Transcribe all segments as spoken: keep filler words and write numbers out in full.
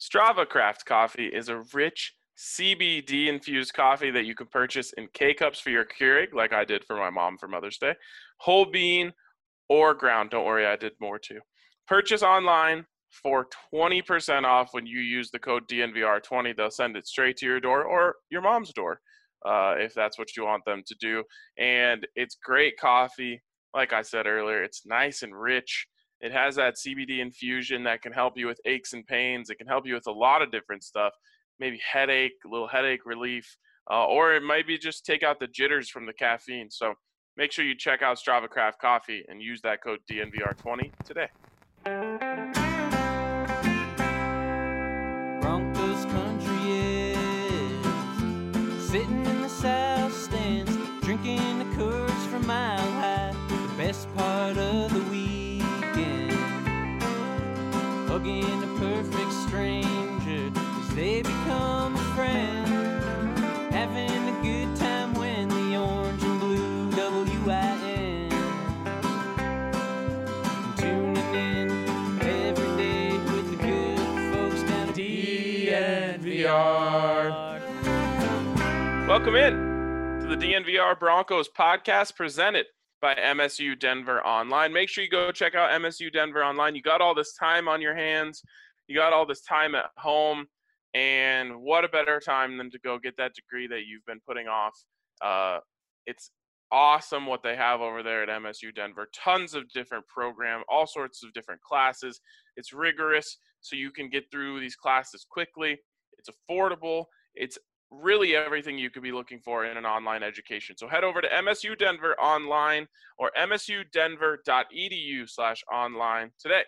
Strava Craft Coffee is a rich C B D-infused coffee that you can purchase in K-Cups for your Keurig, like I did for my mom for Mother's Day, whole bean or ground. Don't worry, I did more too. Purchase online for twenty percent off when you use the code D N V R twenty. They'll send it straight to your door or your mom's door uh, if that's what you want them to do. And it's great coffee. Like I said earlier, it's nice and rich. It has that C B D infusion that can help you with aches and pains. It can help you with a lot of different stuff, maybe headache, a little headache relief, uh, or it might be just take out the jitters from the caffeine. So make sure you check out Strava Craft Coffee and use that code D N V R twenty today. Broncos country is sitting in the south stands, drinking the Coors from Mile High. The best part of the weekend, hugging a perfect stranger as they become a friend, having a good time when the orange and blue W I N, tuning in every day with the good folks down at D N V R. Welcome in to the D N V R Broncos podcast presented by M S U Denver Online. Make sure you go check out M S U Denver Online. You got all this time on your hands. You got all this time at home. And what a better time than to go get that degree that you've been putting off. Uh, it's awesome what they have over there at M S U Denver. Tons of different programs, all sorts of different classes. It's rigorous, so you can get through these classes quickly. It's affordable. It's really everything you could be looking for in an online education. So head over to M S U Denver Online or msudenver.edu slash online today.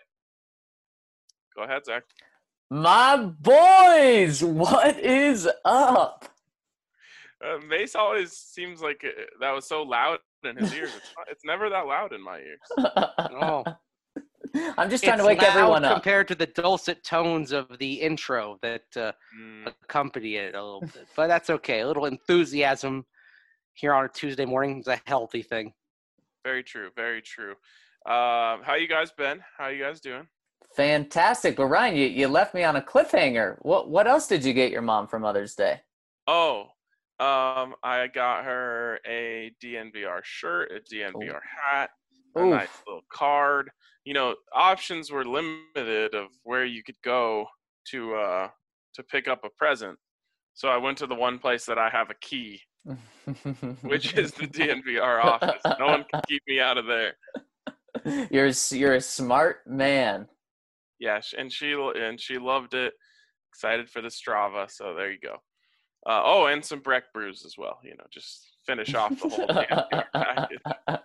Go ahead, Zach. My boys, what is up? Uh, Mace always seems like it, that was so loud in his ears. It's, not, it's never that loud in my ears. Oh, I'm just trying it's to wake loud everyone up. compared to the dulcet tones of the intro that uh, Mm. accompany it a little bit. But that's okay. A little enthusiasm here on a Tuesday morning is a healthy thing. Very true. Very true. Uh, how you guys been? How you guys doing? Fantastic. But Ryan, you, you left me on a cliffhanger. What what else did you get your mom for Mother's Day? Oh, um, I got her a D N V R shirt, a D N V R hat, a Oof. nice little card. You know, options were limited of where you could go to uh, to pick up a present. So I went to the one place that I have a key, which is the D N V R office. No one can keep me out of there. You're you're a smart man. Yeah, sh- and she and she loved it. Excited for the Strava. So there you go. Uh, oh, and some Breck brews as well. You know, just finish off the whole D N V R package.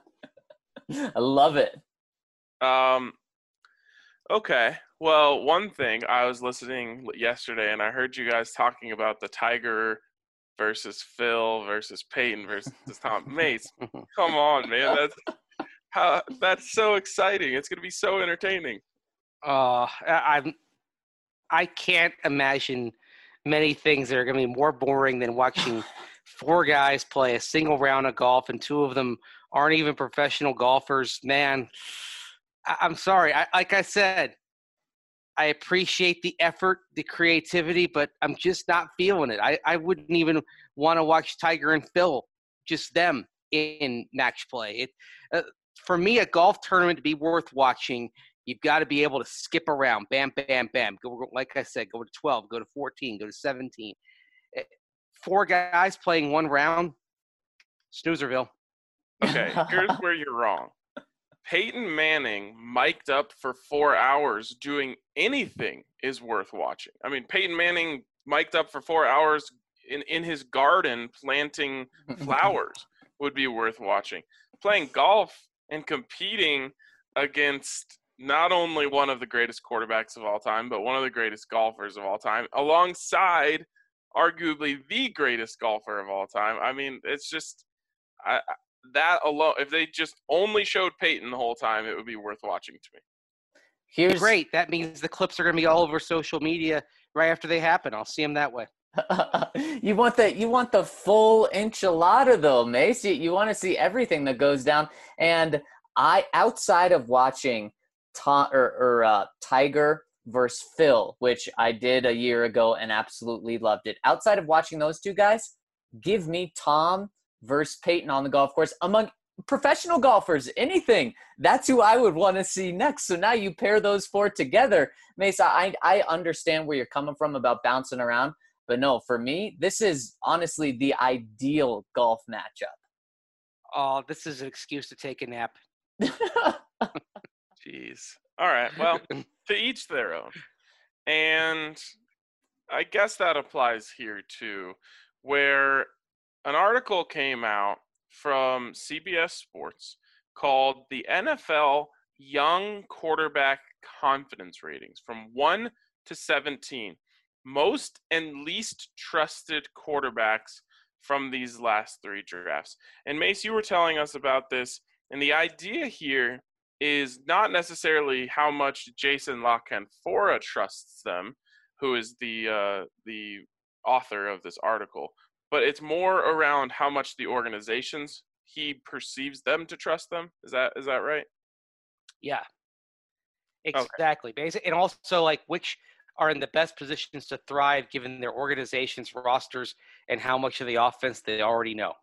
I love it. Um, okay. Well, one thing, I was listening yesterday and I heard you guys talking about the Tiger versus Phil versus Peyton versus Tom Mace. Come on, man. That's how that's so exciting. It's going to be so entertaining. Uh, I, I'm, I can't imagine many things that are going to be more boring than watching four guys play a single round of golf, and two of them aren't even professional golfers. Man, I, I'm sorry. I, like I said, I appreciate the effort, the creativity, but I'm just not feeling it. I, I wouldn't even want to watch Tiger and Phil, just them in match play. It, uh, for me, a golf tournament to be worth watching, you've got to be able to skip around, bam, bam, bam. Go, like I said, go to twelve, go to fourteen, go to seventeen. Four guys playing one round, Snoozerville. Okay, here's where you're wrong. Peyton Manning mic'd up for four hours doing anything is worth watching. I mean, Peyton Manning mic'd up for four hours in, in his garden planting flowers would be worth watching. Playing golf and competing against not only one of the greatest quarterbacks of all time, but one of the greatest golfers of all time, alongside arguably the greatest golfer of all time. I mean, it's just I, that alone. If they just only showed Peyton the whole time, it would be worth watching to me. Here's Great. That means the clips are going to be all over social media right after they happen. I'll see them that way. you want the you want the full enchilada though, Mace. You, you want to see everything that goes down. And I, outside of watching Tom or, or uh, Tiger versus Phil, which I did a year ago and absolutely loved it. Outside of watching those two guys, give me Tom versus Peyton on the golf course. Among professional golfers, anything, that's who I would want to see next. So now you pair those four together. Mesa, I, I understand where you're coming from about bouncing around, but no, for me, this is honestly the ideal golf matchup. Oh, this is an excuse to take a nap. Jeez. All right. Well, to each their own. And I guess that applies here too, where an article came out from C B S Sports called the N F L Young Quarterback Confidence Ratings from one to seventeen. Most and least trusted quarterbacks from these last three drafts. And Mace, you were telling us about this, and the idea here is not necessarily how much Jason La Canfora trusts them, who is the uh, the author of this article, but it's more around how much the organizations he perceives them to trust them. Is that is that right? Yeah, exactly. Okay. Basic, and also like which are in the best positions to thrive given their organization's rosters and how much of the offense they already know.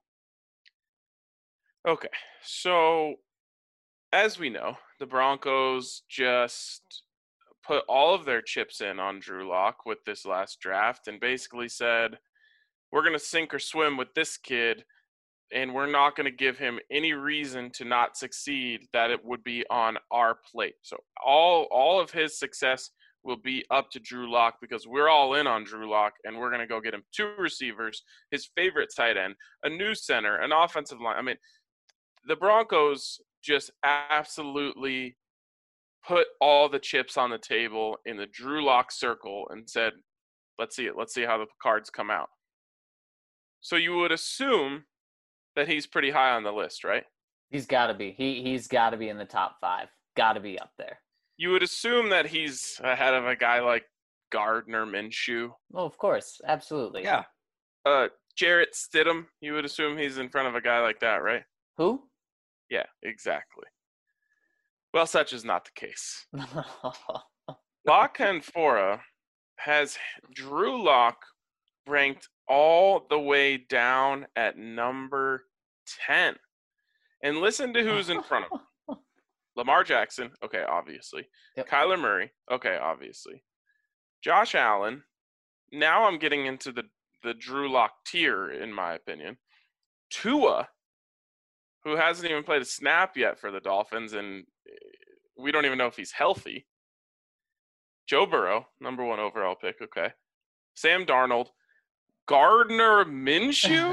Okay, so as we know, the Broncos just put all of their chips in on Drew Lock with this last draft and basically said, we're going to sink or swim with this kid, and we're not going to give him any reason to not succeed that it would be on our plate. So all all of his success will be up to Drew Lock because we're all in on Drew Lock, and we're going to go get him two receivers, his favorite tight end, a new center, an offensive line. I mean, the Broncos just absolutely put all the chips on the table in the Drew Lock circle and said, let's see it. Let's see how the cards come out. So you would assume that he's pretty high on the list, right? He's got to be. He, he's got to be in the top five. Got to be up there. You would assume that he's ahead of a guy like Gardner Minshew. Oh, of course. Absolutely. Yeah. Uh, Jarrett Stidham, you would assume he's in front of a guy like that, right? Who? Yeah, exactly. Well, such is not the case. La Canfora has Drew Lock ranked all the way down at number ten. And listen to who's in front of him. Lamar Jackson, okay, obviously. Yep. Kyler Murray, okay, obviously. Josh Allen, now I'm getting into the, the Drew Lock tier, in my opinion. Tua, who hasn't even played a snap yet for the Dolphins, and we don't even know if he's healthy. Joe Burrow, number one overall pick, okay. Sam Darnold, Gardner Minshew?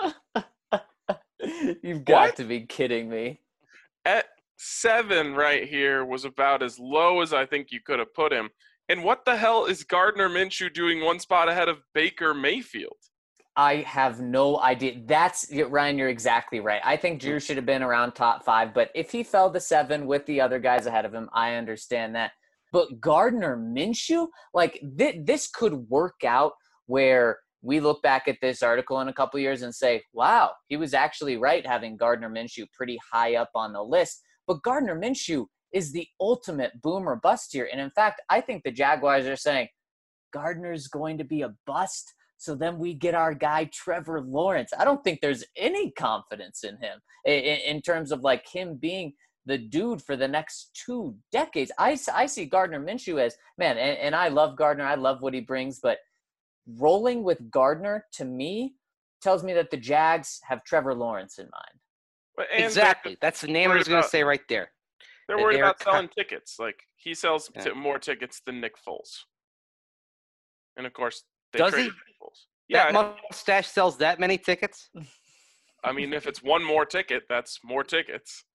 You've got What? to be kidding me. At seven right here was about as low as I think you could have put him. And what the hell is Gardner Minshew doing one spot ahead of Baker Mayfield? I have no idea. That's Ryan, you're exactly right. I think Drew should have been around top five, but if he fell to seven with the other guys ahead of him, I understand that. But Gardner Minshew, like th- this could work out where we look back at this article in a couple years and say, wow, he was actually right having Gardner Minshew pretty high up on the list. But Gardner Minshew is the ultimate boom or bust here. And in fact, I think the Jaguars are saying Gardner's going to be a bust. So then we get our guy, Trevor Lawrence. I don't think there's any confidence in him in, in terms of like him being the dude for the next two decades. I, I see Gardner Minshew as, man, and, and I love Gardner. I love what he brings. But rolling with Gardner, to me, tells me that the Jags have Trevor Lawrence in mind. And exactly. That's the name I was going to say right there. They're worried They're about cut. selling tickets. Like, he sells Yeah. t- more tickets than Nick Foles. And, of course, they Does traded he? Nick Foles. Yeah, That mustache sells that many tickets? I mean, if it's one more ticket, that's more tickets.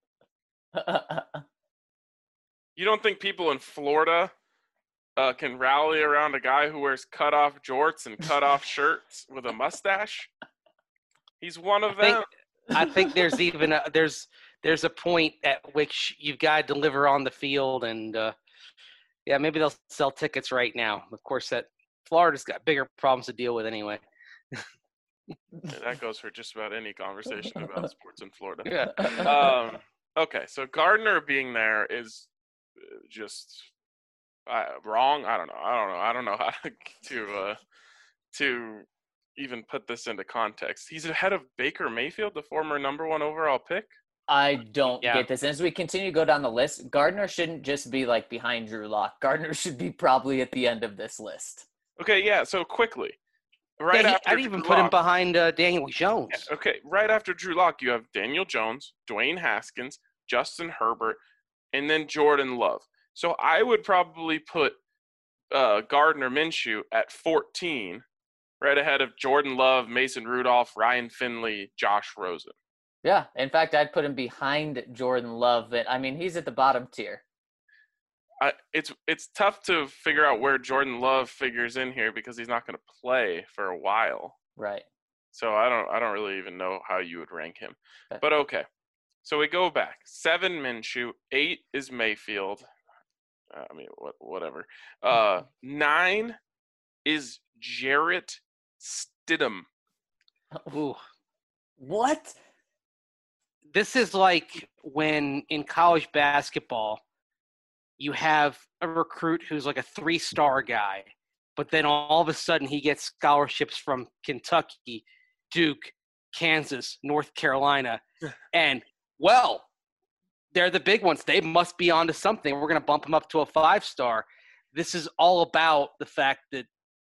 You don't think people in Florida uh, can rally around a guy who wears cut-off jorts and cut-off shirts with a mustache? He's one of I think, them. I think there's even a, there's there's a point at which you've got to deliver on the field, and uh, yeah, maybe they'll sell tickets right now. Of course, that Florida's got bigger problems to deal with anyway. Yeah, that goes for just about any conversation about sports in Florida. Yeah. Um, okay, so Gardner being there is uh, just uh, wrong. I don't know. I don't know. I don't know how to uh, to even put this into context. He's ahead of Baker Mayfield, the former number one overall pick. I don't Yeah. get this. And as we continue to go down the list, Gardner shouldn't just be like behind Drew Lock. Gardner should be probably at the end of this list. Okay, yeah. So quickly, right Yeah, he- after I'd even Drew put him Lock- behind uh, Daniel Jones. Yeah, okay, right after Drew Lock, you have Daniel Jones, Dwayne Haskins, Justin Herbert, and then Jordan Love. So I would probably put uh, Gardner Minshew at fourteen, right ahead of Jordan Love, Mason Rudolph, Ryan Finley, Josh Rosen. Yeah. In fact, I'd put him behind Jordan Love. But I mean, he's at the bottom tier. I, it's it's tough to figure out where Jordan Love figures in here because he's not going to play for a while. Right. So I don't I don't really even know how you would rank him. Okay. But okay. So we go back. Seven Minshew, eight is Mayfield. Uh, I mean, what, whatever. Uh, nine is Jarrett Stidham. Ooh. What? This is like when in college basketball, you have a recruit who's like a three-star guy, but then all of a sudden he gets scholarships from Kentucky, Duke, Kansas, North Carolina, and, well, they're the big ones. They must be onto something. We're going to bump them up to a five-star. This is all about the fact that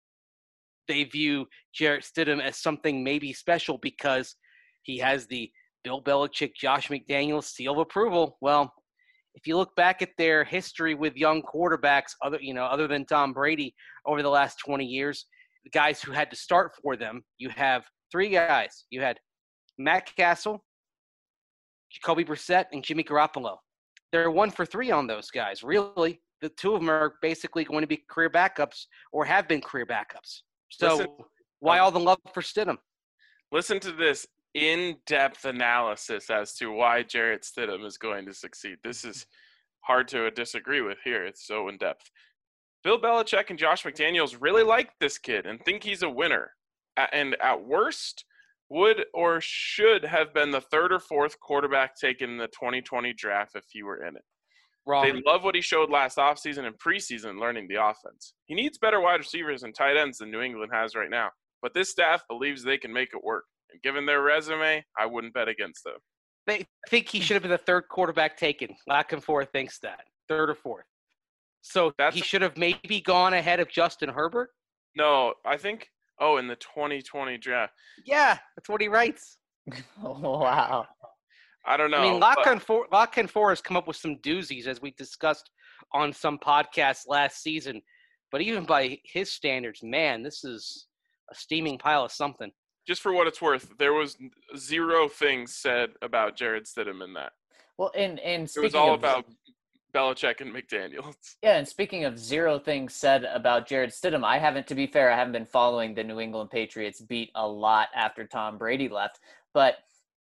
they view Jarrett Stidham as something maybe special because he has the Bill Belichick, Josh McDaniels seal of approval. Well, if you look back at their history with young quarterbacks, other you know, other than Tom Brady over the last twenty years, the guys who had to start for them, you have three guys. You had Matt Castle, Jacoby Brissett, and Jimmy Garoppolo. They're one for three on those guys. Really, the two of them are basically going to be career backups or have been career backups. So Listen, why um, all the love for Stidham? Listen to this in-depth analysis as to why Jarrett Stidham is going to succeed. This is hard to disagree with here. It's so in-depth. Bill Belichick and Josh McDaniels really like this kid and think he's a winner. A- And at worst, would or should have been the third or fourth quarterback taken in the twenty twenty draft if he were in it. Wrong. They love what he showed last offseason and preseason learning the offense. He needs better wide receivers and tight ends than New England has right now, but this staff believes they can make it work. And given their resume, I wouldn't bet against them. They think he should have been the third quarterback taken. Lack and Four thinks that. Third or fourth. So That's- he should have maybe gone ahead of Justin Herbert? No, I think, oh, in the twenty twenty draft. Yeah, that's what he writes. Wow. I don't know. I mean, Lock but- and Four, Lock and Four has come up with some doozies, as we discussed on some podcasts last season. But even by his standards, man, this is a steaming pile of something. just for what it's worth, there was zero things said about Jarrett Stidham in that. Well, and and It speaking was all of, about Belichick and McDaniels. yeah, and speaking of zero things said about Jarrett Stidham, I haven't, to be fair, I haven't been following the New England Patriots beat a lot after Tom Brady left, but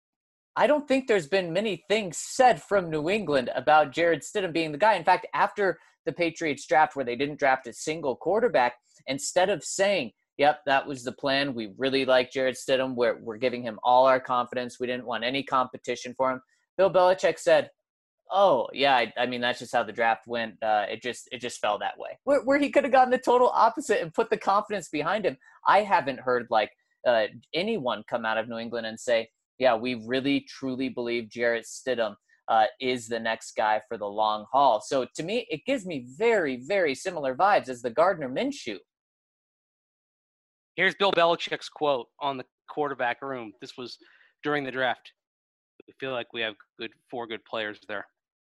I don't think there's been many things said from New England about Jarrett Stidham being the guy. In fact, after the Patriots draft where they didn't draft a single quarterback, instead of saying, yep, that was the plan, we really like Jarrett Stidham, we're, we're giving him all our confidence, we didn't want any competition for him, Bill Belichick said, oh, yeah, I, I mean, that's just how the draft went. Uh, it just it just fell that way. Where, where he could have gotten the total opposite and put the confidence behind him. I haven't heard, like, uh, anyone come out of New England and say, yeah, we really, truly believe Jarrett Stidham uh, is the next guy for the long haul. So to me, it gives me very, very similar vibes as the Gardner Minshew. Here's Bill Belichick's quote on the quarterback room. This was during the draft. We feel like we have good four good players there.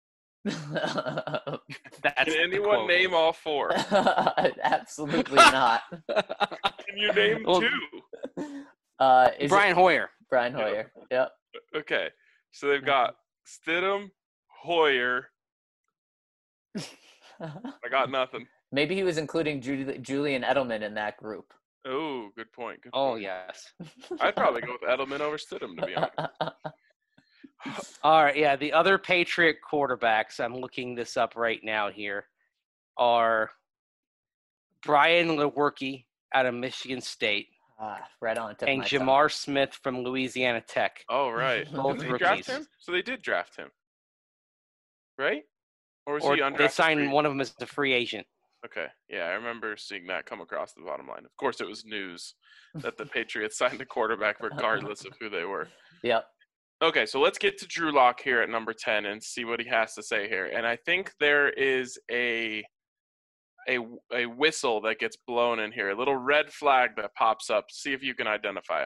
That's Can the anyone quote. name all four? Absolutely not. Can you name Well, two? Uh, is Brian it Hoyer. Brian Hoyer? Yep. Okay, so they've got Stidham, Hoyer. I got nothing. Maybe he was including Ju- Julian Edelman in that group. Oh, good point. Good Oh, point. yes. I'd probably go with Edelman over Stidham, to be honest. All right, yeah. The other Patriot quarterbacks, I'm looking this up right now here, are Brian Lewerke out of Michigan State Ah, right on the tip and of my tongue. Jamar Smith from Louisiana Tech. Oh, right. Both Did they draft rookies. him? So they did draft him, right? Or was Or he they undrafted? signed free? one of them as a free agent. Okay. Yeah, I remember seeing that come across the bottom line. Of course, it was news that the Patriots signed a quarterback regardless of who they were. Yep. Okay, so let's get to Drew Lock here at number ten and see what he has to say here. And I think there is a a a whistle that gets blown in here, a little red flag that pops up. See if you can identify it.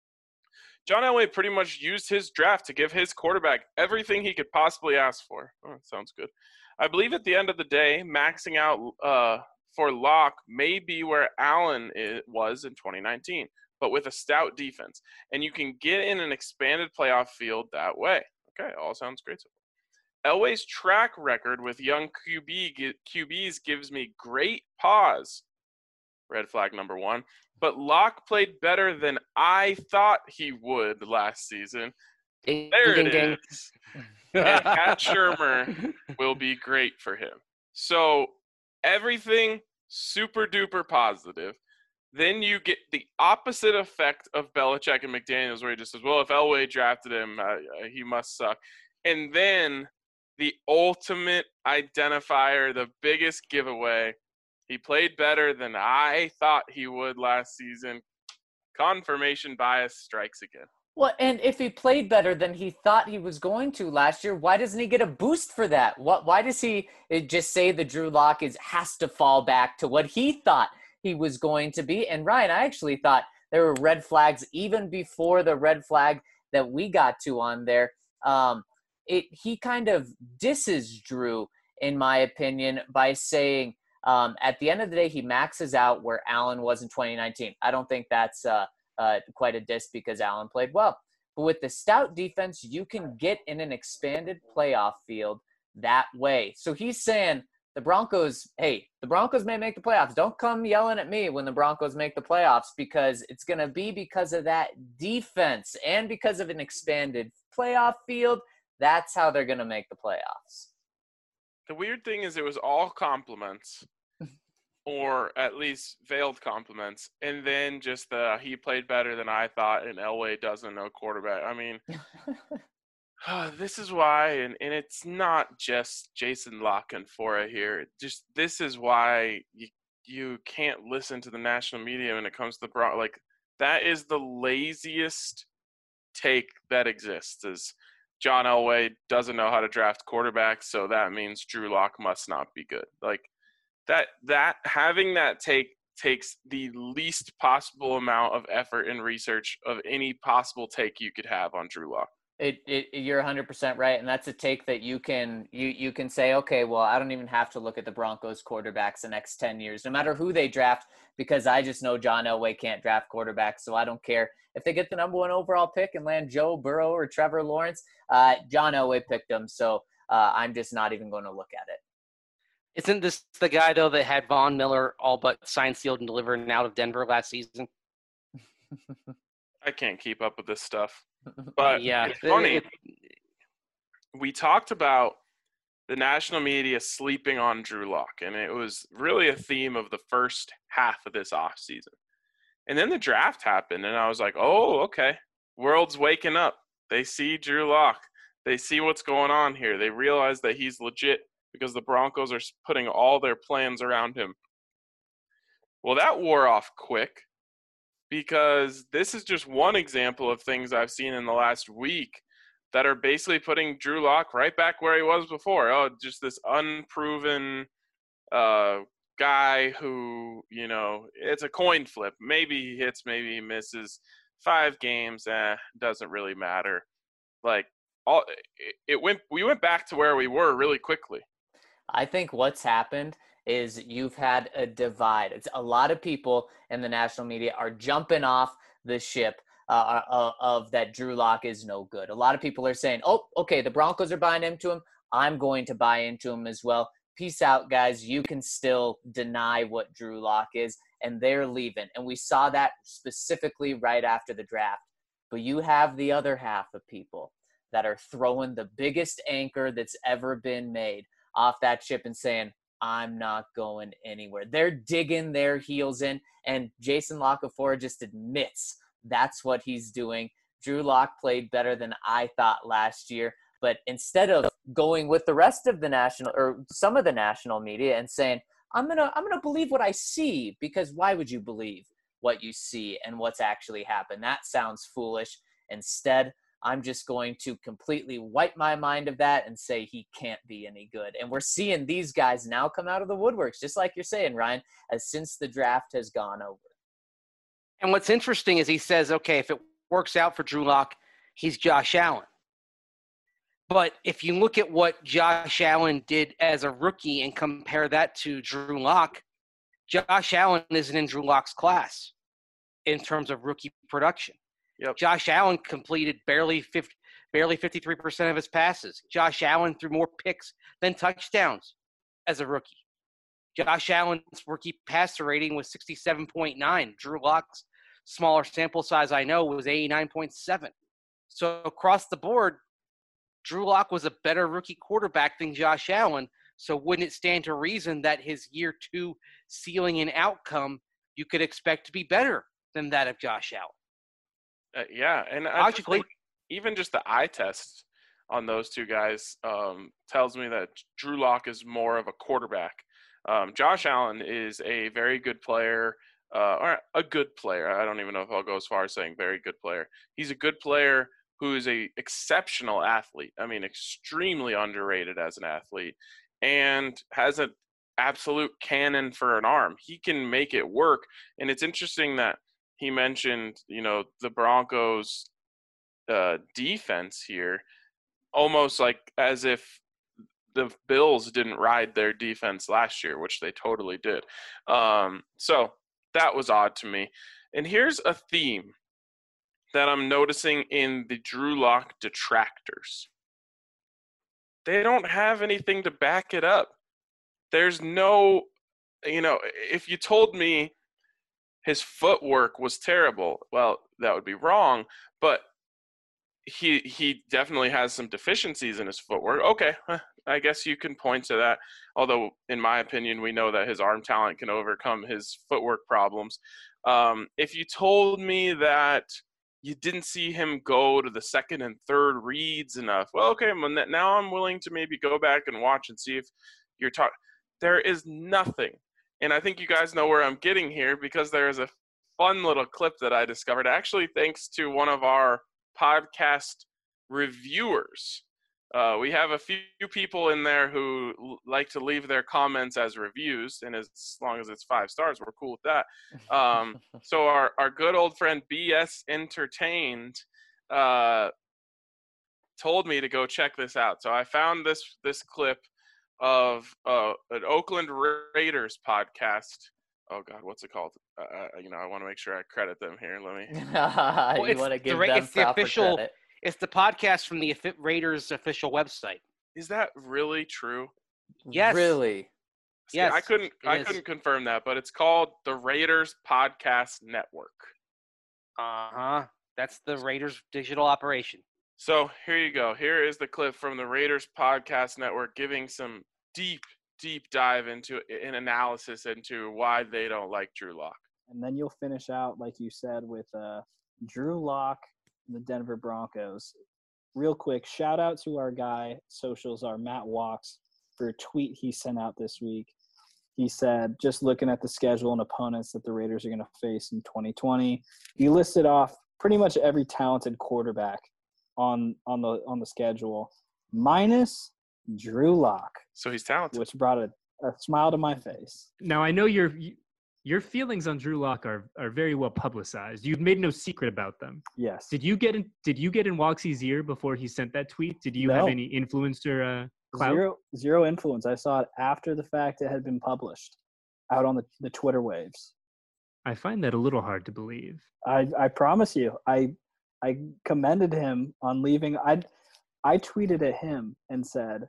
John Elway pretty much used his draft to give his quarterback everything he could possibly ask for. Oh, that sounds good. I believe at the end of the day, maxing out uh, for Locke may be where Allen is, was in twenty nineteen, but with a stout defense. And you can get in an expanded playoff field that way. Okay, all sounds great so far. Elway's track record with young Q B, Q Bs gives me great pause. Red flag number one. But Locke played better than I thought he would last season. Ding, There ding, it ding. is. And Pat Shermer will be great for him. So everything super duper positive. Then you get the opposite effect of Belichick and McDaniels, where he just says, well, if Elway drafted him, uh, he must suck. And then the ultimate identifier, the biggest giveaway, he played better than I thought he would last season. Confirmation bias strikes again. Well, and if he played better than he thought he was going to last year, why doesn't he get a boost for that? What? Why does he just say that Drew Lock is has to fall back to what he thought he was going to be? And Ryan, I actually thought there were red flags even before the red flag that we got to on there. Um, it he kind of disses Drew, in my opinion, by saying um, at the end of the day he maxes out where Allen was in twenty nineteen. I don't think that's uh, uh, quite a diss because Allen played well. But with the stout defense, you can get in an expanded playoff field that way. So he's saying the Broncos, hey, the Broncos may make the playoffs. Don't come yelling at me when the Broncos make the playoffs, because it's going to be because of that defense and because of an expanded playoff field. That's how they're going to make the playoffs. The weird thing is it was all compliments, or at least veiled compliments, and then just the he played better than I thought and Elway doesn't know quarterback. I mean, uh, this is why, and, and it's not just Jason Lock and Fora here. Just this is why you you can't listen to the national media when it comes to the Bron- like that is the laziest take that exists. Is John Elway doesn't know how to draft quarterbacks, so that means Drew Lock must not be good. Like that that having that take takes the least possible amount of effort and research of any possible take you could have on Drew Lock. It, it, you're one hundred percent right, and that's a take that you can you you can say, okay, well, I don't even have to look at the Broncos quarterbacks the next ten years, no matter who they draft, because I just know John Elway can't draft quarterbacks, so I don't care if they get the number one overall pick and land Joe Burrow or Trevor Lawrence. Uh, John Elway picked them, so uh, I'm just not even going to look at it. Isn't this the guy, though, that had Von Miller all but signed, sealed, and delivered out of Denver last season? I can't keep up with this stuff. But yeah, it's funny. It, we talked about the national media sleeping on Drew Lock, and it was really a theme of the first half of this offseason. And then the draft happened, and I was like, oh, okay. World's waking up. They see Drew Lock. They see what's going on here. They realize that he's legit because the Broncos are putting all their plans around him. Well, that wore off quick, because this is just one example of things I've seen in the last week that are basically putting Drew Lock right back where he was before. Oh, just this unproven uh, guy who, you know, it's a coin flip. Maybe he hits, maybe he misses. Five games, eh, doesn't really matter. Like, all it went, we went back to where we were really quickly. I think what's happened is you've had a divide. It's a lot of people in the national media are jumping off the ship uh, uh, of that Drew Lock is no good. A lot of people are saying, oh, okay, the Broncos are buying into him. I'm going to buy into him as well. Peace out, guys. You can still deny what Drew Lock is, and they're leaving. And we saw that specifically right after the draft. But you have the other half of people that are throwing the biggest anchor that's ever been made off that ship and saying, I'm not going anywhere. They're digging their heels in, and Jason La Canfora just admits that's what he's doing. Drew Lock played better than I thought last year, but instead of going with the rest of the national or some of the national media and saying, I'm gonna I'm gonna believe what I see, because why would you believe what you see and what's actually happened? That sounds foolish. Instead, I'm just going to completely wipe my mind of that and say he can't be any good. And we're seeing these guys now come out of the woodworks, just like you're saying, Ryan, as since the draft has gone over. And what's interesting is he says, okay, if it works out for Drew Lock, he's Josh Allen. But if you look at what Josh Allen did as a rookie and compare that to Drew Lock, Josh Allen isn't in Drew Lock's class in terms of rookie production. Yep. Josh Allen completed barely fifty, barely fifty-three percent of his passes. Josh Allen threw more picks than touchdowns as a rookie. Josh Allen's rookie passer rating was sixty-seven point nine. Drew Lock's smaller sample size, I know, was eighty-nine point seven. So across the board, Drew Lock was a better rookie quarterback than Josh Allen. So wouldn't it stand to reason that his year two ceiling and outcome you could expect to be better than that of Josh Allen? Uh, yeah, and I just Logically, think even just the eye test on those two guys um, tells me that Drew Lock is more of a quarterback. Um, Josh Allen is a very good player, uh, or a good player. I don't even know if I'll go as far as saying very good player. He's a good player who is a exceptional athlete. I mean, extremely underrated as an athlete, and has an absolute cannon for an arm. He can make it work, and it's interesting that he mentioned, you know, the Broncos' uh, defense here, almost like as if the Bills didn't ride their defense last year, which they totally did. Um, so that was odd to me. And here's a theme that I'm noticing in the Drew Lock detractors. They don't have anything to back it up. There's no, you know, if you told me his footwork was terrible, well, that would be wrong, but he he definitely has some deficiencies in his footwork. Okay, I guess you can point to that, although in my opinion, we know that his arm talent can overcome his footwork problems. Um, if you told me that you didn't see him go to the second and third reads enough, well, okay, now I'm willing to maybe go back and watch and see if you're talking. There is nothing. And I think you guys know where I'm getting here, because there is a fun little clip that I discovered, actually thanks to one of our podcast reviewers. Uh, we have a few people in there who l- like to leave their comments as reviews, and as long as it's five stars, we're cool with that. Um, so our, our good old friend B S Entertained uh, told me to go check this out. So I found this this clip of uh, an Oakland Raiders podcast. Oh God, what's it called? Uh, you know, I want to make sure I credit them here. Let me. Well, you it's want to the give Ra- them it's the proper official- credit. It's the podcast from the Affi- Raiders official website. Is that really true? Yes. Really? See, Yes, I couldn't. it I is. couldn't confirm that, but it's called the Raiders Podcast Network. Uh-huh. That's the Raiders digital operation. So here you go. Here is the clip from the Raiders Podcast Network giving some deep, deep dive into an analysis into why they don't like Drew Lock. And then you'll finish out, like you said, with uh, Drew Lock, the Denver Broncos. Real quick, shout out to our guy, socials, our Matt Walks, for a tweet he sent out this week. He said, just looking at the schedule and opponents that the Raiders are going to face in twenty twenty, he listed off pretty much every talented quarterback on on the on the schedule, minus Drew Lock, So he's talented. which brought a, a smile to my face. Now I know your your feelings on Drew Lock are are very well publicized. You've made no secret about them. Yes. Did you get in? Did you get in Walksy's ear before he sent that tweet? Did you have No. any influence or uh, clout? Zero, zero influence. I saw it after the fact it had been published out on the, the Twitter waves. I find that a little hard to believe. I, I promise you, I I commended him on leaving. I I tweeted at him and said,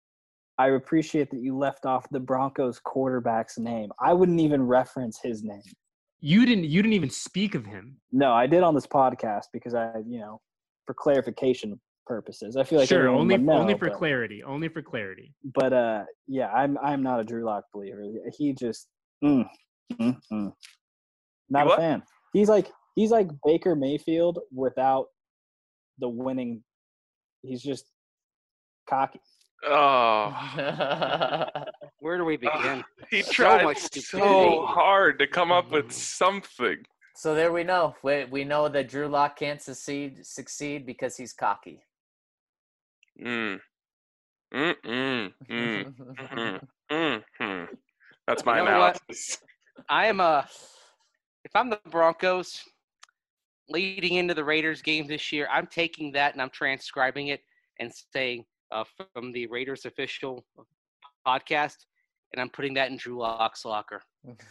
I appreciate that you left off the Broncos quarterback's name. I wouldn't even reference his name. You didn't. You didn't even speak of him. No, I did on this podcast because I, you know, for clarification purposes. I feel like sure, everyone only would know, only for but, clarity. Only for clarity. But uh, yeah, I'm I'm not a Drew Lock believer. He just mm, mm, mm. not You a what? fan. He's like he's like Baker Mayfield without the winning. He's just cocky. Oh, Where do we begin? he So tried much so stupidity. hard to come up with something. So there we know. We, we know that Drew Lock can't succeed succeed because he's cocky. Mm. Mm, mm, mm, mm, mm, mm. That's my You know what? analysis. I am a. If I'm the Broncos, leading into the Raiders game this year, I'm taking that and I'm transcribing it and saying uh, from the Raiders official podcast, and I'm putting that in Drew Lock's locker.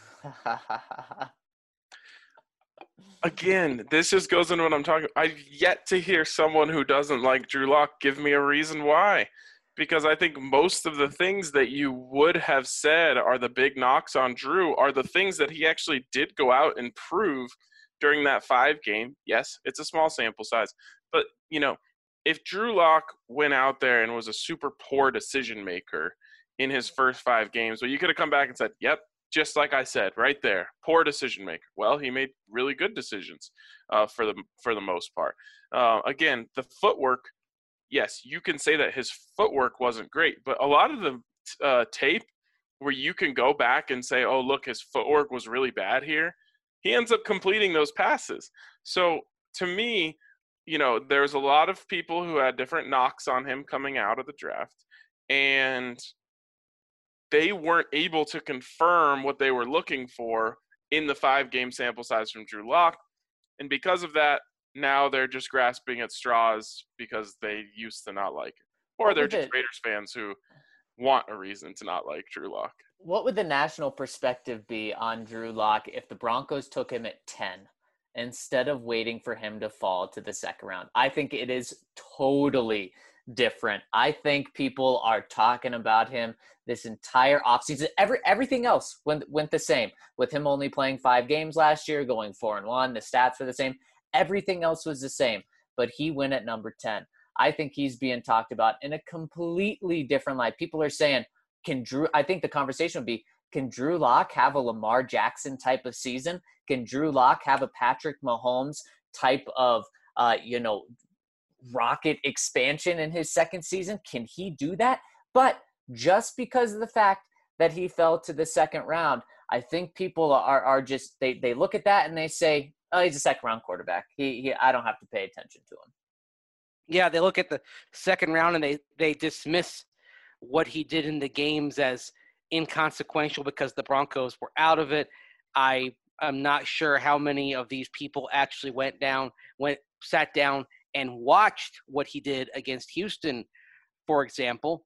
Again, this just goes into what I'm talking. I've yet to hear someone who doesn't like Drew Lock give me a reason why. Because I think most of the things that you would have said are the big knocks on Drew are the things that he actually did go out and prove during that five game. Yes, it's a small sample size. But, you know, if Drew Lock went out there and was a super poor decision maker in his first five games, well, you could have come back and said, yep, just like I said, right there, poor decision maker. Well, he made really good decisions uh, for the for the most part. Uh, again, the footwork, yes, you can say that his footwork wasn't great, but a lot of the uh, tape where you can go back and say, oh, look, his footwork was really bad here, he ends up completing those passes. So to me, you know, there's a lot of people who had different knocks on him coming out of the draft, and they weren't able to confirm what they were looking for in the five-game sample size from Drew Lock. And because of that, now they're just grasping at straws because they used to not like it. Or What they're would just it- Raiders fans who want a reason to not like Drew Lock. What would the national perspective be on Drew Lock if the Broncos took him at ten instead of waiting for him to fall to the second round? I think it is totally different. I think people are talking about him this entire offseason. Every, everything else went, went the same. With him only playing five games last year, going four and one, the stats were the same. Everything else was the same, but he went at number ten. I think he's being talked about in a completely different light. People are saying, can Drew, I think the conversation would be, can Drew Lock have a Lamar Jackson type of season? Can Drew Lock have a Patrick Mahomes type of, uh, you know, rocket expansion in his second season? Can he do that? But just because of the fact that he fell to the second round, I think people are, are just, they, they look at that and they say, oh, he's a second round quarterback. He, he, I don't have to pay attention to him. Yeah, they look at the second round and they, they dismiss what he did in the games as inconsequential because the Broncos were out of it. I am not sure how many of these people actually went down, went, sat down and watched what he did against Houston, for example.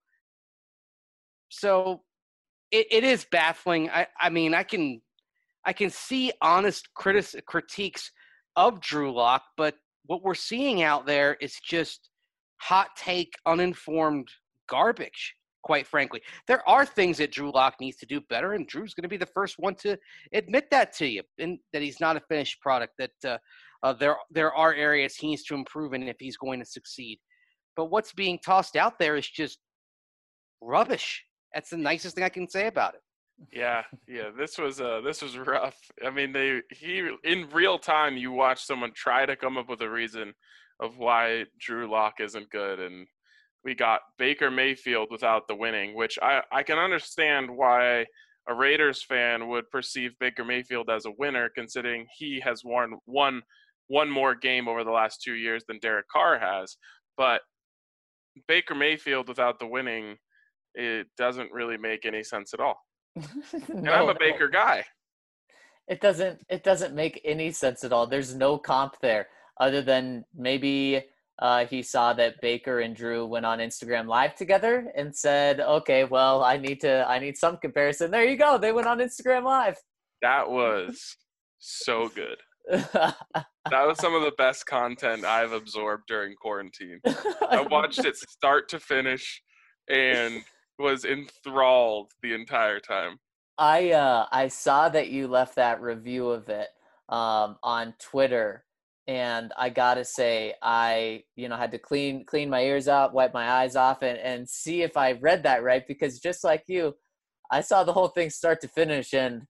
So it, it is baffling. I, I mean, I can I can see honest critic, critiques of Drew Lock, but what we're seeing out there is just hot take, uninformed garbage, quite frankly. There are things that Drew Lock needs to do better, and Drew's going to be the first one to admit that to you, and that he's not a finished product, that uh, uh, there, there are areas he needs to improve in if he's going to succeed. But what's being tossed out there is just rubbish. That's the nicest thing I can say about it. Yeah, yeah. This was uh, this was rough. I mean, they he in real time you watch someone try to come up with a reason of why Drew Lock isn't good, and we got Baker Mayfield without the winning, which I I can understand why a Raiders fan would perceive Baker Mayfield as a winner, considering he has won one one more game over the last two years than Derek Carr has. But Baker Mayfield without the winning, it doesn't really make any sense at all. And No, I'm a no. Baker guy. It doesn't it doesn't make any sense at all. There's no comp there other than maybe uh, he saw that Baker and Drew went on Instagram Live together and said, "Okay, well, I need to I need some comparison." There you go. They went on Instagram Live. That was so good. That was some of the best content I've absorbed during quarantine. I watched it start to finish and was enthralled the entire time. I uh I saw that you left that review of it um on Twitter, and I gotta say I you know had to clean clean my ears out, wipe my eyes off, and and see if I read that right, because just like you, I saw the whole thing start to finish, and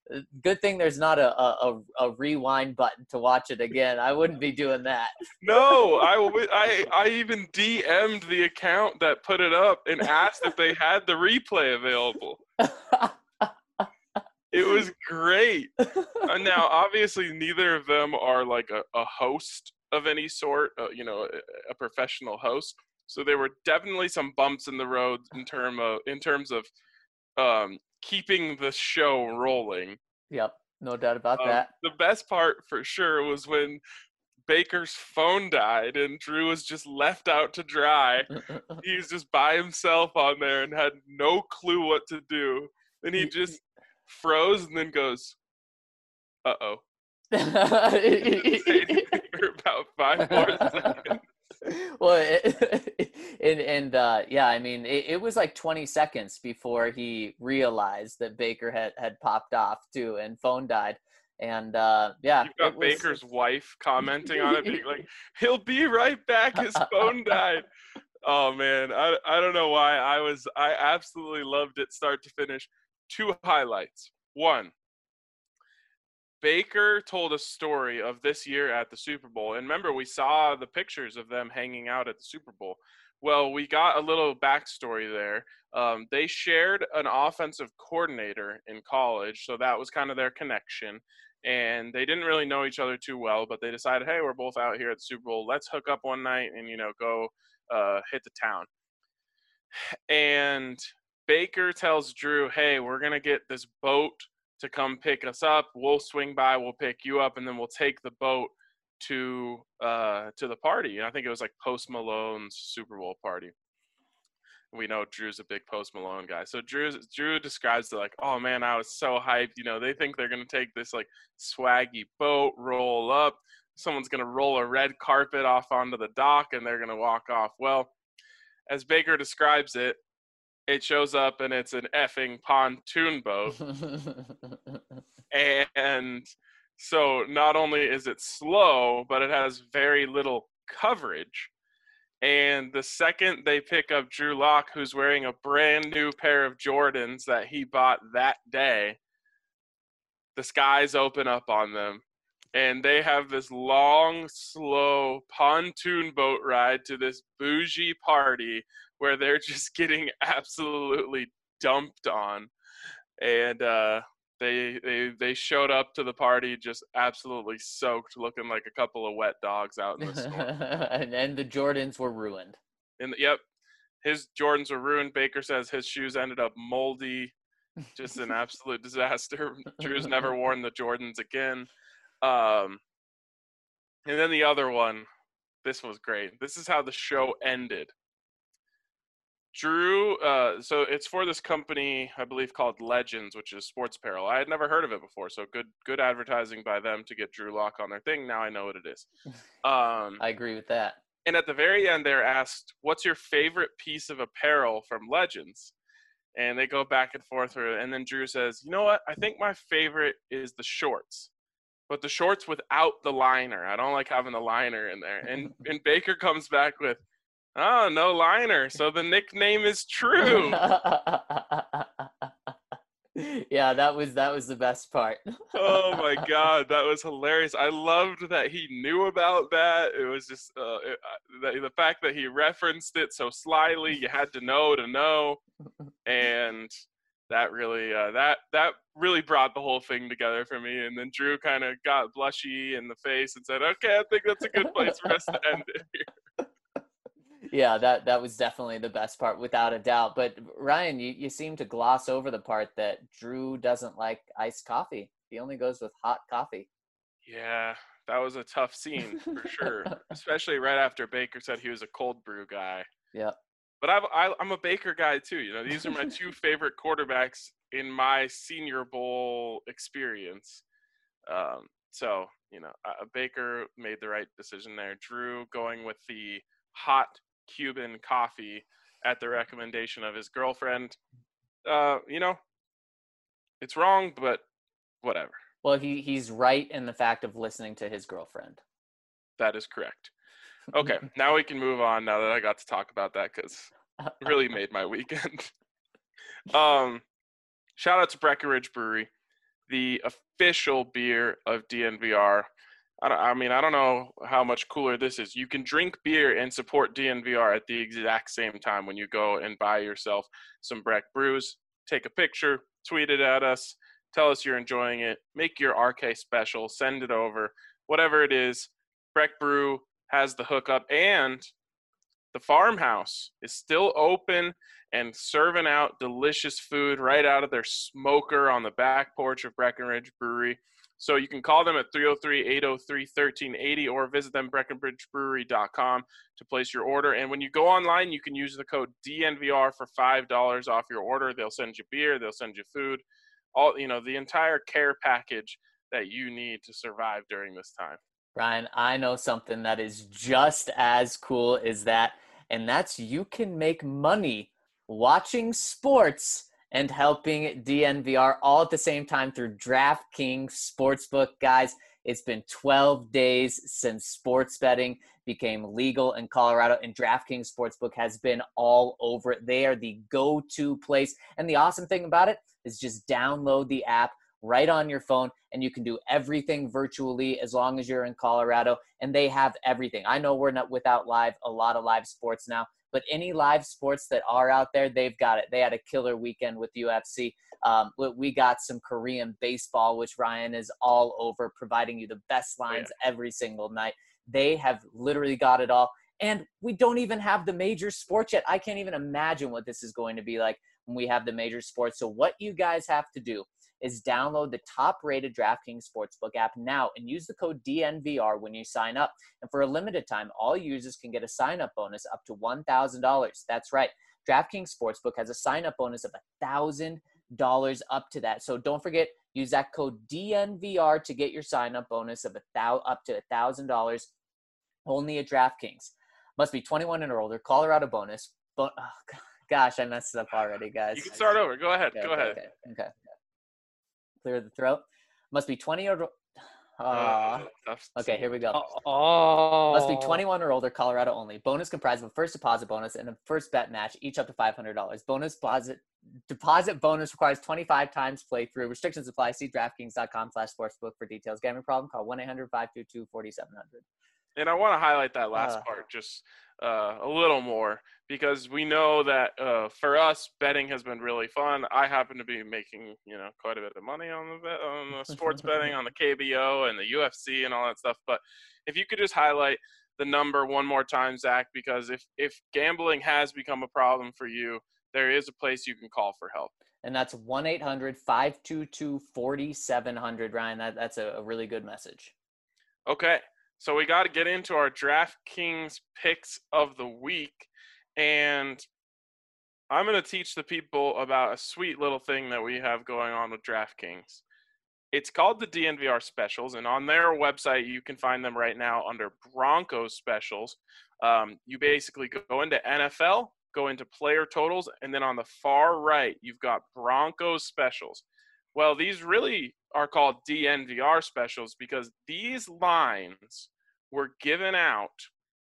Good thing there's not a, a, a rewind button to watch it again. I wouldn't be doing that. No, I, w- I, I even D M'd the account that put it up and asked if they had the replay available. It was great. Uh, now, obviously, neither of them are like a, a host of any sort, uh, you know, a, a professional host. So there were definitely some bumps in the road in term of in terms of um, keeping the show rolling. Yep, no doubt about Um, that. the best part for sure was when Baker's phone died and Drew was just left out to dry. He was just by himself on there and had no clue what to do. And he just froze and then goes, uh-oh. For about five more seconds. Well, it, and and uh, yeah, I mean, it, it was like twenty seconds before he realized that Baker had, had popped off too, and phone died. And uh, yeah, You've got it was, Baker's wife commenting on it, being like, "He'll be right back. His phone died." Oh man, I I don't know why I was I absolutely loved it start to finish. Two highlights. One, Baker told a story of this year at the Super Bowl. And remember, we saw the pictures of them hanging out at the Super Bowl. Well, we got a little backstory there. Um, they shared an offensive coordinator in college, so that was kind of their connection. And they didn't really know each other too well, but they decided, hey, we're both out here at the Super Bowl. Let's hook up one night and, you know, go uh, hit the town. And Baker tells Drew, hey, we're going to get this boat to come pick us up. We'll swing by, we'll pick you up, and then we'll take the boat to uh, to the party. And I think it was like Post Malone's Super Bowl party. We know Drew's a big Post Malone guy. So Drew, Drew describes it like, oh, man, I was so hyped. You know, they think they're going to take this, like, swaggy boat, roll up. Someone's going to roll a red carpet off onto the dock, and they're going to walk off. Well, as Baker describes it, it shows up, and it's an effing pontoon boat. And so not only is it slow, but it has very little coverage. And the second they pick up Drew Lock, who's wearing a brand new pair of Jordans that he bought that day, the skies open up on them. And they have this long, slow pontoon boat ride to this bougie party where they're just getting absolutely dumped on. And uh, they they they showed up to the party just absolutely soaked, looking like a couple of wet dogs out in the storm. and then the Jordans were ruined. And yep, his Jordans were ruined. Baker says his shoes ended up moldy, just an absolute disaster. Drew's never worn the Jordans again. Um, and then the other one, this was great. This is how the show ended. Drew, uh, so it's for this company, I believe, called Legends, which is sports apparel. I had never heard of it before, so good good advertising by them to get Drew Lock on their thing. Now I know what it is. Um, I agree with that. and at the very end, they're asked, what's your favorite piece of apparel from Legends? And they go back and forth. And then Drew says, you know what? I think my favorite is the shorts. But the shorts without the liner. I don't like having the liner in there. And and Baker comes back with, oh, no liner. So the nickname is True. Yeah, that was that was the best part. Oh my God, that was hilarious. I loved that he knew about that. It was just uh, it, uh, the, the fact that he referenced it so slyly. You had to know to know, and that really uh, that that really brought the whole thing together for me. And then Drew kind of got blushy in the face and said, "Okay, I think that's a good place for us to end it here." Yeah, that that was definitely the best part, without a doubt. But Ryan, you, you seem to gloss over the part that Drew doesn't like iced coffee. He only goes with hot coffee. Yeah, that was a tough scene for sure, especially right after Baker said he was a cold brew guy. Yep. But I've, I, I'm a Baker guy too. You know, these are my two favorite quarterbacks in my Senior Bowl experience. Um, so, you know, uh, Baker made the right decision there. Drew going with the hot Cuban coffee at the recommendation of his girlfriend. Uh, you know, it's wrong, but whatever. Well, he he's right in the fact of listening to his girlfriend. That is correct. Okay, now we can move on now that I got to talk about that because it really made my weekend. um, shout out to Breckenridge Brewery. the official beer of D N V R. I, don't, I mean, I don't know how much cooler this is. You can drink beer and support D N V R at the exact same time when you go and buy yourself some Breck Brews. Take a picture, tweet it at us, tell us you're enjoying it, make your R K special, send it over, whatever it is. Breck Brew has the hookup, and the farmhouse is still open and serving out delicious food right out of their smoker on the back porch of Breckenridge Brewery. So you can call them at three oh three, eight oh three, one three eight oh or visit them breckenridge brewery dot com to place your order. And when you go online, you can use the code D N V R for five dollars off your order. They'll send you beer, they'll send you food, all, you know, the entire care package that you need to survive during this time. Ryan, I know something that is just as cool as that, and that's you can make money watching sports and helping D N V R all at the same time through DraftKings Sportsbook. Guys, it's been twelve days since sports betting became legal in Colorado, and DraftKings Sportsbook has been all over it. They are the go-to place, and the awesome thing about it is just download the app right on your phone, and you can do everything virtually as long as you're in Colorado, and they have everything. I know we're not without live, a lot of live sports now, but any live sports that are out there, they've got it. They had a killer weekend with U F C. Um, we got some Korean baseball, which Ryan is all over, providing you the best lines oh, yeah. every single night. They have literally got it all. And we don't even have the major sports yet. I can't even imagine what this is going to be like when we have the major sports. So what you guys have to do is download the top-rated DraftKings Sportsbook app now and use the code D N V R when you sign up. And for a limited time, all users can get a sign-up bonus up to one thousand dollars. That's right. DraftKings Sportsbook has a sign-up bonus of one thousand dollars up to that. So don't forget, use that code D N V R to get your sign-up bonus of a thou- up to one thousand dollars only at DraftKings. Must be twenty-one and older. Colorado bonus. But oh, gosh, I messed it up already, guys. You can start over. Go ahead. Okay, Go okay, ahead. Okay. okay. Clear the throat. Must be twenty or uh, Uh, okay, here we go. Oh. Must be twenty-one or older, Colorado only. Bonus comprised of a first deposit bonus and a first bet match, each up to five hundred dollars. Bonus deposit deposit bonus requires twenty-five times playthrough. Restrictions apply. See DraftKings dot com slash sportsbook for details. Gambling problem? Call one eight hundred, five two two, four seven zero zero. And I want to highlight that last Uh. part just uh, a little more, because we know that uh, for us, betting has been really fun. I happen to be making, you know, quite a bit of money on the bet, on the sports betting, on the K B O and the U F C and all that stuff. But if you could just highlight the number one more time, Zach, because if, if gambling has become a problem for you, there is a place you can call for help. And that's one eight hundred, five two two, four seven zero zero, Ryan. That, that's a, a really good message. Okay. So we got to get into our DraftKings picks of the week. And I'm going to teach the people about a sweet little thing that we have going on with DraftKings. It's called the D N V R Specials, and on their website, you can find them right now under Broncos Specials. Um, you basically go into N F L, go into player totals, and then on the far right, you've got Broncos Specials. Well, these really are called D N V R Specials because these lines were given out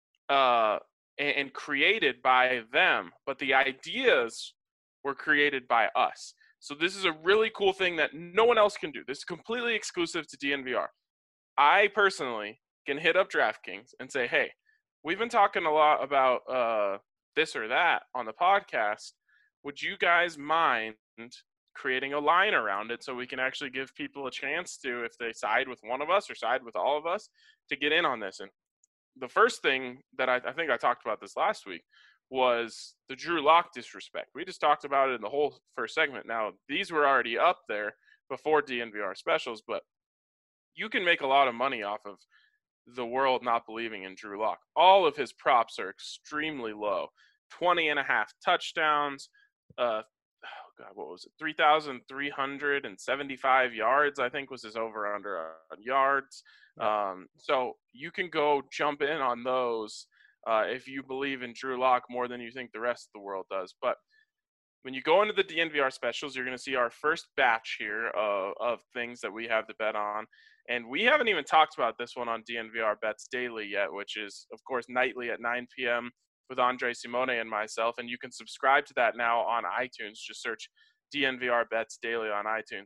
uh, and, and created by them, but the ideas were created by us. So this is a really cool thing that no one else can do. This is completely exclusive to D N V R. I personally can hit up DraftKings and say, hey, we've been talking a lot about uh, this or that on the podcast. Would you guys mind creating a line around it so we can actually give people a chance to, if they side with one of us or side with all of us, to get in on this? And the first thing that I, I think I talked about this last week was the Drew Lock disrespect. We just talked about it in the whole first segment. Now, these were already up there before D N V R Specials, but you can make a lot of money off of the world not believing in Drew Lock. All of his props are extremely low. twenty and a half touchdowns, uh, oh God, what was it? three thousand three hundred seventy-five yards, I think was his over under on yards. Um, so you can go jump in on those uh, if you believe in Drew Lock more than you think the rest of the world does. But when you go into the D N V R Specials, you're going to see our first batch here of, of things that we have to bet on. And we haven't even talked about this one on D N V R Bets Daily yet, which is, of course, nightly at nine p.m. with Andre Simone and myself. And you can subscribe to that now on iTunes. Just search D N V R Bets Daily on iTunes.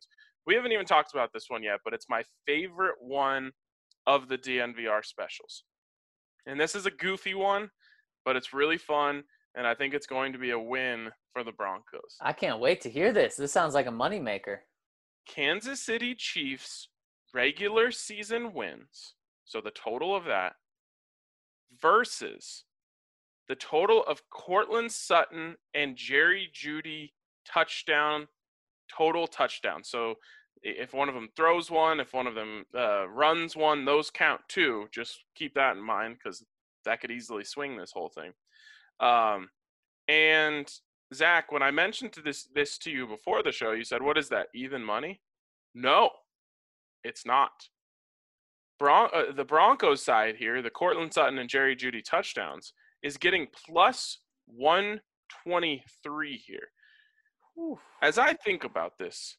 We haven't even talked about this one yet, but it's my favorite one of the D N V R specials. And this is a goofy one, but it's really fun, and I think it's going to be a win for the Broncos. I can't wait to hear this. This sounds like a moneymaker. Kansas City Chiefs regular season wins, so the total of that, versus the total of Courtland Sutton and Jerry Jeudy touchdown, total touchdown. So if one of them throws one, if one of them uh, runs one, those count too. Just keep that in mind because that could easily swing this whole thing. Um, and Zach, when I mentioned to this this to you before the show, you said, "What is that? Even money?" No, it's not. Bron- uh, the Broncos side here, the Courtland Sutton and Jerry Jeudy touchdowns, is getting plus one twenty-three here. Oof. As I think about this,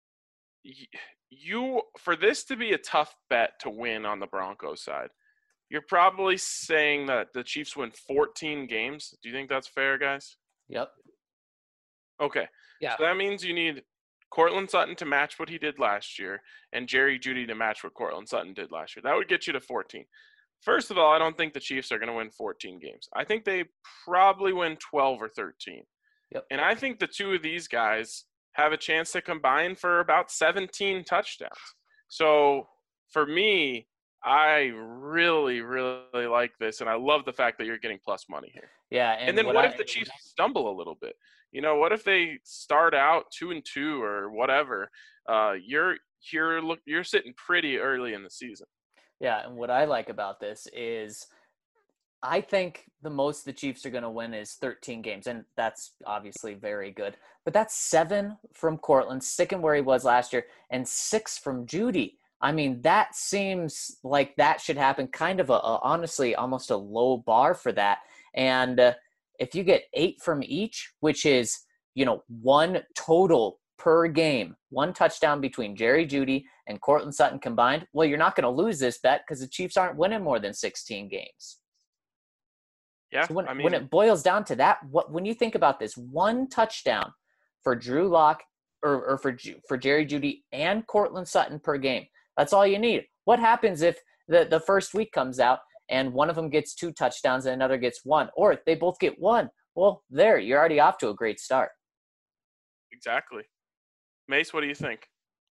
you for this to be a tough bet to win on the Broncos side, you're probably saying that the Chiefs win fourteen games. Do you think that's fair, guys? Yep. Okay. Yeah. So that means you need Courtland Sutton to match what he did last year and Jerry Jeudy to match what Courtland Sutton did last year. That would get you to fourteen. First of all, I don't think the Chiefs are going to win fourteen games. I think they probably win twelve or thirteen. Yep. And I think the two of these guys have a chance to combine for about seventeen touchdowns. So for me, I really, really like this, and I love the fact that you're getting plus money here. Yeah. And, And, then what I, if the Chiefs stumble a little bit? You know, what if they start out two and two or whatever? Uh, you're you're look you're sitting pretty early in the season. Yeah, and what I like about this is I think the most the Chiefs are going to win is thirteen games, and that's obviously very good. But that's seven from Courtland, sticking where he was last year, and six from Jeudy. I mean, that seems like that should happen. Kind of a, a honestly, almost a low bar for that. And uh, if you get eight from each, which is, you know, one total per game, one touchdown between Jerry Jeudy and Courtland Sutton combined, well, you're not going to lose this bet because the Chiefs aren't winning more than sixteen games. Yeah, So when, I mean, when it boils down to that, what when you think about this, one touchdown for Drew Lock or, or for for Jerry Jeudy and Courtland Sutton per game, that's all you need. What happens if the, the first week comes out and one of them gets two touchdowns and another gets one, or if they both get one? Well, there, you're already off to a great start. exactly. Mace, what do you think?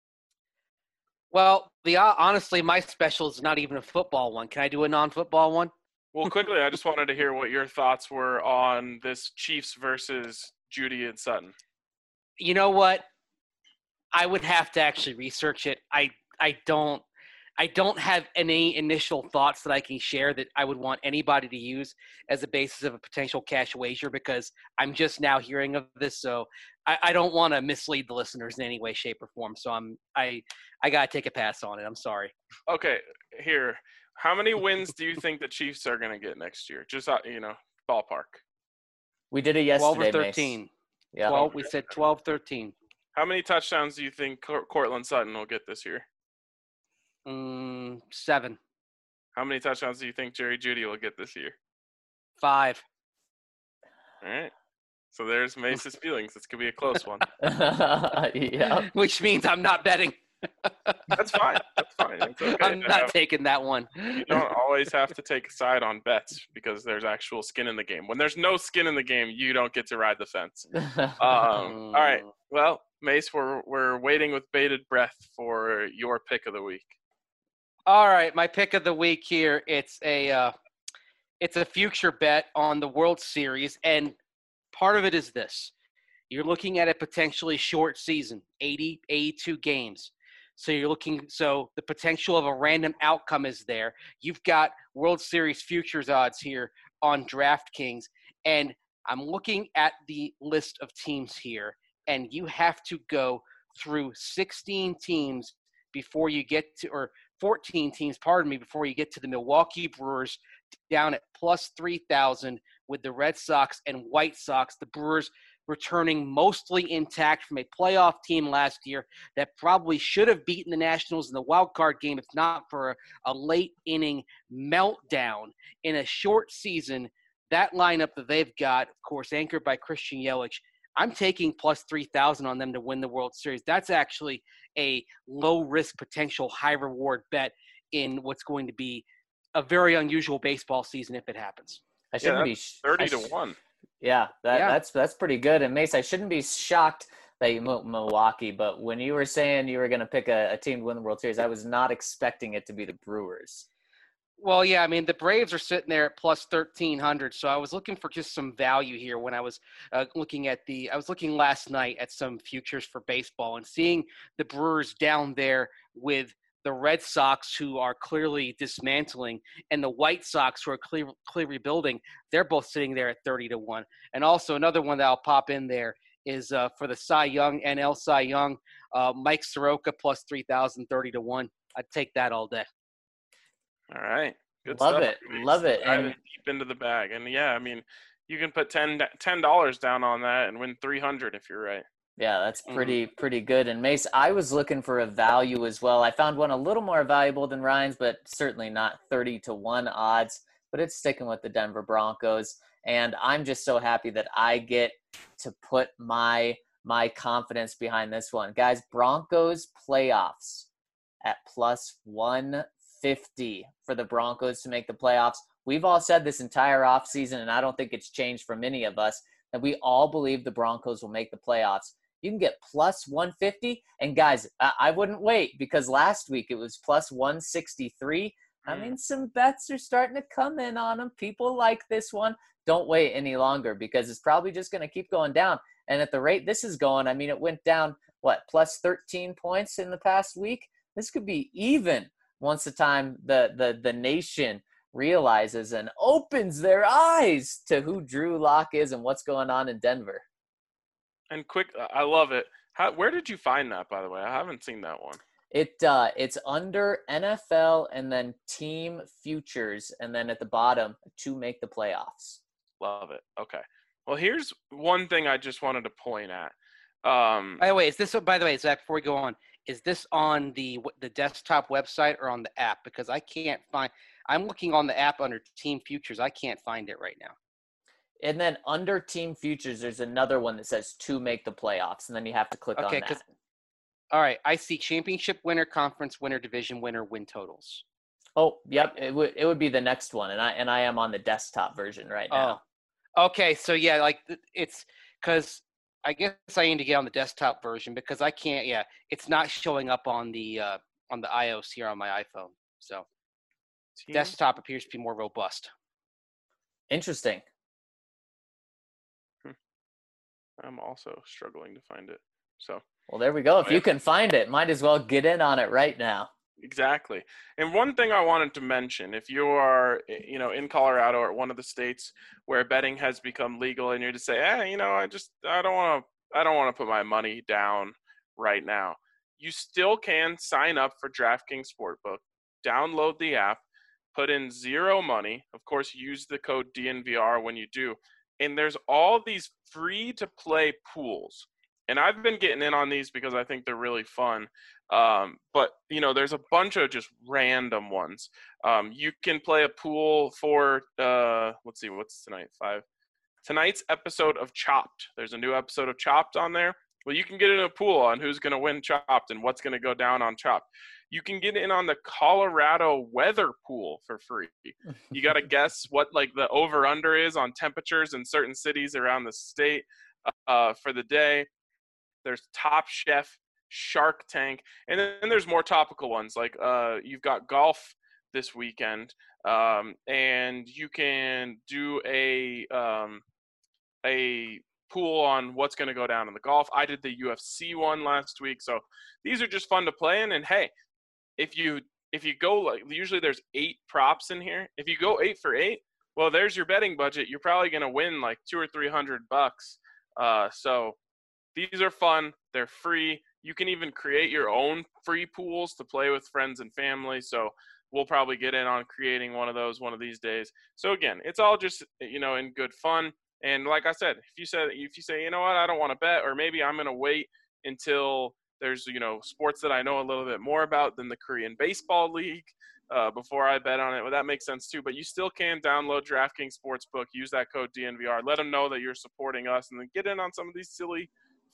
Well, the uh, honestly, my special is not even a football one. Can I do a non-football one? Well, quickly, I just wanted to hear what your thoughts were on this Chiefs versus Jeudy and Sutton. You know what? I would have to actually research it. I I don't I don't have any initial thoughts that I can share that I would want anybody to use as a basis of a potential cash wager because I'm just now hearing of this. So I, I don't want to mislead the listeners in any way, shape, or form. So I'm I I gotta take a pass on it. I'm sorry. Okay, here. How many wins do you think the Chiefs are going to get next year? Just, uh, you know, ballpark. We did it twelve yesterday, or Mace. thirteen. Yeah. twelve, we said twelve, thirteen. How many touchdowns do you think Cor- Courtland Sutton will get this year? Mm, seven. How many touchdowns do you think Jerry Jeudy will get this year? Five. All right. So there's Mace's feelings. This could be a close one. Yeah. Which means I'm not betting. That's fine. That's fine. It's okay. I'm to not have- taking that one. You don't always have to take a side on bets because there's actual skin in the game. When there's no skin in the game, you don't get to ride the fence. Um, all right. Well, Mace, we're we're waiting with bated breath for your pick of the week. All right, my pick of the week here. It's a uh, it's a future bet on the World Series, and part of it is this: you're looking at a potentially short season, eighty, eighty-two games. So you're looking. So the potential of a random outcome is there. You've got World Series futures odds here on DraftKings, and I'm looking at the list of teams here, and you have to go through sixteen teams before you get to, or fourteen teams, pardon me, before you get to the Milwaukee Brewers down at plus three thousand with the Red Sox and White Sox. The Brewers returning mostly intact from a playoff team last year that probably should have beaten the Nationals in the wild card game if not for a, a late inning meltdown in a short season. That lineup that they've got, of course, anchored by Christian Yelich, I'm taking plus three thousand on them to win the World Series. That's actually a low risk potential high reward bet in what's going to be a very unusual baseball season if it happens. I Yeah, shouldn't be that's sh- thirty I to sh- one. Yeah, that Yeah. that's that's pretty good. And Mace, I shouldn't be shocked that you moved Milwaukee, but when you were saying you were going to pick a, a team to win the World Series, I was not expecting it to be the Brewers. Well, yeah, I mean, the Braves are sitting there at plus thirteen hundred, so I was looking for just some value here when I was uh, looking at the – I was looking last night at some futures for baseball and seeing the Brewers down there with the Red Sox, who are clearly dismantling, and the White Sox, who are clear, clearly rebuilding. They're both sitting there at thirty to one. And also another one that I'll pop in there is uh, for the Cy Young, N L Cy Young, uh, Mike Soroka plus three thousand, thirty to one. I'd take that all day. All right. Good Love stuff. it. Love it. Diving And deep into the bag. And yeah, I mean, you can put ten dollars down on that and win three hundred if you're right. yeah, that's Mhm. pretty pretty good. And Mace, I was looking for a value as well. I found one a little more valuable than Ryan's, but certainly not thirty to one odds. But it's sticking with the Denver Broncos, and I'm just so happy that I get to put my my confidence behind this one, guys. Broncos playoffs at plus one fifty for the Broncos to make the playoffs. We've all said this entire offseason, and I don't think it's changed for many of us, that we all believe the Broncos will make the playoffs. You can get plus one fifty. And guys, I, I wouldn't wait, because last week it was plus one sixty-three. I Mm. mean, some bets are starting to come in on them. People like this one. Don't wait any longer, because it's probably just going to keep going down. And at the rate this is going, I mean, it went down, what, plus thirteen points in the past week? This could be even once the time the, the, the nation realizes and opens their eyes to who Drew Lock is and what's going on in Denver. And quick, I love it. How, where did you find that, by the way? I haven't seen that one. It uh, it's under N F L and then team futures, and then at the bottom to make the playoffs. Love it. Okay. Well, here's one thing I just wanted to point at. Um, By the way, is this – by the way, Zach, before we go on, is this on the the desktop website or on the app? Because I can't find – I'm looking on the app under team futures. I can't find it right now. And then under team futures, there's another one that says to make the playoffs, and then you have to click Okay, on 'cause- that. All right, I see championship winner, conference winner, division winner, win totals. Oh, yep, it would it would be the next one, and I and I am on the desktop version right now. Oh, okay. So yeah, like th- it's because I guess I need to get on the desktop version because I can't. Yeah, it's not showing up on the uh, on the iOS here on my iPhone. So team- desktop appears to be more robust. Interesting. I'm also struggling to find it. So Well, there we go. If Oh, you yeah. can find it, might as well get in on it right now. exactly. And one thing I wanted to mention, if you are, you know, in Colorado or one of the states where betting has become legal, and you're to say, eh, you know, I just, I don't want to, I don't want to put my money down right now. You still can sign up for DraftKings Sportbook, download the app, put in zero money. Of course, use the code D N V R when you do. And there's all these free to play pools. And I've been getting in on these because I think they're really fun. Um, but, you know, there's a bunch of just random ones. Um, you can play a pool for, uh, let's see, what's tonight? Five. Tonight's episode of Chopped. There's a new episode of Chopped on there. Well, you can get in a pool on who's going to win Chopped and what's going to go down on Chopped. You can get in on the Colorado weather pool for free. You got to guess what like the over under is on temperatures in certain cities around the state uh, for the day. There's Top Chef, Shark Tank, and then there's more topical ones like uh, you've got golf this weekend, um, and you can do a um, a pool on what's going to go down in the golf. I did the U F C one last week, so these are just fun to play in. And hey, if you if you go like usually there's eight props in here. If you go eight for eight, well, there's your betting budget. You're probably going to win like two or three hundred bucks. Uh, so these are fun. They're free. You can even create your own free pools to play with friends and family. So we'll probably get in on creating one of those one of these days. So again, it's all just, you know, in good fun. And like I said, if you said, if you say, you know what, I don't want to bet, or maybe I'm going to wait until there's, you know, sports that I know a little bit more about than the Korean Baseball League uh, before I bet on it. Well, that makes sense too. But you still can download DraftKings Sportsbook, use that code D N V R, let them know that you're supporting us, and then get in on some of these silly,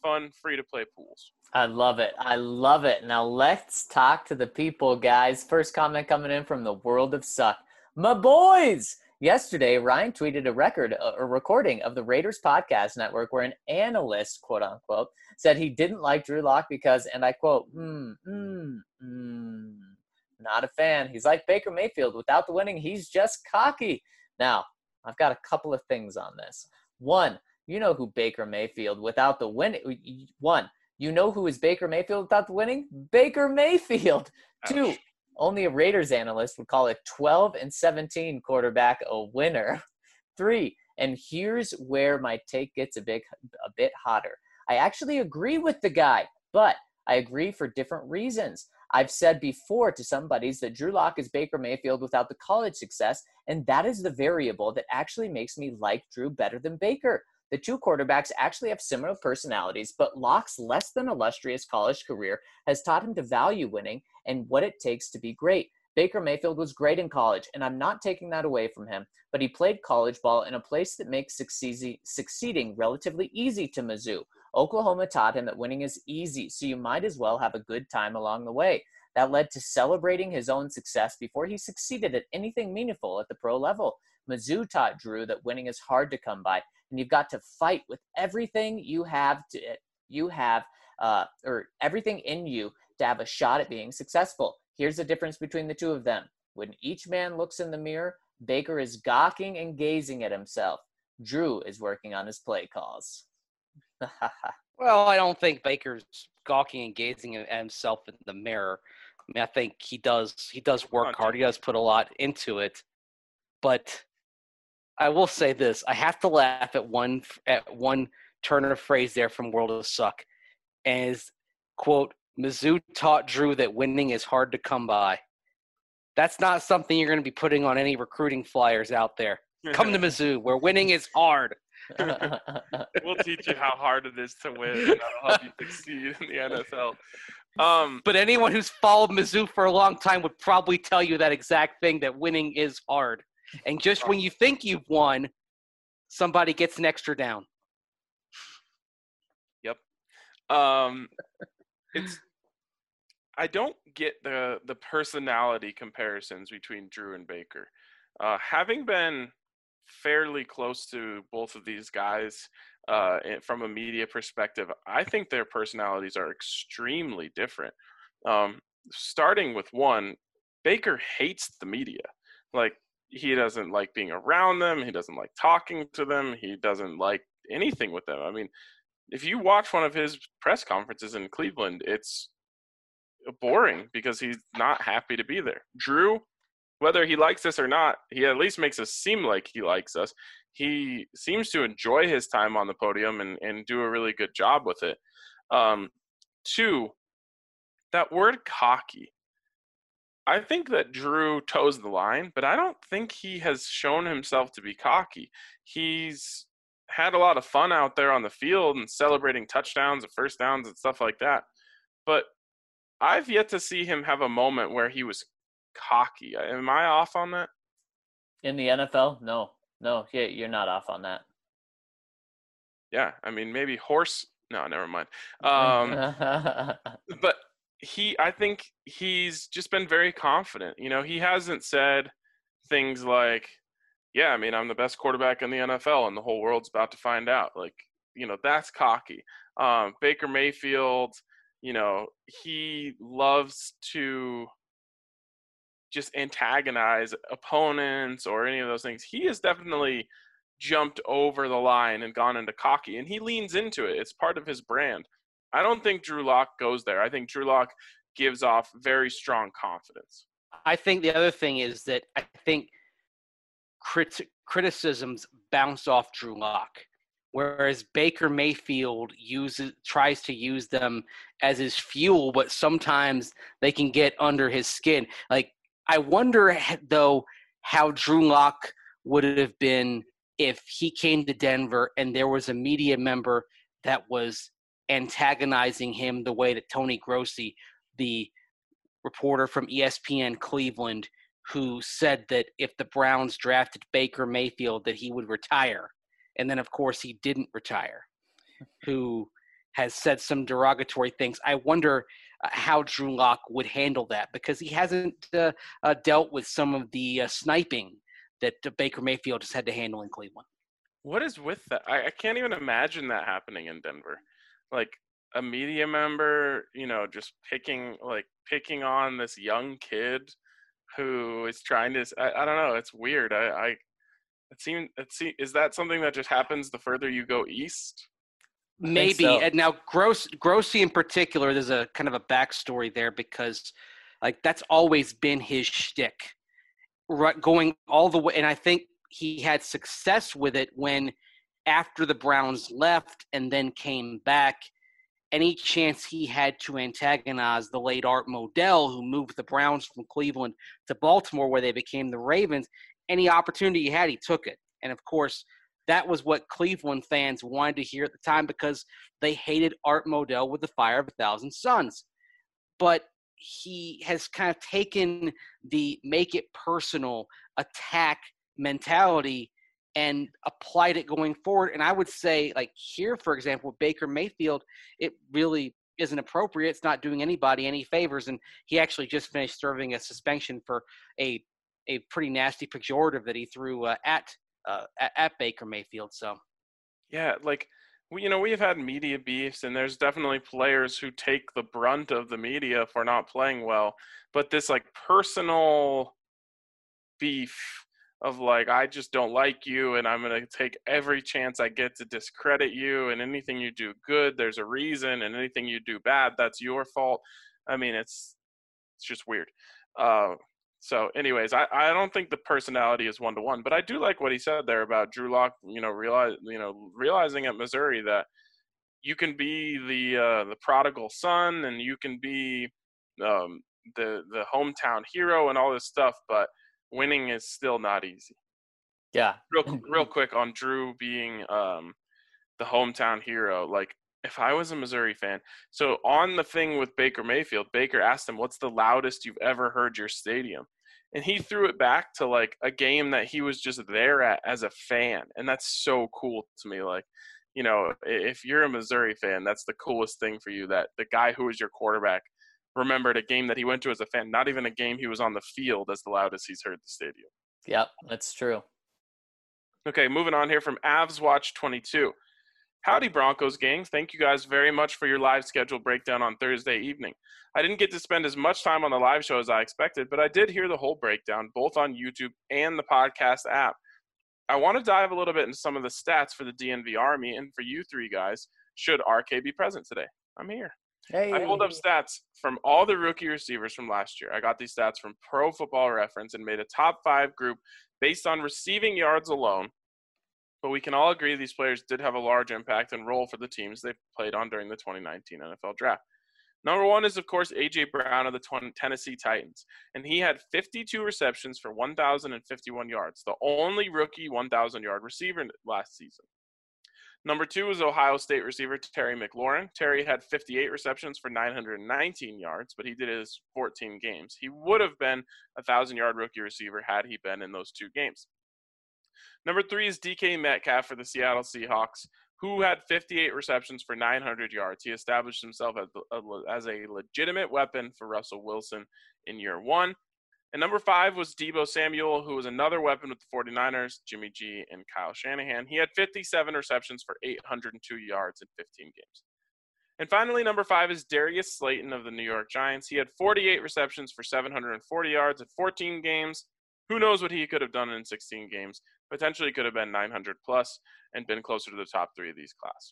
fun, free-to-play pools. I love it. I love it. Now let's talk to the people, guys. First comment coming in from the world of suck. My boys! Yesterday, Ryan tweeted a record, a recording of the Raiders Podcast Network where an analyst, quote unquote, said he didn't like Drew Lock because, and I quote, hmm, hmm, hmm, not a fan. He's like Baker Mayfield. Without the winning, he's just cocky. Now, I've got a couple of things on this. One, you know who Baker Mayfield without the winning. One, you know who is Baker Mayfield without the winning? Baker Mayfield. Ouch. Two, only a Raiders analyst would call a twelve and seventeen quarterback a winner. Three, and here's where my take gets a big, a bit hotter. I actually agree with the guy, but I agree for different reasons. I've said before to some buddies that Drew Lock is Baker Mayfield without the college success, and that is the variable that actually makes me like Drew better than Baker. The two quarterbacks actually have similar personalities, but Lock's less than illustrious college career has taught him to value winning and what it takes to be great. Baker Mayfield was great in college, and I'm not taking that away from him, but he played college ball in a place that makes succeed- succeeding relatively easy to Mizzou. Oklahoma taught him that winning is easy, so you might as well have a good time along the way. That led to celebrating his own success before he succeeded at anything meaningful at the pro level. Mizzou taught Drew that winning is hard to come by, and you've got to fight with everything you have to you have uh, or everything in you to have a shot at being successful. Here's the difference between the two of them. When each man looks in the mirror, Baker is gawking and gazing at himself. Drew is working on his play calls. Well, I don't think Baker's gawking and gazing at himself in the mirror. I mean, I think he does he does work hard. He does put a lot into it. But I will say this: I have to laugh at one at one turn of phrase there from World of Suck, as quote, Mizzou taught Drew that winning is hard to come by. That's not something you're going to be putting on any recruiting flyers out there. Come to Mizzou, where winning is hard. We'll teach you how hard it is to win, and that'll help you succeed in the N F L. Um, but anyone who's followed Mizzou for a long time would probably tell you that exact thing, that winning is hard. And just when you think you've won, somebody gets an extra down. Yep. Um, it's. I don't get the the personality comparisons between Drew and Baker. Uh, having been fairly close to both of these guys uh, from a media perspective, I think their personalities are extremely different. Um, starting with one, Baker hates the media. Like, he doesn't like being around them. He doesn't like talking to them. He doesn't like anything with them. I mean, if you watch one of his press conferences in Cleveland, it's boring because he's not happy to be there. Drew, whether he likes us or not, he at least makes us seem like he likes us. He seems to enjoy his time on the podium and, and do a really good job with it. Um, two, that word cocky. I think that Drew toes the line, but I don't think he has shown himself to be cocky. He's had a lot of fun out there on the field and celebrating touchdowns and first downs and stuff like that. But I've yet to see him have a moment where he was cocky. Am I off on that? In the N F L? No. No, yeah, you're not off on that. Yeah, I mean, maybe horse. No, never mind. Um, but he, I think he's just been very confident. You know, he hasn't said things like, yeah, I mean, I'm the best quarterback in the N F L and the whole world's about to find out. Like, you know, that's cocky. Um, Baker Mayfield, you know, he loves to just antagonize opponents or any of those things. He has definitely jumped over the line and gone into cocky, and he leans into it. It's part of his brand. I don't think Drew Lock goes there. I think Drew Lock gives off very strong confidence. I think the other thing is that I think crit- criticisms bounce off Drew Lock, whereas Baker Mayfield uses tries to use them as his fuel, but sometimes they can get under his skin. Like, I wonder, though, how Drew Lock would have been if he came to Denver and there was a media member that was antagonizing him the way that Tony Grossi, the reporter from E S P N Cleveland, who said that if the Browns drafted Baker Mayfield that he would retire. And then, of course, he didn't retire. Who has said some derogatory things. I wonder uh, how Drew Lock would handle that because he hasn't uh, uh, dealt with some of the uh, sniping that uh, Baker Mayfield has had to handle in Cleveland. What is with that? I, I can't even imagine that happening in Denver. Like a media member, you know, just picking like picking on this young kid who is trying to. I, I don't know. It's weird. I, I it seems it seems is that something that just happens the further you go east? Maybe. so. And now Gross Grossi in particular, there's a kind of a backstory there because like that's always been his shtick. Right, going all the way, and I think he had success with it when after the Browns left and then came back, any chance he had to antagonize the late Art Modell, who moved the Browns from Cleveland to Baltimore where they became the Ravens, any opportunity he had, he took it. And, of course, that was what Cleveland fans wanted to hear at the time because they hated Art Modell with the fire of a thousand suns. But he has kind of taken the make it personal attack mentality and applied it going forward. And I would say, like here, for example, with Baker Mayfield, it really isn't appropriate. It's not doing anybody any favors. And he actually just finished serving a suspension for a a pretty nasty pejorative that he threw uh, at, uh, at at Baker Mayfield. So, yeah, like we, you know, we have had media beefs, and there's definitely players who take the brunt of the media for not playing well. But this like personal beef of like, I just don't like you and I'm going to take every chance I get to discredit you, and anything you do good, there's a reason, and anything you do bad, that's your fault. I mean, it's it's just weird. Uh, so anyways, I, I don't think the personality is one to one, but I do like what he said there about Drew Lock, you know, realize, you know, realizing at Missouri that you can be the uh, the prodigal son and you can be um, the the hometown hero and all this stuff, but winning is still not easy. Yeah. Real, real quick on Drew being um, the hometown hero. Like, if I was a Missouri fan, so on the thing with Baker Mayfield, Baker asked him, what's the loudest you've ever heard your stadium? And he threw it back to, like, a game that he was just there at as a fan. And that's so cool to me. Like, you know, if you're a Missouri fan, that's the coolest thing for you, that the guy who was your quarterback remembered a game that he went to as a fan, not even a game he was on the field, as the loudest he's heard the stadium. Yep, that's true. Okay, moving on here from Avs Watch twenty-two. Howdy, Broncos gang. Thank you guys very much for your live schedule breakdown on Thursday evening. I didn't get to spend as much time on the live show as I expected, but I did hear the whole breakdown, both on YouTube and the podcast app. I want to dive a little bit into some of the stats for the D N V Army and for you three guys, should R K be present today. I'm here. Hey. I pulled up stats from all the rookie receivers from last year. I got these stats from Pro Football Reference and made a top five group based on receiving yards alone. But we can all agree these players did have a large impact and role for the teams they played on during the twenty nineteen N F L Draft. Number one is, of course, A J. Brown of the Tennessee Titans. And he had fifty-two receptions for one thousand fifty-one yards, the only rookie one thousand-yard receiver last season. Number two is Ohio State receiver Terry McLaurin. Terry had fifty-eight receptions for nine hundred nineteen yards, but he did his fourteen games. He would have been a one thousand-yard rookie receiver had he been in those two games. Number three is D K Metcalf for the Seattle Seahawks, who had fifty-eight receptions for nine hundred yards. He established himself as a, as a legitimate weapon for Russell Wilson in year one. And number five was Deebo Samuel, who was another weapon with the forty-niners, Jimmy G and Kyle Shanahan. He had fifty-seven receptions for eight hundred two yards in fifteen games. And finally, number five is Darius Slayton of the New York Giants. He had forty-eight receptions for seven hundred forty yards in fourteen games. Who knows what he could have done in sixteen games? Potentially could have been nine hundred plus and been closer to the top three of these class.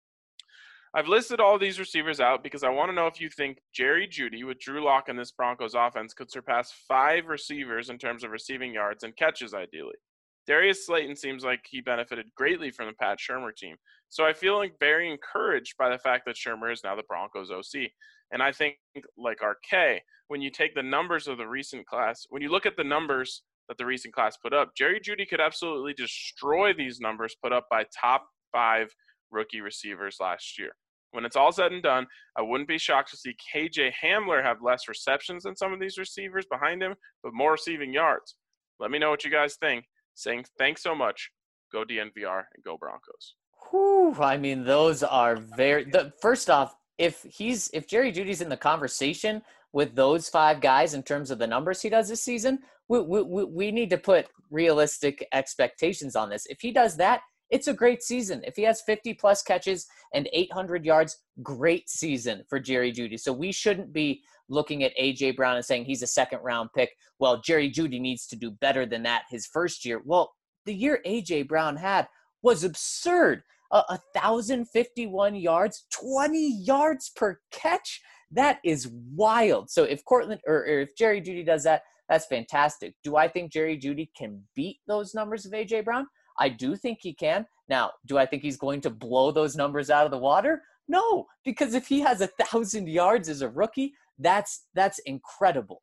I've listed all these receivers out because I want to know if you think Jerry Jeudy with Drew Lock in this Broncos offense could surpass five receivers in terms of receiving yards and catches ideally. Darius Slayton seems like he benefited greatly from the Pat Shurmur team. So I feel like very encouraged by the fact that Shurmur is now the Broncos O C. And I think, like R K, when you take the numbers of the recent class, when you look at the numbers that the recent class put up, Jerry Jeudy could absolutely destroy these numbers put up by top five rookie receivers last year. When it's all said and done, I wouldn't be shocked to see K J Hamler have less receptions than some of these receivers behind him, but more receiving yards. Let me know what you guys think. Saying thanks so much. Go D N V R and go Broncos. Whew, I mean, those are very. The first off, if he's if Jerry Judy's in the conversation with those five guys in terms of the numbers he does this season, we we we we need to put realistic expectations on this. If he does that, it's a great season. If he has fifty plus catches and eight hundred yards, great season for Jerry Jeudy. So we shouldn't be looking at A J Brown and saying he's a second round pick. Well, Jerry Jeudy needs to do better than that his first year. Well, the year A J Brown had was absurd. Uh, one thousand fifty-one yards, twenty yards per catch. That is wild. So if Cortland or, or if Jerry Jeudy does that, that's fantastic. Do I think Jerry Jeudy can beat those numbers of A J Brown? I do think he can. Now, do I think he's going to blow those numbers out of the water? No, because if he has a thousand yards as a rookie, that's that's incredible.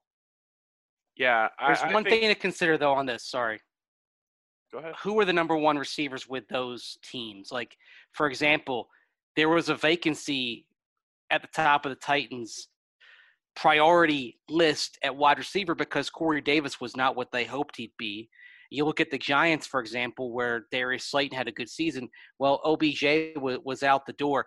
Yeah, I, There's I one think, thing to consider though on this. Sorry. Go ahead. Who are the number one receivers with those teams? Like, for example, there was a vacancy at the top of the Titans priority list at wide receiver because Corey Davis was not what they hoped he'd be. You look at the Giants, for example, where Darius Slayton had a good season. Well, O B J w- was out the door.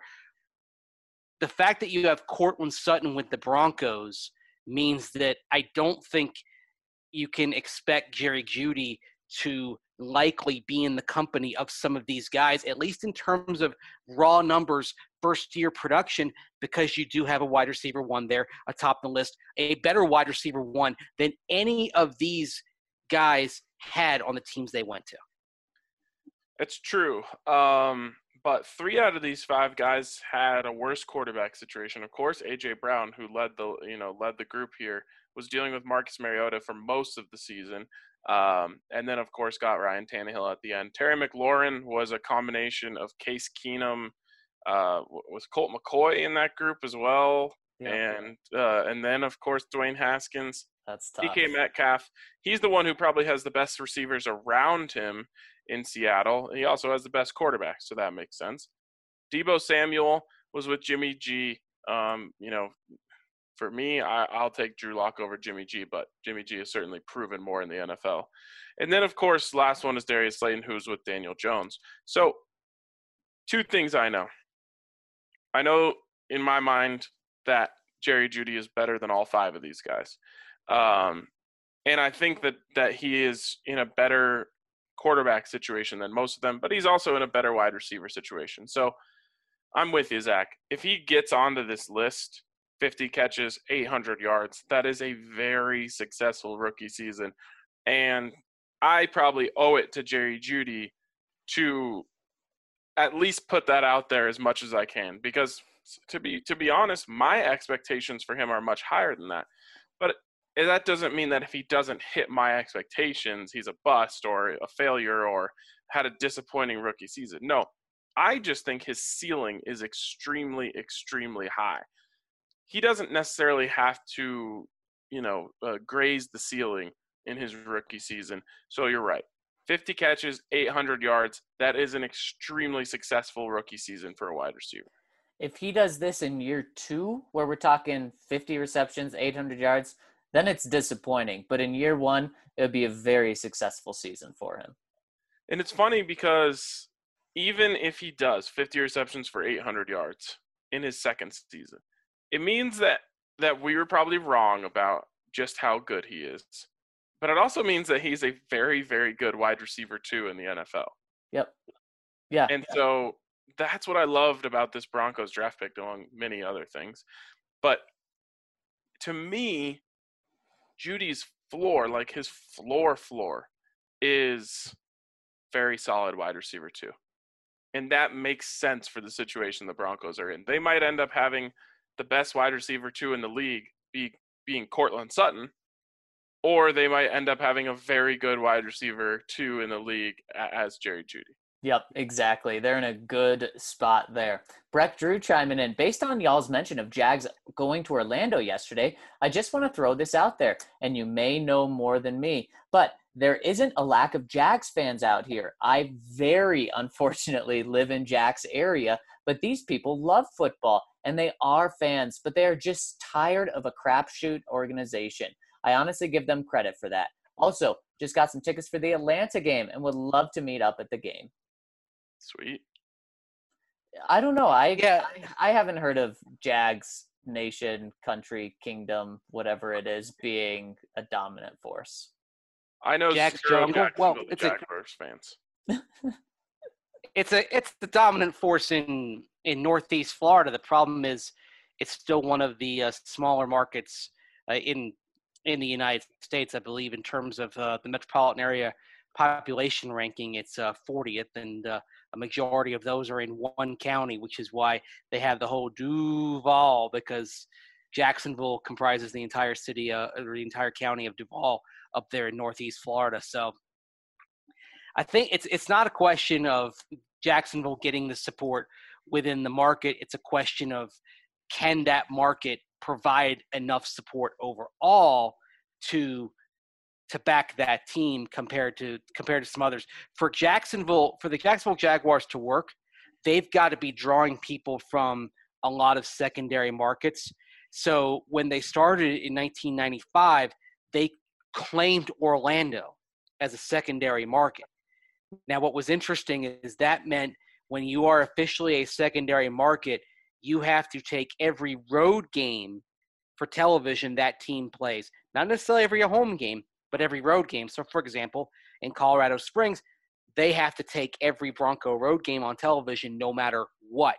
The fact that you have Cortland Sutton with the Broncos means that I don't think you can expect Jerry Jeudy to likely be in the company of some of these guys, at least in terms of raw numbers, first-year production, because you do have a wide receiver one there atop the list, a better wide receiver one than any of these guys had on the teams they went to. It's true. Um, but three out of these five guys had a worse quarterback situation. Of course, A J Brown, who led the you know led the group here, was dealing with Marcus Mariota for most of the season. Um, and then, of course, got Ryan Tannehill at the end. Terry McLaurin was a combination of Case Keenum, uh, was Colt McCoy in that group as well. Yeah. And uh, and then, of course, Dwayne Haskins, That's D tough. K Metcalf. He's the one who probably has the best receivers around him in Seattle. He also has the best quarterback, so that makes sense. Deebo Samuel was with Jimmy G. Um, you know, for me, I, I'll take Drew Lock over Jimmy G, but Jimmy G has certainly proven more in the N F L. And then, of course, last one is Darius Slayton, who's with Daniel Jones. So two things I know. I know in my mind that Jerry Jeudy is better than all five of these guys. Um, and I think that, that he is in a better quarterback situation than most of them, but he's also in a better wide receiver situation. So I'm with you, Zach. If he gets onto this list, fifty catches, eight hundred yards, that is a very successful rookie season. And I probably owe it to Jerry Jeudy to at least put that out there as much as I can, because to be to be honest, my expectations for him are much higher than that. But that doesn't mean that if he doesn't hit my expectations, he's a bust or a failure or had a disappointing rookie season. No, I just think his ceiling is extremely, extremely high. He doesn't necessarily have to, you know, uh, graze the ceiling in his rookie season. So you're right. fifty catches, eight hundred yards. That is an extremely successful rookie season for a wide receiver. If he does this in year two, where we're talking fifty receptions, eight hundred yards, then it's disappointing. But in year one, it would be a very successful season for him. And it's funny because even if he does fifty receptions for eight hundred yards in his second season, it means that, that we were probably wrong about just how good he is. But it also means that he's a very, very good wide receiver too in the N F L. Yep. Yeah. And so that's what I loved about this Broncos draft pick, among many other things. But to me, Judy's floor, like his floor floor, is very solid wide receiver too. And that makes sense for the situation the Broncos are in. They might end up having the best wide receiver two in the league be being Cortland Sutton, or they might end up having a very good wide receiver two in the league as Jerry Jeudy. Yep, exactly. They're in a good spot there. Breck Drew chiming in. Based on y'all's mention of Jags going to Orlando yesterday, I just want to throw this out there, and you may know more than me, but there isn't a lack of Jags fans out here. I very unfortunately live in Jags area, but these people love football, and they are fans, but they are just tired of a crapshoot organization. I honestly give them credit for that. Also, just got some tickets for the Atlanta game and would love to meet up at the game. Sweet. I don't know. I Yeah. I, I haven't heard of Jags nation, country, kingdom, whatever it is, being a dominant force. I know Jack's zero Jungle? Well, Jacksonville it's a- Jaguars fans. It's a it's the dominant force in in Northeast Florida. The problem is, it's still one of the uh, smaller markets uh, in in the United States. I believe in terms of uh, the metropolitan area population ranking, it's uh, fortieth, and uh, a majority of those are in one county, which is why they have the whole Duval, because Jacksonville comprises the entire city uh, or the entire county of Duval up there in Northeast Florida. So I think it's it's not a question of Jacksonville getting the support within the market. It's a question of, can that market provide enough support overall to to back that team compared to compared to some others. For Jacksonville, for the Jacksonville Jaguars to work, they've got to be drawing people from a lot of secondary markets. So when they started in nineteen ninety-five, they claimed Orlando as a secondary market. Now, what was interesting is that meant when you are officially a secondary market, you have to take every road game for television that team plays. Not necessarily every home game, but every road game. So, for example, in Colorado Springs, they have to take every Bronco road game on television no matter what.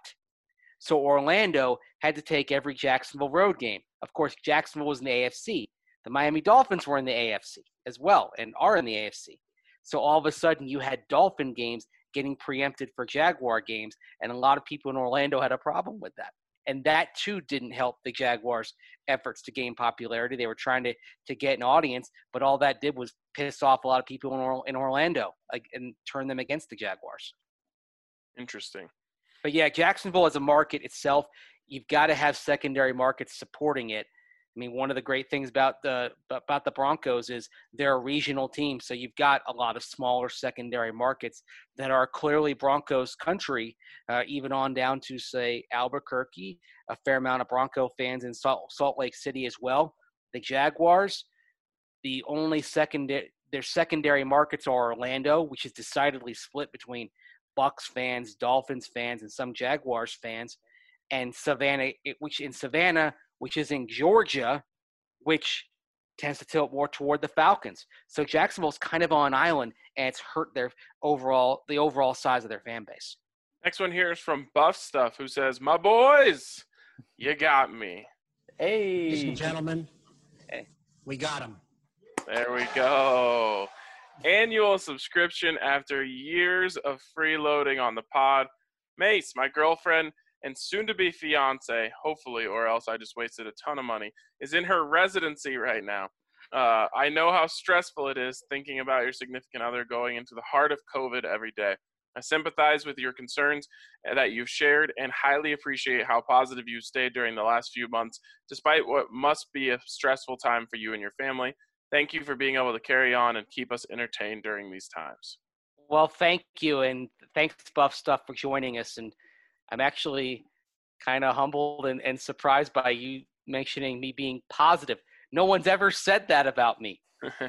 So Orlando had to take every Jacksonville road game. Of course, Jacksonville was in the A F C. The Miami Dolphins were in the A F C as well and are in the A F C. So all of a sudden you had Dolphin games getting preempted for Jaguar games, and a lot of people in Orlando had a problem with that. And that, too, didn't help the Jaguars' efforts to gain popularity. They were trying to, to get an audience, but all that did was piss off a lot of people in, or, in Orlando like, and turn them against the Jaguars. Interesting. But, yeah, Jacksonville as a market itself, you've got to have secondary markets supporting it. I mean, one of the great things about the about the Broncos is they're a regional team, so you've got a lot of smaller secondary markets that are clearly Broncos country, uh, even on down to, say, Albuquerque, a fair amount of Bronco fans in Salt, Salt Lake City as well. The Jaguars, the only secondary their secondary markets are Orlando, which is decidedly split between Bucs fans, Dolphins fans, and some Jaguars fans, and Savannah, which in Savannah, which is in Georgia, which tends to tilt more toward the Falcons. So Jacksonville's kind of on an island, and it's hurt their overall the overall size of their fan base. Next one here is from Buff Stuff, who says, "My boys, you got me." Hey, Ladies and gentlemen, Hey. we got him. There we go. Annual subscription after years of freeloading on the pod. Mace, my girlfriend and soon-to-be fiance, hopefully, or else I just wasted a ton of money, is in her residency right now. Uh, I know how stressful it is thinking about your significant other going into the heart of COVID every day. I sympathize with your concerns that you've shared and highly appreciate how positive you stayed during the last few months, despite what must be a stressful time for you and your family. Thank you for being able to carry on and keep us entertained during these times. Well, thank you, and thanks, Buff Stuff, for joining us. And I'm actually kind of humbled and, and surprised by you mentioning me being positive. No one's ever said that about me.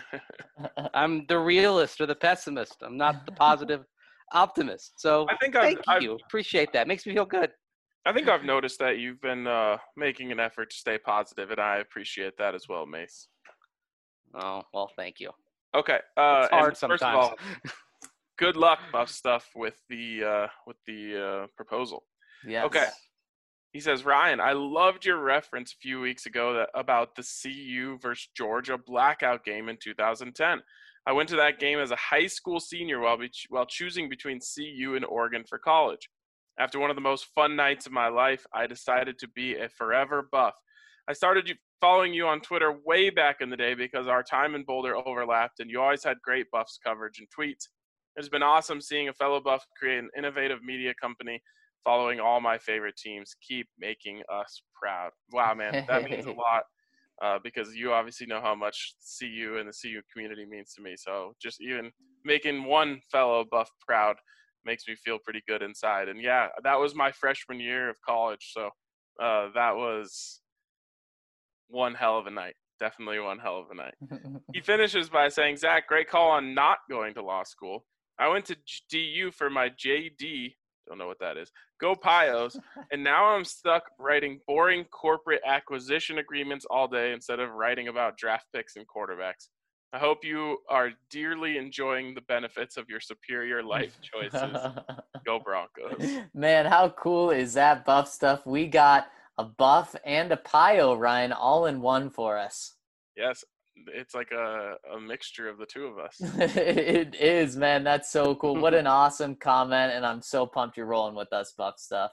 I'm the realist or the pessimist. I'm not the positive optimist. So I think I've, thank I've, you. Appreciate that. Makes me feel good. I think I've noticed that you've been uh, making an effort to stay positive, and I appreciate that as well, Mace. Oh, well, thank you. Okay. Uh, It's hard and sometimes. First of all, good luck, Buff Stuff, with the uh, with the uh, proposal. yes. Okay. He says, Ryan, I loved your reference a few weeks ago that, about the C U versus Georgia blackout game in two thousand ten. I went to that game as a high school senior while, be, while choosing between C U and Oregon for college. After one of the most fun nights of my life, I decided to be a forever Buff. I started following you on Twitter way back in the day because our time in Boulder overlapped, and you always had great Buffs coverage and tweets. It's been awesome seeing a fellow Buff create an innovative media company following all my favorite teams. Keep making us proud. Wow, man, that means a lot uh, because you obviously know how much C U and the C U community means to me. So just even making one fellow Buff proud makes me feel pretty good inside. And yeah, that was my freshman year of college. So uh, that was one hell of a night. Definitely one hell of a night. He finishes by saying, Zach, great call on not going to law school. I went to D U for my J D Don't know what that is. Go Pios. And now I'm stuck writing boring corporate acquisition agreements all day instead of writing about draft picks and quarterbacks. I hope you are dearly enjoying the benefits of your superior life choices. Go Broncos. Man, how cool is that buff stuff? We got a buff and a Pio, Ryan, all in one for us. Yes, it's like a, a mixture of the two of us. It is, man. That's so cool. What an awesome comment, and I'm so pumped you're rolling with us, buff stuff.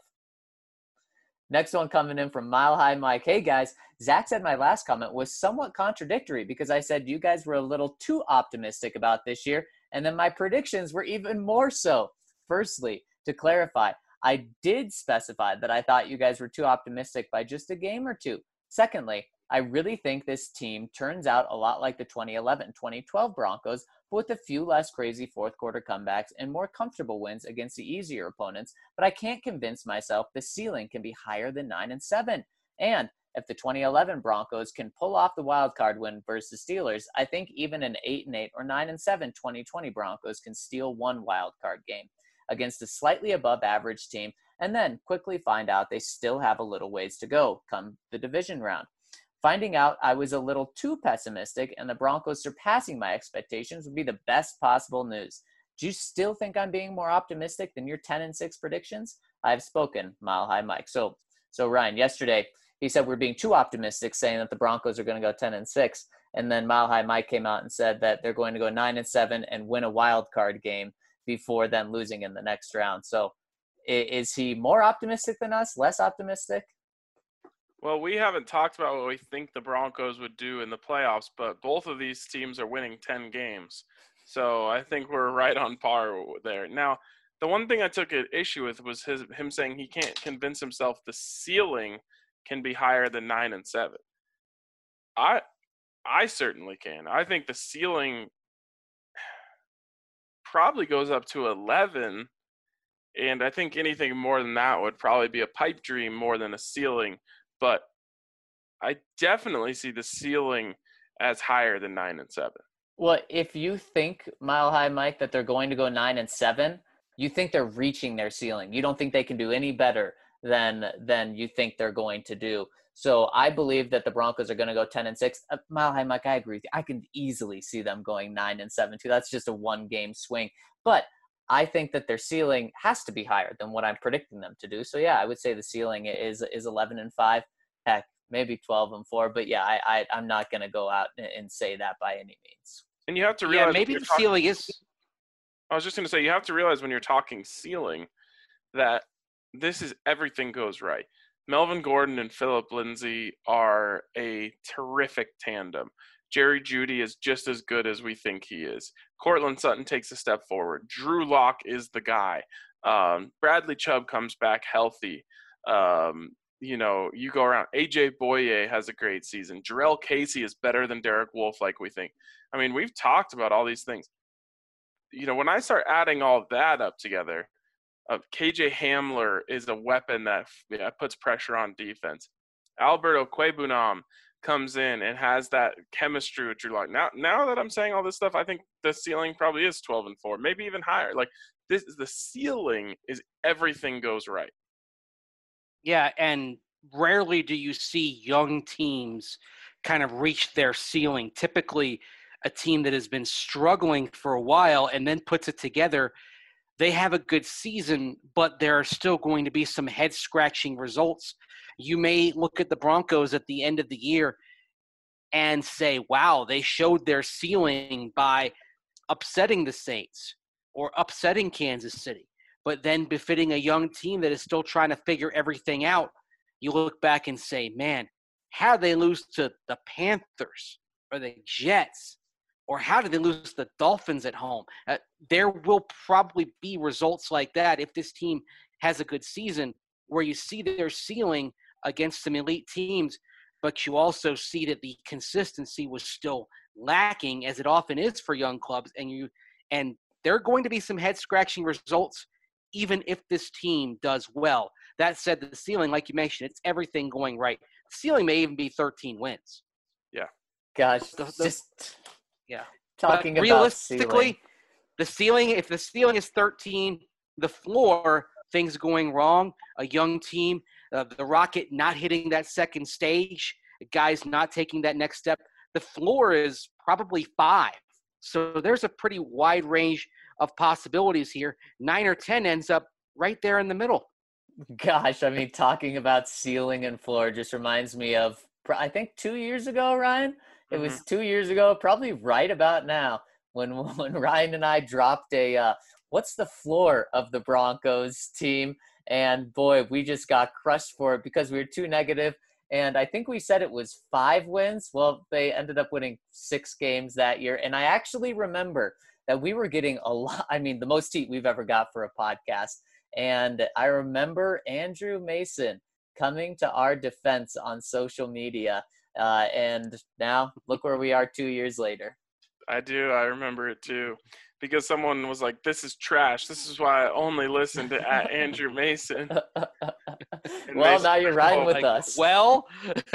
Next one coming in from Mile High Mike. Hey, guys. Zach said my last comment was somewhat contradictory because I said you guys were a little too optimistic about this year, and then my predictions were even more so. Firstly, to clarify, I did specify that I thought you guys were too optimistic by just a game or two. Secondly, I really think this team turns out a lot like the twenty eleven twenty twelve Broncos, but with a few less crazy fourth quarter comebacks and more comfortable wins against the easier opponents, but I can't convince myself the ceiling can be higher than nine and seven. And if the twenty eleven Broncos can pull off the wild card win versus Steelers, I think even an eight and eight or nine and seven twenty twenty Broncos can steal one wild card game against a slightly above average team and then quickly find out they still have a little ways to go come the division round. Finding out I was a little too pessimistic and the Broncos surpassing my expectations would be the best possible news. Do you still think I'm being more optimistic than your ten and six predictions? I've spoken, Mile High Mike. So, so Ryan, yesterday he said we're being too optimistic, saying that the Broncos are going to go ten and six, and then Mile High Mike came out and said that they're going to go nine and seven and win a wild card game before then losing in the next round. So, is he more optimistic than us? Less optimistic? Well, we haven't talked about what we think the Broncos would do in the playoffs, but both of these teams are winning ten games. So I think we're right on par there. Now, the one thing I took an issue with was his him saying he can't convince himself the ceiling can be higher than nine and seven. I I certainly can. I think the ceiling probably goes up to eleven, and I think anything more than that would probably be a pipe dream more than a ceiling. But I definitely see the ceiling as higher than nine and seven. Well, if you think, Mile High Mike, that they're going to go nine and seven, you think they're reaching their ceiling. You don't think they can do any better than than you think they're going to do. So I believe that the Broncos are going to go ten and six. Uh, Mile High Mike, I agree with you. I can easily see them going nine and seven too. That's just a one game swing. But I think that their ceiling has to be higher than what I'm predicting them to do. So yeah, I would say the ceiling is is eleven and five. Heck, maybe twelve and four. But yeah, I, I I'm not going to go out and say that by any means. And you have to realize, yeah, maybe the talking, ceiling is. I was just going to say, you have to realize when you're talking ceiling that this is everything goes right. Melvin Gordon and Phillip Lindsay are a terrific tandem. Jerry Jeudy is just as good as we think he is. Cortland Sutton takes a step forward. Drew Lock is the guy. Um, Bradley Chubb comes back healthy. Um, you know, you go around. A J Boye has a great season. Jarrell Casey is better than Derek Wolfe, like we think. I mean, we've talked about all these things. You know, when I start adding all of that up together, uh, K J Hamler is a weapon that yeah, puts pressure on defense. Alberto Quebunam comes in and has that chemistry with Drew Lock. Now, now that I'm saying all this stuff, I think the ceiling probably is twelve and four, maybe even higher. Like this, the ceiling is everything goes right. Yeah, and rarely do you see young teams kind of reach their ceiling. Typically, a team that has been struggling for a while and then puts it together, they have a good season, but there are still going to be some head-scratching results. You may look at the Broncos at the end of the year and say, wow, they showed their ceiling by upsetting the Saints or upsetting Kansas City. But then befitting a young team that is still trying to figure everything out, you look back and say, man, how did they lose to the Panthers or the Jets? Or how did they lose to the Dolphins at home? Uh, there will probably be results like that if this team has a good season where you see their ceiling against some elite teams, but you also see that the consistency was still lacking, as it often is for young clubs. And you and there are going to be some head-scratching results even if this team does well. That said, the ceiling, like you mentioned, it's everything going right. The ceiling may even be thirteen wins. Yeah. Gosh, The- the- just Yeah. talking But about realistically, ceiling. the ceiling, if the ceiling is thirteen, the floor, things going wrong, a young team, uh, the Rocket not hitting that second stage, guys not taking that next step. The floor is probably five. So there's a pretty wide range of possibilities here. Nine or ten ends up right there in the middle. Gosh, I mean, talking about ceiling and floor just reminds me of, I think, two years ago, Ryan. It was two years ago, probably right about now, when when Ryan and I dropped a, uh, what's the floor of the Broncos team? And boy, we just got crushed for it because we were too negative. And I think we said it was five wins. Well, they ended up winning six games that year. And I actually remember that we were getting a lot, I mean, the most heat we've ever got for a podcast. And I remember Andrew Mason coming to our defense on social media. Uh, and now look where we are two years later. I do. I remember it too. Because someone was like, this is trash. This is why I only listen to at Andrew Mason. Well, Mason now you're was riding all with like, us. Well,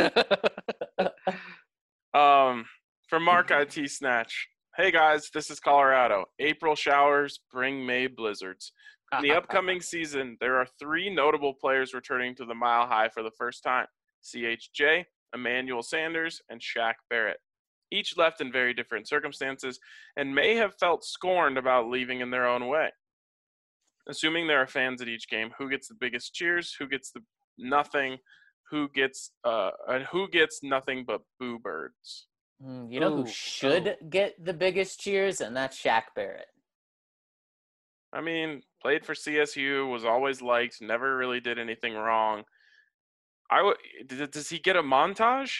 Um, from Mark I T Snatch. Hey guys, this is Colorado. April showers bring May blizzards. In the upcoming season, there are three notable players returning to the Mile High for the first time. C H J, Emmanuel Sanders, and Shaq Barrett. Each left in very different circumstances and may have felt scorned about leaving in their own way. Assuming there are fans at each game, who gets the biggest cheers, who gets the nothing, who gets uh, and who gets nothing but boo birds. Mm, You know Ooh, who should get the biggest cheers? And that's Shaq Barrett. I mean, played for C S U, was always liked, never really did anything wrong. I w- d- does he get a montage?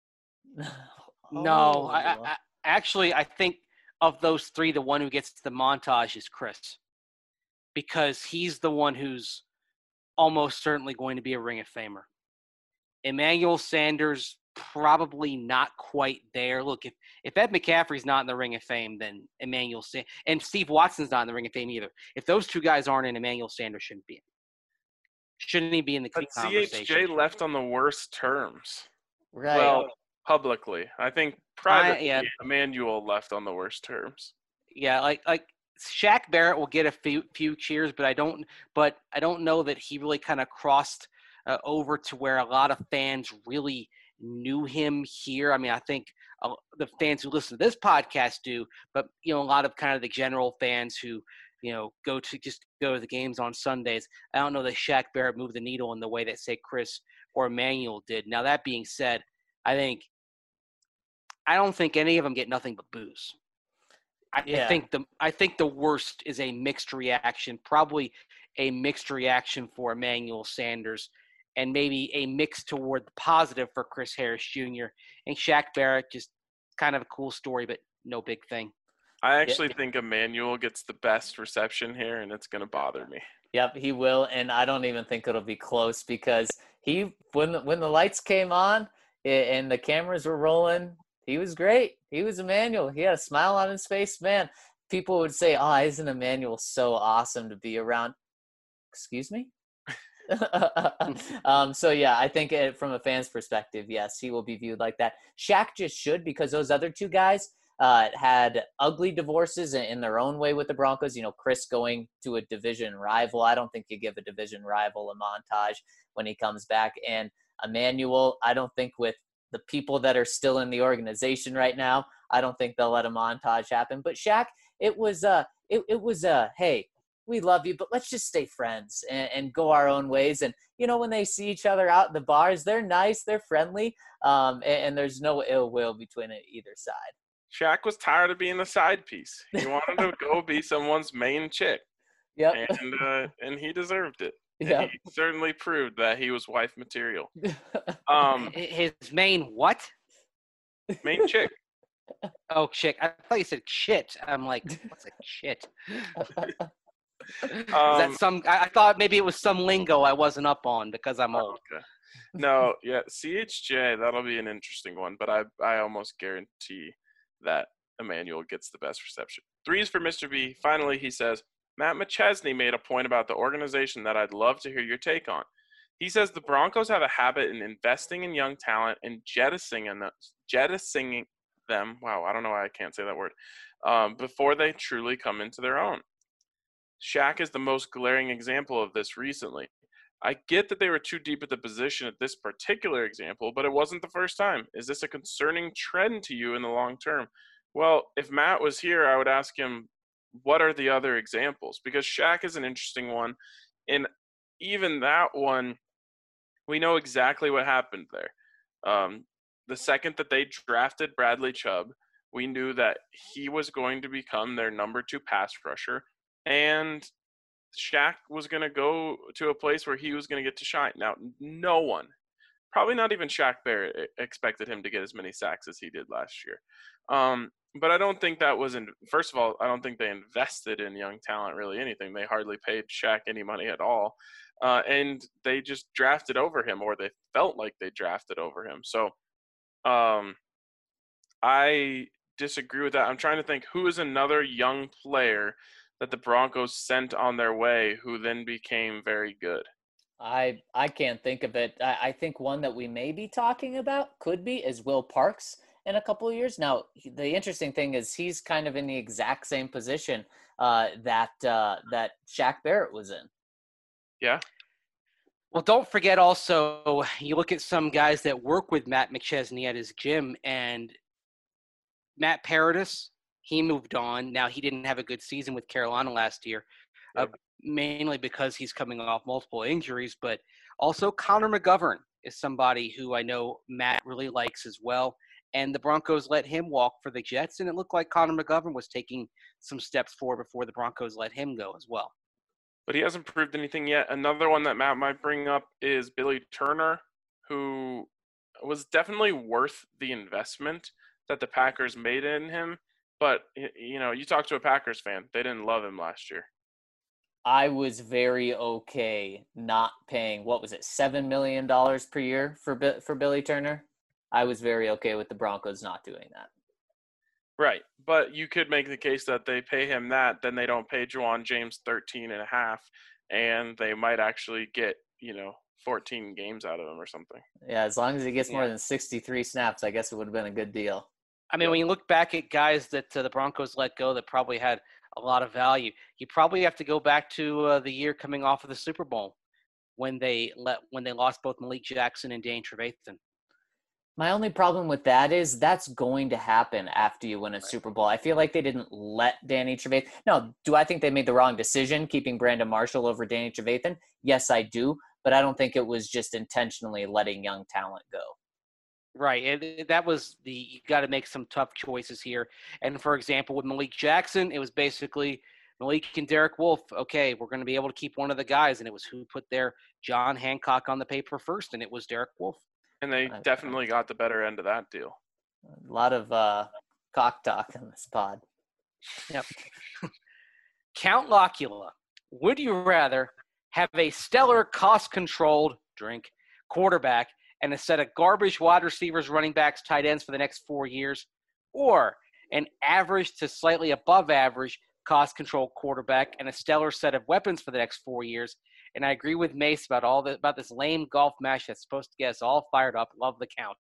no. I, I, Oh. I, actually, I think of those three, the one who gets the montage is Chris. Because he's the one who's almost certainly going to be a Ring of Famer. Emmanuel Sanders, probably not quite there. Look, if, if Ed McCaffrey's not in the Ring of Fame, then Emmanuel Sanders, and Steve Watson's not in the Ring of Fame either. If those two guys aren't in, Emmanuel Sanders shouldn't be in. Shouldn't he be in the But C conversation? H J left on the worst terms. Right. Well, publicly. I think privately, yeah. Emmanuel left on the worst terms. Yeah, like like Shaq Barrett will get a few few cheers, but I don't but I don't know that he really kind of crossed uh, over to where a lot of fans really knew him here. I mean, I think uh, the fans who listen to this podcast do, but you know, a lot of kind of the general fans who you know go to just go to the games on Sundays. I don't know that Shaq Barrett moved the needle in the way that say Chris or Emmanuel did. Now that being said, I think I don't think any of them get nothing but boos. I Yeah. think the I think the worst is a mixed reaction, probably a mixed reaction for Emmanuel Sanders, and maybe a mix toward the positive for Chris Harris Junior And Shaq Barrett, just kind of a cool story, but no big thing. I actually think Emmanuel gets the best reception here, and it's going to bother me. Yep, he will, and I don't even think it'll be close because he when the, when the lights came on a- and the cameras were rolling, he was great. He was Emmanuel. He had a smile on his face, man. People would say, "Oh, isn't Emmanuel so awesome to be around?" Excuse me. um, so yeah, I think it, from a fan's perspective, yes, he will be viewed like that. Shaq just should because those other two guys uh, had ugly divorces in, in their own way with the Broncos. You know, Chris going to a division rival. I don't think you give a division rival a montage when he comes back. And Emmanuel, I don't think with the people that are still in the organization right now, I don't think they'll let a montage happen. But Shaq, it was uh, it, it was uh, hey, we love you, but let's just stay friends and, and go our own ways. And, you know, when they see each other out in the bars, they're nice, they're friendly, um, and, and there's no ill will between it, either side. Shaq was tired of being a side piece. He wanted to go be someone's main chick, Yep. and uh, and he deserved it. And Yep. He certainly proved that he was wife material. Um, His main what? main chick. Oh, shit. I thought you said shit. I'm like, what's a shit? Is Um, that some? I, I thought maybe it was some lingo I wasn't up on because I'm oh, old. okay. No, yeah, C H J, that'll be an interesting one, but I I almost guarantee that Emmanuel gets the best reception. Threes for Mister B. Finally, he says, Matt McChesney made a point about the organization that I'd love to hear your take on. He says the Broncos have a habit in investing in young talent and jettisoning them, jettisoning them. Wow, I don't know why I can't say that word. Um, before they truly come into their own. Shaq is the most glaring example of this recently. I get that they were too deep at the position at this particular example, but it wasn't the first time. Is this a concerning trend to you in the long term? Well, if Matt was here, I would ask him, what are the other examples? Because Shaq is an interesting one. And even that one, we know exactly what happened there. Um, the second that they drafted Bradley Chubb, we knew that he was going to become their number two pass rusher. And Shaq was going to go to a place where he was going to get to shine. Now, no one, probably not even Shaq Barrett, expected him to get as many sacks as he did last year. Um, but I don't think that was in. First of all, I don't think they invested in young talent really anything. They hardly paid Shaq any money at all, uh, and they just drafted over him, or they felt like they drafted over him. So, um, I disagree with that. I'm trying to think who is another young player that the Broncos sent on their way who then became very good. I I can't think of it. I, I think one that we may be talking about could be is Will Parks in a couple of years. Now, the interesting thing is he's kind of in the exact same position uh, that uh, that Shaq Barrett was in. Yeah. Well, don't forget also, you look at some guys that work with Matt McChesney at his gym, and Matt Paradis, he moved on. Now, he didn't have a good season with Carolina last year, yeah. uh, mainly because he's coming off multiple injuries, but also Connor McGovern is somebody who I know Matt really likes as well. And the Broncos let him walk for the Jets, and it looked like Connor McGovern was taking some steps forward before the Broncos let him go as well. But he hasn't proved anything yet. Another one that Matt might bring up is Billy Turner, who was definitely worth the investment that the Packers made in him. But, you know, you talk to a Packers fan, they didn't love him last year. I was very okay not paying, what was it, seven million dollars per year for for Billy Turner? I was very okay with the Broncos not doing that. Right. But you could make the case that they pay him that, then they don't pay Juwan James thirteen and a half, and they might actually get, you know, fourteen games out of him or something. Yeah, as long as he gets yeah. more than sixty-three snaps, I guess it would have been a good deal. I mean, yeah. when you look back at guys that uh, the Broncos let go that probably had a lot of value, you probably have to go back to uh, the year coming off of the Super Bowl when they let when they lost both Malik Jackson and Dane Trevathan. My only problem with that is that's going to happen after you win a right. Super Bowl. I feel like they didn't let Danny Trevathan. No, do I think they made the wrong decision keeping Brandon Marshall over Danny Trevathan? Yes, I do. But I don't think it was just intentionally letting young talent go. Right. And that was the, you got to make some tough choices here. And for example, with Malik Jackson, it was basically Malik and Derek Wolfe. Okay, we're going to be able to keep one of the guys. And it was who put their John Hancock on the paper first. And it was Derek Wolfe. And they definitely got the better end of that deal. A lot of uh, cock talk in this pod. Yep. Count Locula, would you rather have a stellar cost-controlled drink quarterback and a set of garbage wide receivers, running backs, tight ends for the next four years, or an average to slightly above average cost-controlled quarterback and a stellar set of weapons for the next four years? And I agree with Mace about all the, about this lame golf match that's supposed to get us all fired up. Love the count.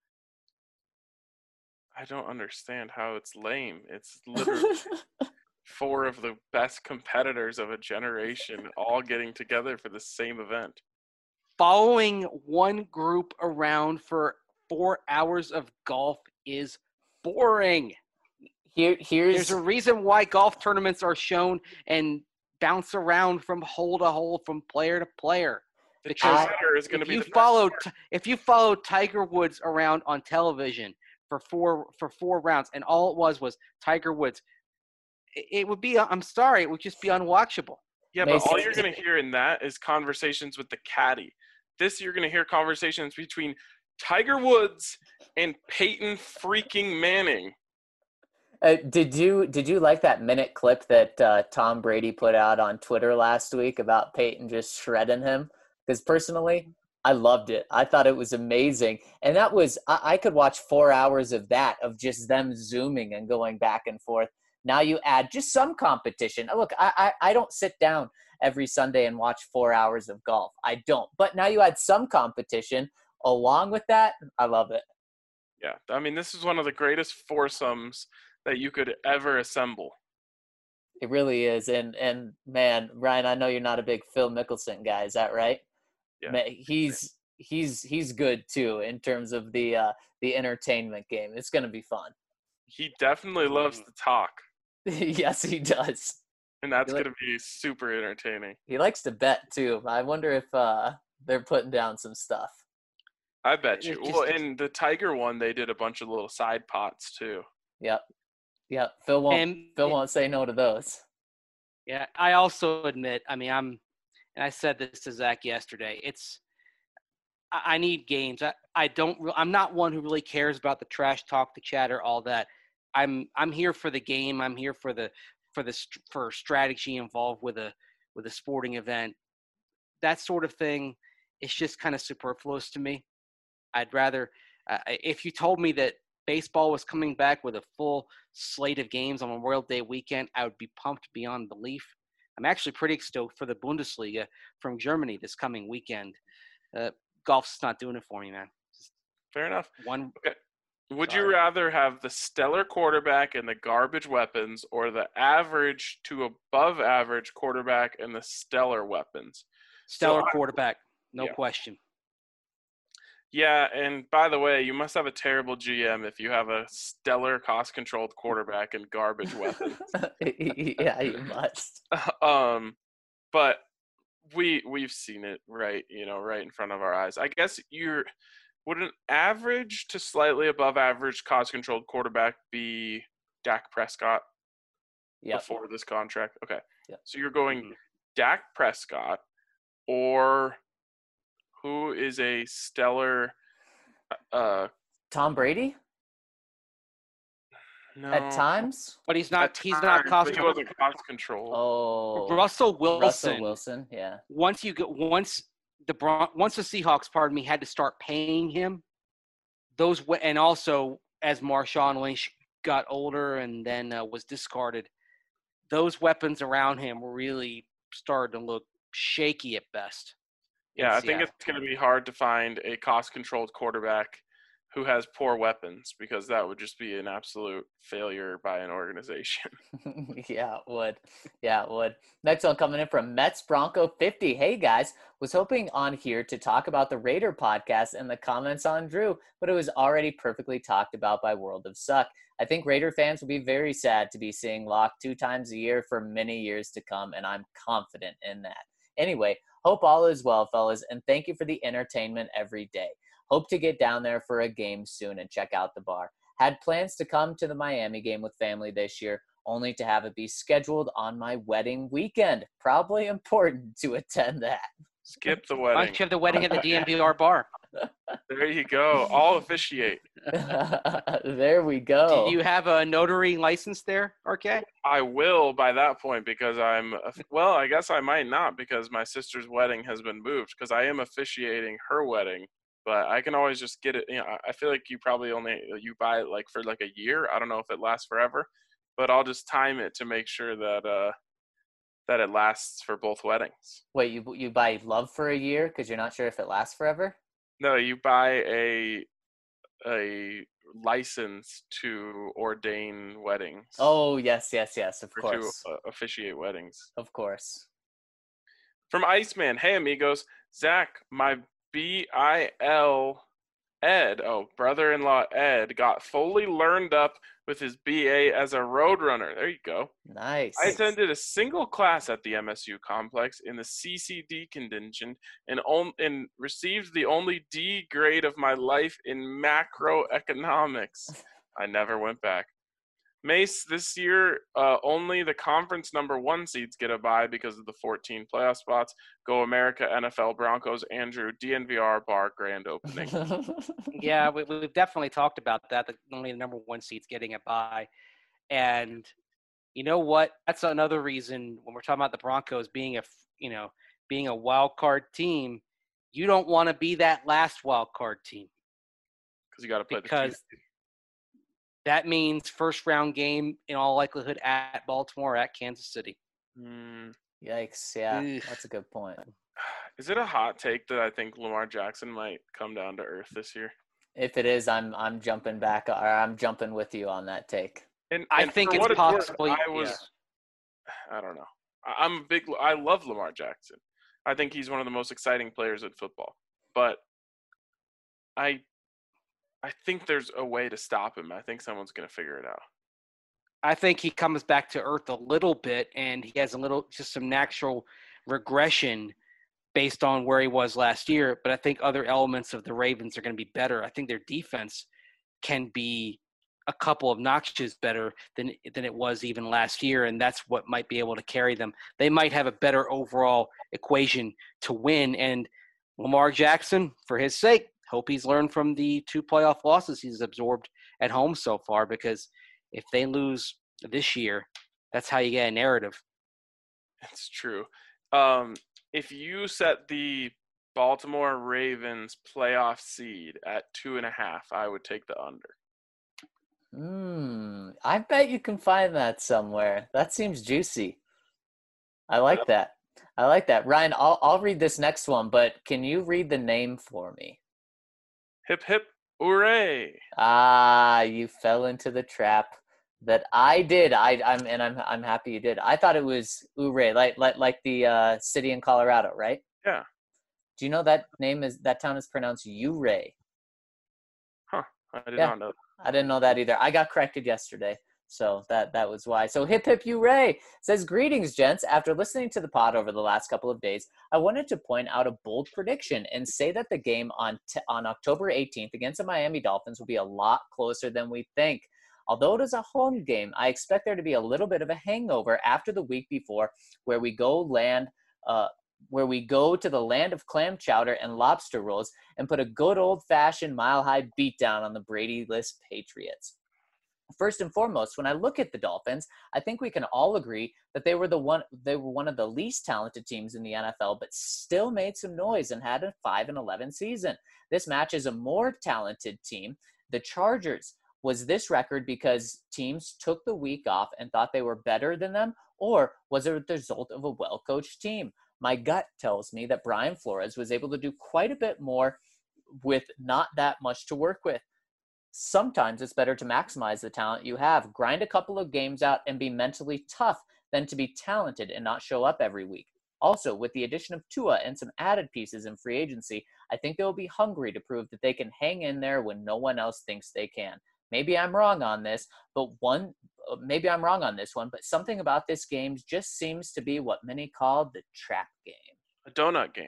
I don't understand how it's lame. It's literally four of the best competitors of a generation all getting together for the same event. Following one group around for four hours of golf is boring. Here, here's There's a reason why golf tournaments are shown and bounce around from hole to hole, from player to player. Because is going to be you the follow, if you follow Tiger Woods around on television for four for four rounds, and all it was was Tiger Woods, it, it would be. I'm sorry, it would just be unwatchable. Yeah, but all you're going to hear in that is conversations with the caddy. This you're going to hear conversations between Tiger Woods and Peyton freaking Manning. Uh, did you did you like that minute clip that uh, Tom Brady put out on Twitter last week about Peyton just shredding him? Because personally, I loved it. I thought it was amazing. And that was I, I could watch four hours of that, of just them zooming and going back and forth. Now you add just some competition. Look, I, I, I don't sit down every Sunday and watch four hours of golf. I don't. But now you add some competition along with that. I love it. Yeah. I mean, this is one of the greatest foursomes that you could ever assemble. It really is. And and man, Ryan, I know you're not a big Phil Mickelson guy. Is that right? Yeah. Ma- He's he's he's good too in terms of the uh, the entertainment game. It's going to be fun. He definitely loves to talk, Yes, he does. and that's He li- going to be super entertaining. He likes to bet too. I wonder if uh, they're putting down some stuff. I bet It's you. just- Well, in the Tiger one, they did a bunch of little side pots too. Yep. Yep. Phil won't And Phil won't say no to those. yeah, I also admit, I mean, I'm, and I said this to Zach yesterday. It's, I, I need games. I, I don't. re- I'm not one who really cares about the trash talk, the chatter, all that. I'm, I'm here for the game. I'm here for the, for the, st- for strategy involved with a, with a sporting event. That sort of thing is just kind of superfluous to me. I'd rather, uh, if you told me that baseball was coming back with a full slate of games on Memorial Day weekend, I would be pumped beyond belief. I'm actually pretty stoked for the Bundesliga from Germany this coming weekend. Uh, golf's not doing it for me, man. Just Fair enough. one, Would you Sorry. rather have the stellar quarterback and the garbage weapons, or the average to above average quarterback and the stellar weapons? stellar I- quarterback, no yeah. question. Yeah, and by the way, you must have a terrible G M if you have a stellar cost-controlled quarterback and garbage weapons. Yeah, you must. um, but we we've seen it right, you know, right in front of our eyes. I guess you're would an average to slightly above average cost-controlled quarterback be Dak Prescott Yep. before this contract? Okay, Yep. so you're going Mhm. Dak Prescott, or who is a stellar? Uh, Tom Brady no, at times. But he's At not. He's not times, cost. but he wasn't cost control. Oh, Russell Wilson. Russell Wilson. Yeah. Once you get once the Bron- once the Seahawks, pardon me, had to start paying him, those we- and also as Marshawn Lynch got older and then uh, was discarded, those weapons around him were really starting to look shaky at best. in Yeah, I think Seattle. it's going to be hard to find a cost-controlled quarterback who has poor weapons, because that would just be an absolute failure by an organization. Yeah, it would. Yeah, it would. Next one coming in from Mets Bronco fifty. Hey guys, was hoping on here to talk about the Raider podcast and the comments on Drew, but it was already perfectly talked about by World of Suck. I think Raider fans will be very sad to be seeing Locke two times a year for many years to come, and I'm confident in that. Anyway, hope all is well, fellas, and thank you for the entertainment every day. Hope to get down there for a game soon and check out the bar. Had plans to come to the Miami game with family this year, only to have it be scheduled on my wedding weekend. Probably important to attend that. Skip the Why wedding. don't you have the wedding at the D N V R bar? There you go. I'll officiate. There we go. Do you have a notary license there, R K? I will by that point, because I'm well. I guess I might not, because my sister's wedding has been moved, because I am officiating her wedding. But I can always just get it. You know, I feel like you probably only you buy it like for like a year. I don't know if it lasts forever, but I'll just time it to make sure that uh that it lasts for both weddings. Wait, you you buy love for a year because you're not sure if it lasts forever? No, you buy a a license to ordain weddings. Oh, yes, yes, yes, of or course. to uh, officiate weddings. Of course. From Iceman, hey amigos, Zach, my B I L Ed, oh, brother-in-law Ed, got fully learned up with his B A as a roadrunner. There you go. Nice. I attended a single class at the M S U complex in the C C D contingent and, on, and received the only D grade of my life in macroeconomics. I never went back. Mace, this year, uh, only the conference number one seeds get a bye because of the fourteen playoff spots. Go America, N F L, Broncos, Andrew, D N V R bar grand opening. Yeah, we, we've definitely talked about that. The, only the number one seed's getting it by, and you know what? That's another reason when we're talking about the Broncos being a you know being a wild card team, you don't want to be that last wild card team Because you got to play because the that means first round game in all likelihood at Baltimore, at Kansas City. mm, Yikes, yeah, Ugh. that's a good point. Is it a hot take that I think Lamar Jackson might come down to earth this year? If it is, I'm I'm jumping back, or I'm jumping with you on that take. And, I and think for it's what worth, possible. I was yeah. I don't know. I- I'm a big. I love Lamar Jackson. I think he's one of the most exciting players in football. But I, I think there's a way to stop him. I think someone's going to figure it out. I think he comes back to earth a little bit, and he has a little, just some natural regression based on where he was last year. But I think other elements of the Ravens are going to be better. I think their defense can be a couple of notches better than than it was even last year, and that's what might be able to carry them. They might have a better overall equation to win. And Lamar Jackson, for his sake, hope he's learned from the two playoff losses he's absorbed at home so far, because if they lose this year, that's how you get a narrative. It's true. Um, if you set the Baltimore Ravens playoff seed at two and a half, I would take the under. Hmm. I bet you can find that somewhere. That seems juicy. I like that. I like that. Ryan, I'll I'll read this next one, but can you read the name for me? Hip hip hooray! Ah, you fell into the trap that I did. I I'm and I'm I'm happy you did. I thought it was Ouray, like like like the uh, city in Colorado, right? Yeah. Do you know that name is that town is pronounced Ouray? Huh. I did Yeah. not know. I didn't know that either. I got corrected yesterday, so that that was why. So hip hip hooray says, greetings, gents. After listening to the pod over the last couple of days, I wanted to point out a bold prediction and say that the game on t- on October eighteenth against the Miami Dolphins will be a lot closer than we think. Although it is a home game, I expect there to be a little bit of a hangover after the week before, where we go land. Uh, where we go to the land of clam chowder and lobster rolls and put a good old-fashioned mile-high beatdown on the Brady-less Patriots. First and foremost, when I look at the Dolphins, I think we can all agree that they were the one they were one of the least talented teams in the N F L, but still made some noise and had a five and eleven season. This matches a more talented team, the Chargers. Was this record because teams took the week off and thought they were better than them, or was it the result of a well-coached team? My gut tells me that Brian Flores was able to do quite a bit more with not that much to work with. Sometimes it's better to maximize the talent you have, grind a couple of games out, and be mentally tough than to be talented and not show up every week. Also, with the addition of Tua and some added pieces in free agency, I think they'll be hungry to prove that they can hang in there when no one else thinks they can. Maybe I'm wrong on this, but one maybe I'm wrong on this one, but something about this game just seems to be what many call the trap game. A donut game.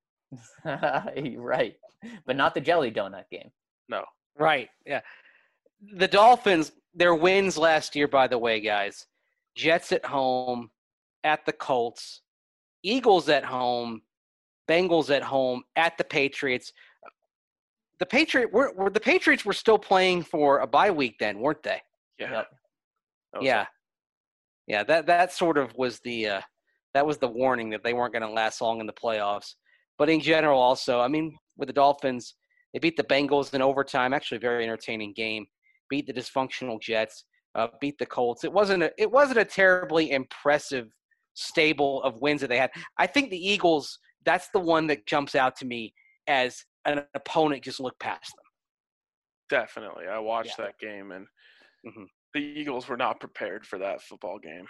Right, but not the jelly donut game. No. Right, yeah. The Dolphins, their wins last year, by the way, guys, Jets at home, at the Colts, Eagles at home, Bengals at home, at the Patriots. The Patriot were, were the Patriots were still playing for a bye week then, weren't they? Yeah. Yep. That was Yeah. it. Yeah, that that sort of was the uh, that was the warning that they weren't going to last long in the playoffs. But in general, also, I mean, with the Dolphins, they beat the Bengals in overtime. Actually, a very entertaining game. Beat the dysfunctional Jets. Uh, beat the Colts. It wasn't a it wasn't a terribly impressive stable of wins that they had. I think the Eagles. That's the one that jumps out to me as an opponent just looked past them. Definitely. I watched Yeah. that game, and Mhm. the Eagles were not prepared for that football game.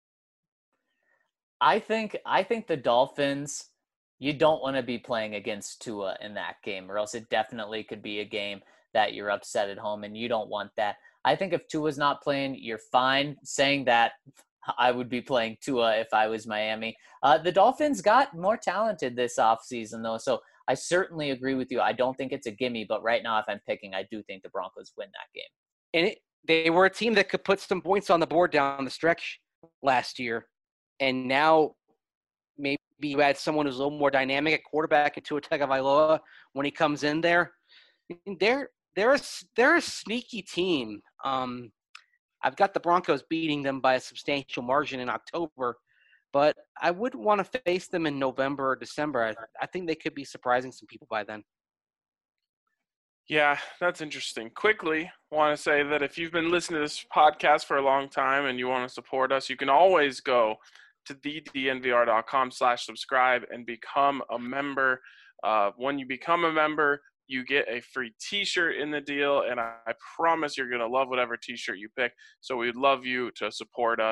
I think I think the Dolphins, you don't want to be playing against Tua in that game, or else it definitely could be a game that you're upset at home, and you don't want that. I think if Tua's not playing, you're fine. Saying that, I would be playing Tua if I was Miami. Uh, the Dolphins got more talented this offseason, though, so I certainly agree with you. I don't think it's a gimme, but right now, if I'm picking, I do think the Broncos win that game. And it, they were a team that could put some points on the board down the stretch last year. And now maybe you add someone who's a little more dynamic at quarterback into a Tagovailoa when he comes in there. They're they're a, they're a sneaky team. Um, I've got the Broncos beating them by a substantial margin in October, but I wouldn't want to face them in November or December. I, I think they could be surprising some people by then. Yeah, that's interesting. Quickly, want to say that if you've been listening to this podcast for a long time and you want to support us, you can always go to the d n v r dot com slash subscribe and become a member. Uh, when you become a member, you get a free t-shirt in the deal, and I, I promise you're going to love whatever t-shirt you pick. So we'd love you to support us.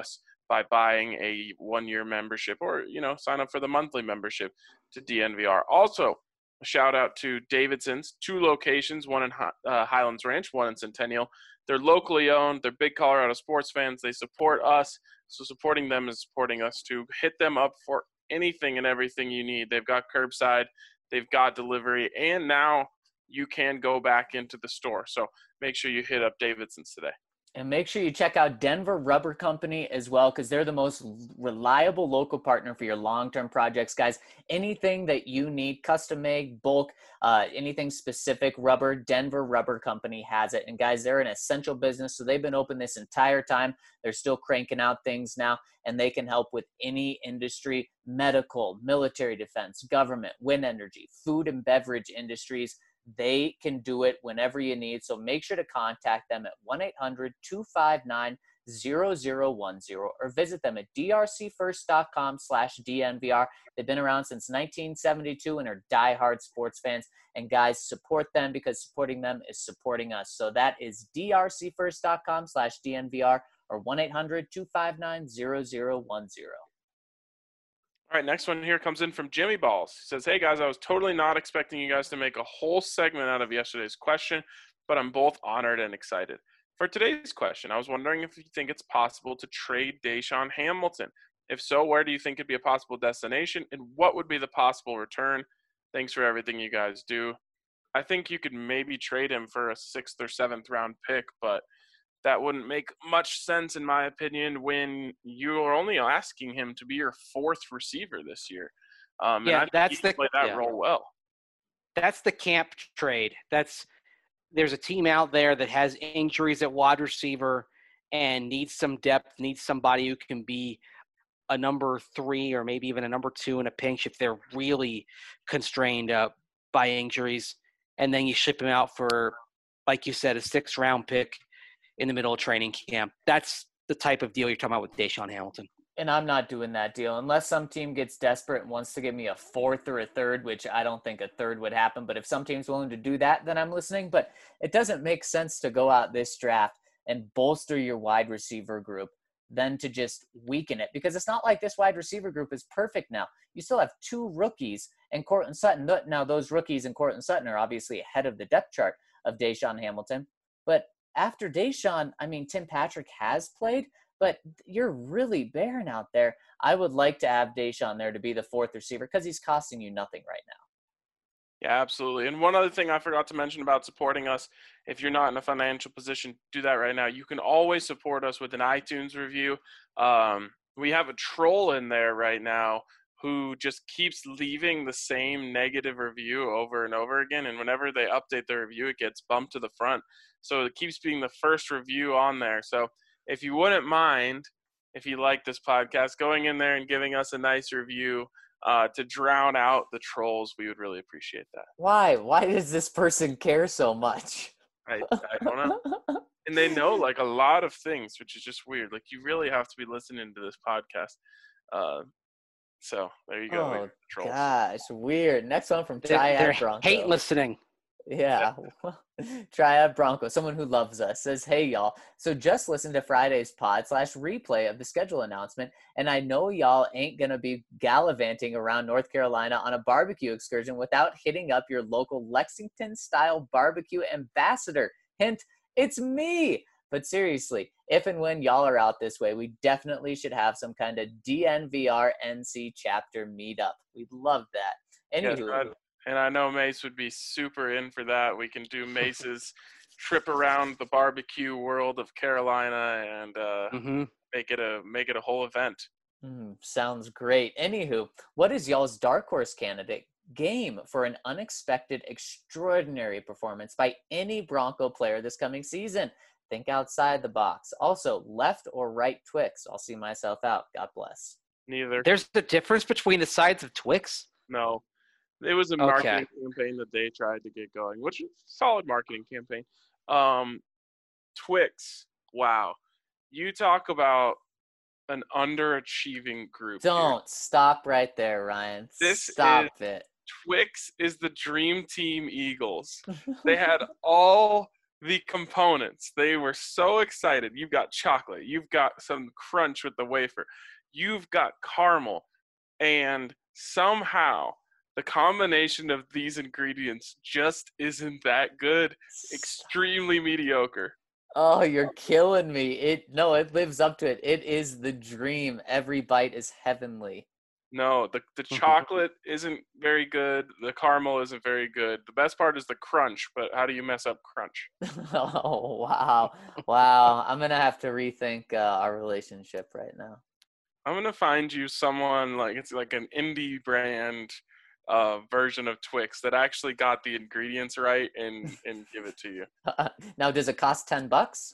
by buying a one-year membership, or, you know, sign up for the monthly membership to D N V R. Also, a shout out to Davidson's, two locations, one in uh, Highlands Ranch, one in Centennial. They're locally owned. They're big Colorado sports fans. They support us. So supporting them is supporting us too. Hit them up for anything and everything you need. They've got curbside, they've got delivery, and now you can go back into the store. So make sure you hit up Davidson's today. And make sure you check out Denver Rubber Company as well, because they're the most reliable local partner for your long-term projects. Guys, anything that you need, custom made, bulk, uh, anything specific rubber, Denver Rubber Company has it. And guys, they're an essential business, so they've been open this entire time. They're still cranking out things now, and they can help with any industry, medical, military defense, government, wind energy, food and beverage industries. They can do it whenever you need. So make sure to contact them at one eight hundred two five nine zero zero one zero or visit them at drcfirst.com slash DNVR. They've been around since nineteen seventy-two and are diehard sports fans. And guys, support them, because supporting them is supporting us. So that is drcfirst.com slash DNVR or one eight hundred two five nine zero zero one zero. All right, next one here comes in from Jimmy Balls. He says, hey, guys, I was totally not expecting you guys to make a whole segment out of yesterday's question, but I'm both honored and excited. For today's question, I was wondering if you think it's possible to trade DaeSean Hamilton. If so, where do you think it'd be a possible destination, and what would be the possible return? Thanks for everything you guys do. I think you could maybe trade him for a sixth or seventh round pick, but that wouldn't make much sense, in my opinion, when you're only asking him to be your fourth receiver this year. Um, Yeah, and I that's think he the- play that yeah. role well. That's the camp trade. That's there's a team out there that has injuries at wide receiver and needs some depth, needs somebody who can be a number three or maybe even a number two in a pinch if they're really constrained uh, by injuries. And then you ship him out for, like you said, a sixth round pick in the middle of training camp. That's the type of deal you're talking about with DaeSean Hamilton. And I'm not doing that deal unless some team gets desperate and wants to give me a fourth or a third, which I don't think a third would happen. But if some team's willing to do that, then I'm listening. But it doesn't make sense to go out this draft and bolster your wide receiver group than to just weaken it, because it's not like this wide receiver group is perfect now. You still have two rookies and Courtland Sutton. Now, those rookies and Courtland Sutton are obviously ahead of the depth chart of DaeSean Hamilton. But after DaeSean, I mean, Tim Patrick has played, but you're really barren out there. I would like to have DaeSean there to be the fourth receiver because he's costing you nothing right now. Yeah, absolutely. And one other thing I forgot to mention about supporting us, if you're not in a financial position, do that right now. You can always support us with an iTunes review. Um, we have a troll in there right now who just keeps leaving the same negative review over and over again. And whenever they update the review, it gets bumped to the front. So it keeps being the first review on there. So if you wouldn't mind, if you like this podcast, going in there and giving us a nice review uh, to drown out the trolls, we would really appreciate that. Why? Why does this person care so much? I, I don't know. And they know like a lot of things, which is just weird. Like you really have to be listening to this podcast. Uh, so there you go. Oh, trolls. gosh, weird. Next one from They're, Triad they're Bronco. hate listening. Yeah. Triad Bronco, someone who loves us, says, hey, y'all. So just listen to Friday's pod slash replay of the schedule announcement, and I know y'all ain't going to be gallivanting around North Carolina on a barbecue excursion without hitting up your local Lexington-style barbecue ambassador. Hint, it's me. But seriously, if and when y'all are out this way, we definitely should have some kind of D N V R N C chapter meetup. We'd love that. Yes, Anywho, I- and I know Mace would be super in for that. We can do Mace's trip around the barbecue world of Carolina and uh, Mm-hmm. make it a make it a whole event. Mm, sounds great. Anywho, what is y'all's dark horse candidate game for an unexpected, extraordinary performance by any Bronco player this coming season? Think outside the box. Also, left or right Twix. I'll see myself out. God bless. Neither. There's a difference between the sides of Twix. No. It was a Okay. marketing campaign that they tried to get going, which is a solid marketing campaign. Um, Twix, wow. You talk about an underachieving group. here. Don't stop right there, Ryan. This Stop it. Twix is the dream team Eagles. They had all the components. They were so excited. You've got chocolate. You've got some crunch with the wafer. You've got caramel. And somehow the combination of these ingredients just isn't that good. Extremely mediocre. Oh, you're killing me. It no, it lives up to it. It is the dream. Every bite is heavenly. No, the, the chocolate isn't very good. The caramel isn't very good. The best part is the crunch, but how do you mess up crunch? Oh, wow. Wow. I'm going to have to rethink uh, our relationship right now. I'm going to find you someone like it's like an indie brand uh, version of Twix that actually got the ingredients right and, and give it to you. Now, does it cost ten bucks?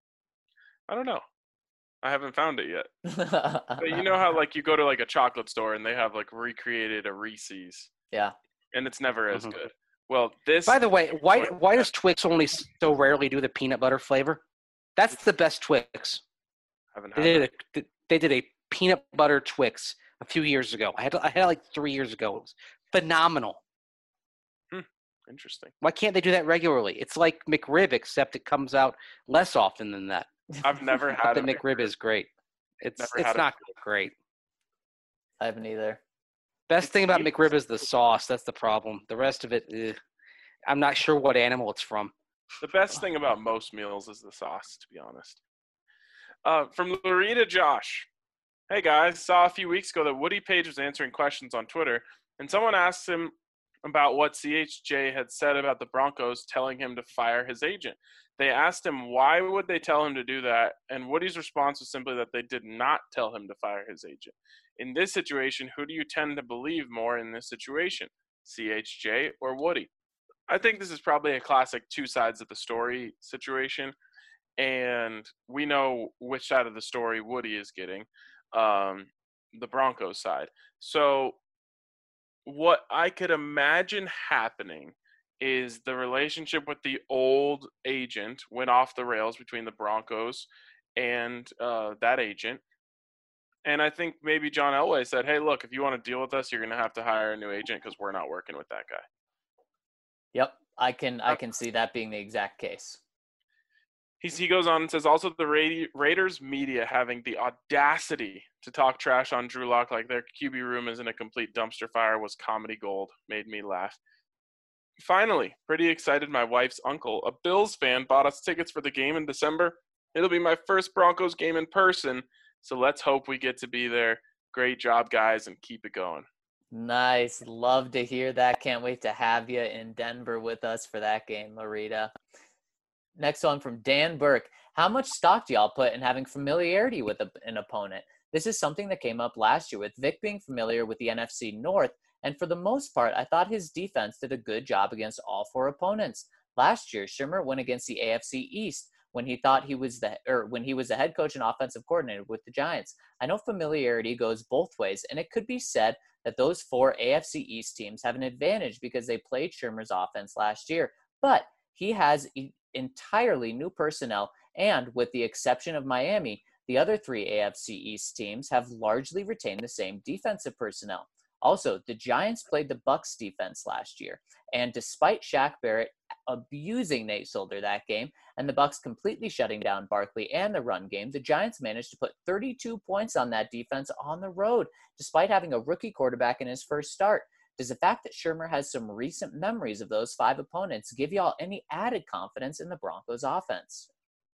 I don't know. I haven't found it yet. But you know how like you go to like a chocolate store and they have like recreated a Reese's. Yeah. And it's never as Mhm. good. Well, this By the way, why why does Twix only so rarely do the peanut butter flavor? That's the best Twix. haven't They had did a, they did a peanut butter Twix a few years ago. I had I had it like three years ago. It was phenomenal. that. Interesting. Why can't they do that regularly? It's like McRib, except it comes out less often than that. I've never But had the a McRib is great. It's Never it's had a not great. I haven't either. Best thing about It's- McRib is the sauce. That's the problem. The rest of it, eh, I'm not sure what animal it's from. The best thing about most meals is the sauce, to be honest. Uh, from Loretta Josh. Hey guys, saw a few weeks ago that Woody Page was answering questions on Twitter, and someone asked him about what C H J had said about the Broncos telling him to fire his agent. They asked him why would they tell him to do that, and Woody's response was simply that they did not tell him to fire his agent. In this situation, who do you tend to believe more in this situation, C H J or Woody? I think this is probably a classic two sides of the story situation, and we know which side of the story Woody is getting, um, the Broncos side. So what I could imagine happening is the relationship with the old agent went off the rails between the Broncos and uh, that agent. And I think maybe John Elway said, hey, look, if you want to deal with us, you're going to have to hire a new agent because we're not working with that guy. Yep. I can I can see that being the exact case. He's, he goes on and says, also the Ra- Raiders media having the audacity to talk trash on Drew Lock like their Q B room is in a complete dumpster fire was comedy gold. Made me laugh. Finally, pretty excited, my wife's uncle, a Bills fan, bought us tickets for the game in December. It'll be my first Broncos game in person, so let's hope we get to be there. Great job, guys, and keep it going. Nice. Love to hear that. Can't wait to have you in Denver with us for that game, Loretta. Next one from Dan Burke. How much stock do y'all put in having familiarity with a, an opponent? This is something that came up last year with Vic being familiar with the N F C North, and for the most part, I thought his defense did a good job against all four opponents. Last year, Shimmer went against the A F C East when he thought he was the or when he was the head coach and offensive coordinator with the Giants. I know familiarity goes both ways, and it could be said that those four A F C East teams have an advantage because they played Shimmer's offense last year, but he has e- entirely new personnel, and with the exception of Miami, the other three A F C East teams have largely retained the same defensive personnel. Also, the Giants played the Bucs defense last year, and despite Shaq Barrett abusing Nate Solder that game and the Bucs completely shutting down Barkley and the run game, the Giants managed to put thirty-two points on that defense on the road, despite having a rookie quarterback in his first start. Does the fact that Shurmur has some recent memories of those five opponents give y'all any added confidence in the Broncos offense?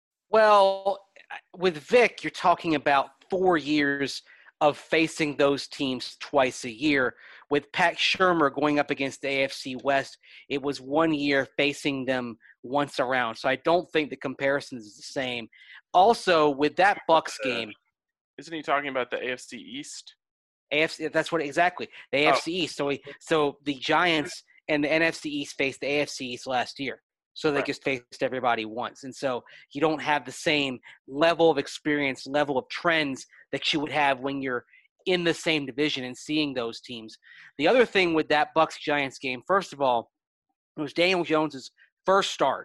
Well, with Vic, you're talking about four years of facing those teams twice a year. With Pat Shurmur going up against the A F C West, it was one year facing them once around. So I don't think the comparison is the same. Also, with that Bucs game, Isn't he talking about the A F C East? A F C, that's what exactly the A F C East. So, we, so the Giants and the N F C East faced the A F C East last year. So they Right. just faced everybody once. And so you don't have the same level of experience, level of trends that you would have when you're in the same division and seeing those teams. The other thing with that Bucs Giants game, first of all, it was Daniel Jones's first start.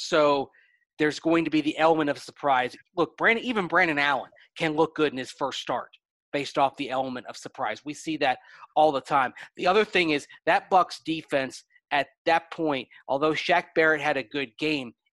So there's going to be the element of surprise. Look, Brandon, even Brandon Allen can look good in his first start based off the element of surprise. We see that all the time. The other thing is that Bucs defense at that point, although Shaq Barrett had a good game,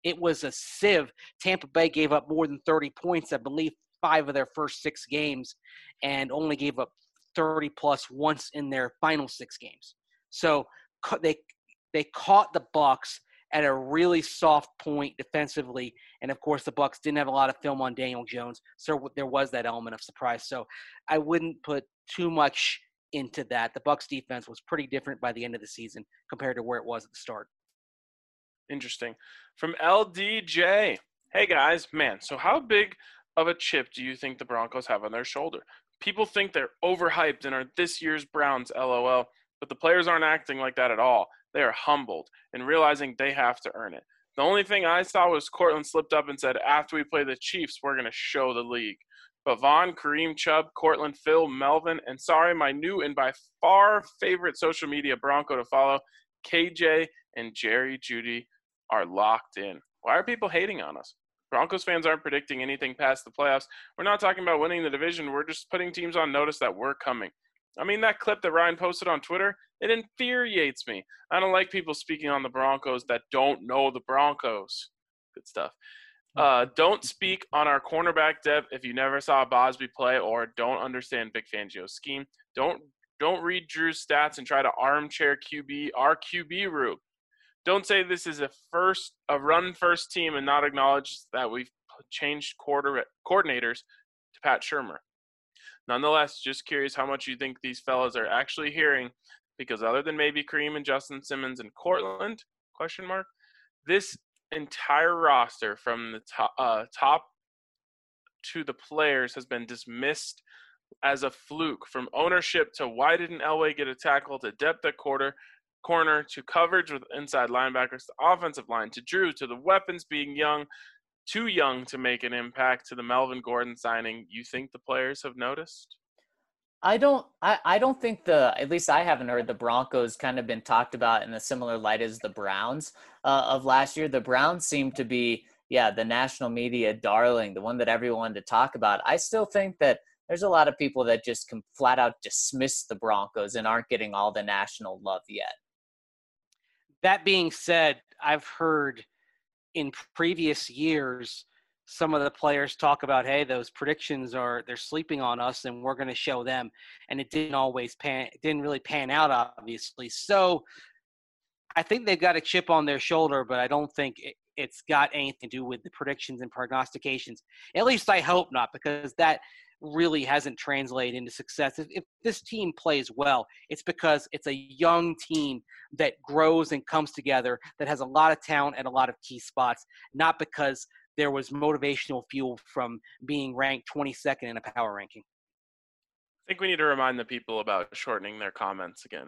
it was a sieve. Tampa Bay gave up more than thirty points, I believe, five of their first six games, and only gave up thirty plus once in their final six games. So they they caught the Bucs at a really soft point defensively, and of course the Bucs didn't have a lot of film on Daniel Jones, so there was that element of surprise. So I wouldn't put too much into that. The Bucs defense was pretty different by the end of the season compared to where it was at the start. Interesting. From L D J, hey guys, man, so how big of a chip do you think the Broncos have on their shoulder? People think they're overhyped and are this year's Browns, LOL, but the players aren't acting like that at all. They are humbled and realizing they have to earn it. The only thing I saw was Cortland slipped up and said, after we play the Chiefs, we're going to show the league. But Vaughn, Kareem, Chubb, Cortland, Phil, Melvin, and sorry, my new and by far favorite social media Bronco to follow, K J and Jerry Jeudy are locked in. Why are people hating on us? Broncos fans aren't predicting anything past the playoffs. We're not talking about winning the division. We're just putting teams on notice that we're coming. I mean, that clip that Ryan posted on Twitter, it infuriates me. I don't like people speaking on the Broncos that don't know the Broncos. Good stuff. Uh, don't speak on our cornerback depth if you never saw Bosby play or don't understand Vic Fangio's scheme. Don't don't read Drew's stats and try to armchair Q B our Q B room. Don't say this is a first a run first team and not acknowledge that we've changed quarter coordinators to Pat Shurmur. Nonetheless, just curious how much you think these fellas are actually hearing, because other than maybe Kareem and Justin Simmons and Cortland, question mark, this entire roster from the top, uh, top to the players has been dismissed as a fluke. From ownership to why didn't Elway get a tackle to depth at quarter, corner to coverage with inside linebackers to offensive line to Drew to the weapons being young, too young to make an impact to the Melvin Gordon signing. You think the players have noticed? I don't I, I don't think the at least I haven't heard the Broncos kind of been talked about in a similar light as the Browns uh, of last year. The Browns seem to be, yeah, the national media darling, the one that everyone wanted to talk about. I still think that there's a lot of people that just can flat out dismiss the Broncos and aren't getting all the national love yet. That being said, I've heard in previous years some of the players talk about, hey, those predictions are, they're sleeping on us and we're going to show them. And it didn't always pan, it didn't really pan out, obviously. So I think they've got a chip on their shoulder, but I don't think it, it's got anything to do with the predictions and prognostications. At least I hope not, because that really hasn't translated into success. If, if this team plays well, it's because it's a young team that grows and comes together, that has a lot of talent at a lot of key spots, not because there was motivational fuel from being ranked twenty-second in a power ranking. I think we need to remind the people about shortening their comments again.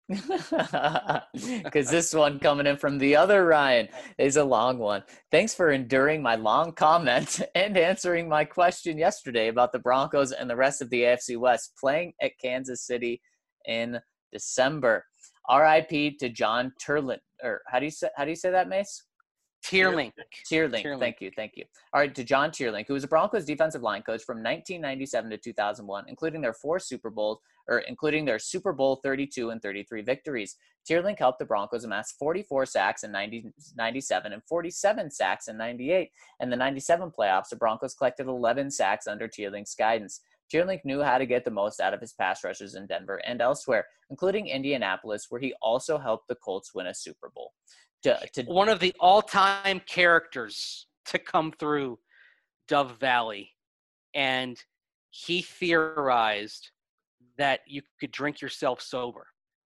Because this one coming in from the other Ryan is a long one. Thanks for enduring my long comment and answering my question yesterday about the Broncos and the rest of the A F C West playing at Kansas City in December. R I P to John Turlin, or how do you say how do you say that, Mace? Tierlink. Tierlink. Tierlink. Thank you. Thank you. All right, to John Tierlink, who was a Broncos defensive line coach from nineteen ninety-seven to two thousand one, including their four Super Bowls, or including their Super Bowl thirty-two and thirty-three victories. Tierlink helped the Broncos amass forty-four sacks in ninety, ninety-seven and forty-seven sacks in ninety-eight. In the ninety-seven playoffs, the Broncos collected eleven sacks under Tierlink's guidance. Tierlink knew how to get the most out of his pass rushers in Denver and elsewhere, including Indianapolis, where he also helped the Colts win a Super Bowl. To, to, One of the all-time characters to come through Dove Valley, and he theorized that you could drink yourself sober.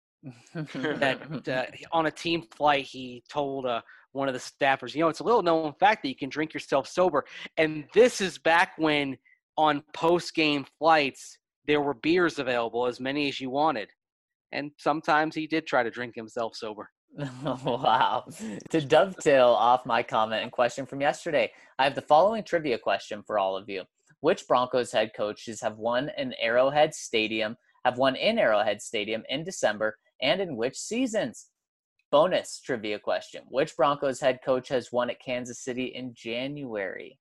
that uh, on a team flight, he told uh, one of the staffers, you know, it's a little known fact that you can drink yourself sober. And this is back when on post-game flights, there were beers available, as many as you wanted. And sometimes he did try to drink himself sober. Wow. To dovetail off my comment and question from yesterday, I have the following trivia question for all of you. Which Broncos head coaches have won in Arrowhead Stadium, have won in Arrowhead Stadium in December, and in which seasons? Bonus trivia question. Which Broncos head coach has won at Kansas City in January?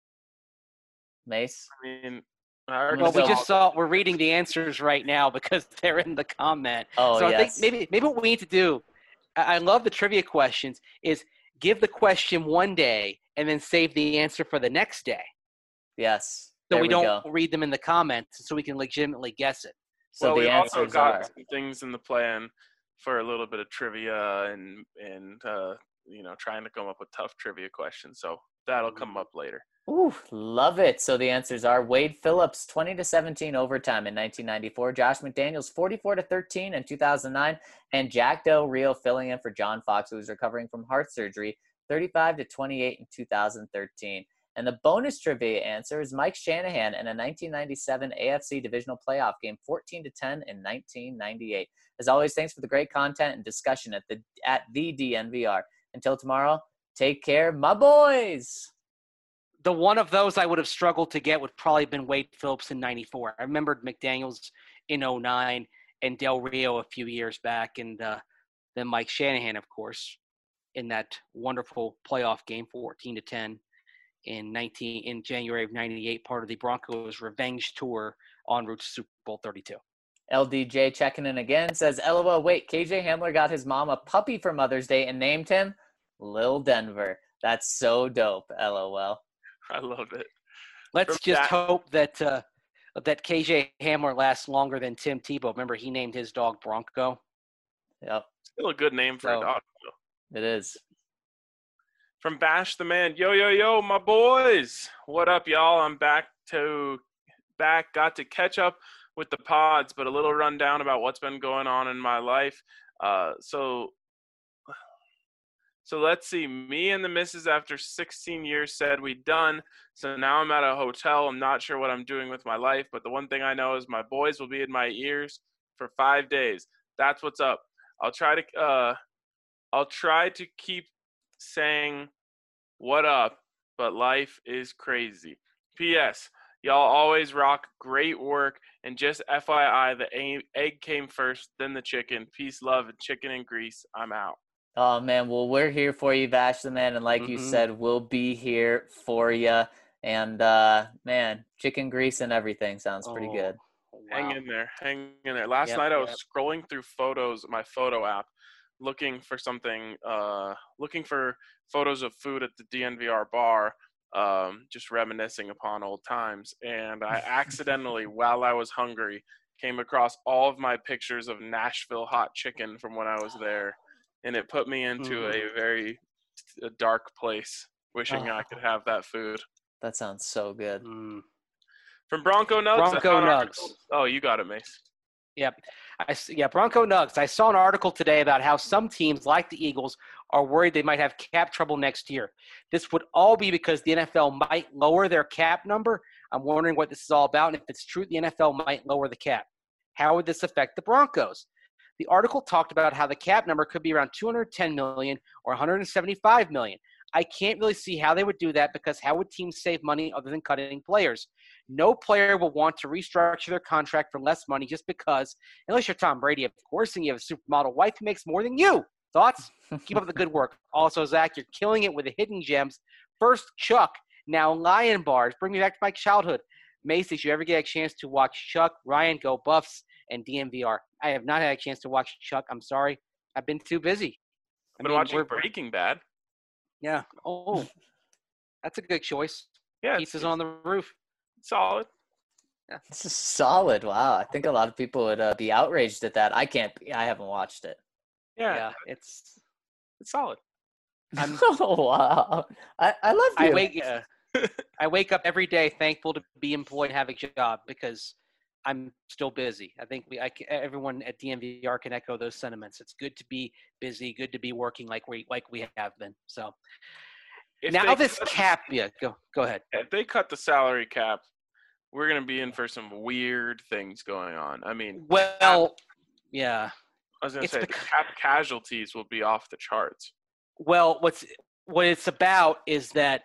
Mace? I mean, I already Well, we saw- just saw, we're reading the answers right now because they're in the comment. Oh, so yes. I think maybe maybe what we need to do, I I love the trivia questions, is give the question one day and then save the answer for the next day. Yes. So there we, we don't go. read them in the comments so we can legitimately guess it. So well, the we've also answers got are some things in the plan for a little bit of trivia and and uh, you know trying to come up with tough trivia questions. So that'll come up later. Ooh, love it. So the answers are Wade Phillips, twenty to seventeen overtime in nineteen ninety-four. Josh McDaniels, forty-four to thirteen in two thousand nine. And Jack Del Rio filling in for John Fox, who was recovering from heart surgery, thirty-five to twenty-eight in two thousand thirteen. And the bonus trivia answer is Mike Shanahan in a nineteen ninety-seven A F C divisional playoff game, fourteen to ten in nineteen ninety-eight. As always, thanks for the great content and discussion at the at the D N V R. Until tomorrow, take care, my boys. The one of those I would have struggled to get would probably have been Wade Phillips in ninety-four. I remembered McDaniels in oh nine and Del Rio a few years back, and uh, then Mike Shanahan, of course, in that wonderful playoff game, fourteen to ten in nineteen in January of ninety-eight, part of the Broncos' revenge tour en route to Super Bowl thirty-two. L D J checking in again, says, LOL, wait, K J Hamler got his mom a puppy for Mother's Day and named him Lil Denver. That's so dope, LOL. I love it. Let's From just that- hope that uh, that K J Hamler lasts longer than Tim Tebow. Remember, he named his dog Bronco. Yep, Still a good name for So- a dog, though. it is. From Bash the Man, yo yo yo, my boys, what up, y'all? I'm back to back. Got to catch up with the pods, but a little rundown about what's been going on in my life. Uh, so, so let's see. Me and the missus, after sixteen years, said we done. So now I'm at a hotel. I'm not sure what I'm doing with my life, but the one thing I know is my boys will be in my ears for five days. That's what's up. I'll try to. Uh, I'll try to keep saying what up, but life is crazy. P S. Y'all always rock great work, and just F Y I, the egg came first, then the chicken. Peace, love, and chicken and grease. I'm out. Oh, man, well, we're here for you, Bash the Man, and like you Mhm. said, we'll be here for you. And, uh, man, chicken grease and everything sounds pretty Oh, good. Hang wow. in there. Hang in there. Last Yep, night I was yep. scrolling through photos, my photo app, looking for something, uh, looking for photos of food at the D N V R bar, um, just reminiscing upon old times. And I accidentally, while I was hungry, came across all of my pictures of Nashville hot chicken from when I was there. And it put me into Mm. a very a dark place, wishing I Oh. could have that food. That sounds so good. Mm. From Bronco Nugs. I Bronco saw an Nugs. article- Oh, you got it, Mace. Yep. I, s- yeah, Bronco Nugs. I saw an article today about how some teams, like the Eagles, are worried they might have cap trouble next year. This would all be because the N F L might lower their cap number. I'm wondering what this is all about, and if it's true, the N F L might lower the cap. How would this affect the Broncos? The article talked about how the cap number could be around two hundred ten million dollars or one hundred seventy-five million dollars. I can't really see how they would do that because how would teams save money other than cutting players? No player will want to restructure their contract for less money just because, unless you're Tom Brady, of course, and you have a supermodel wife who makes more than you. Thoughts? Keep up the good work. Also, Zach, you're killing it with the hidden gems. First, Chuck, now Lion Bars. Bring me back to my childhood. Mace, did you ever get a chance to watch Chuck, Ryan, Go Buffs, and D N V R? I have not had a chance to watch Chuck. I'm sorry. I've been too busy. I've I been mean, watching we're- Breaking Bad. Yeah. Oh, that's a good choice. Yeah, it's, Pizza's it's on the roof. solid. This is solid. Wow. I think a lot of people would uh, be outraged at that. I can't be. I haven't watched it. Yeah, Yeah, it's. it's solid. I'm- oh, wow. I, I love you. I wake. Uh, I wake up every day thankful to be employed and have a job because I'm still busy. I think we, I, ca- everyone at D N V R can echo those sentiments. It's good to be busy, good to be working like we like we have been. So If now they this cut- cap. Yeah, go go ahead. If they cut the salary cap, we're gonna be in for some weird things going on. I mean, Well, yeah. I was gonna it's say bec- the cap casualties will be off the charts. Well, what's what it's about is that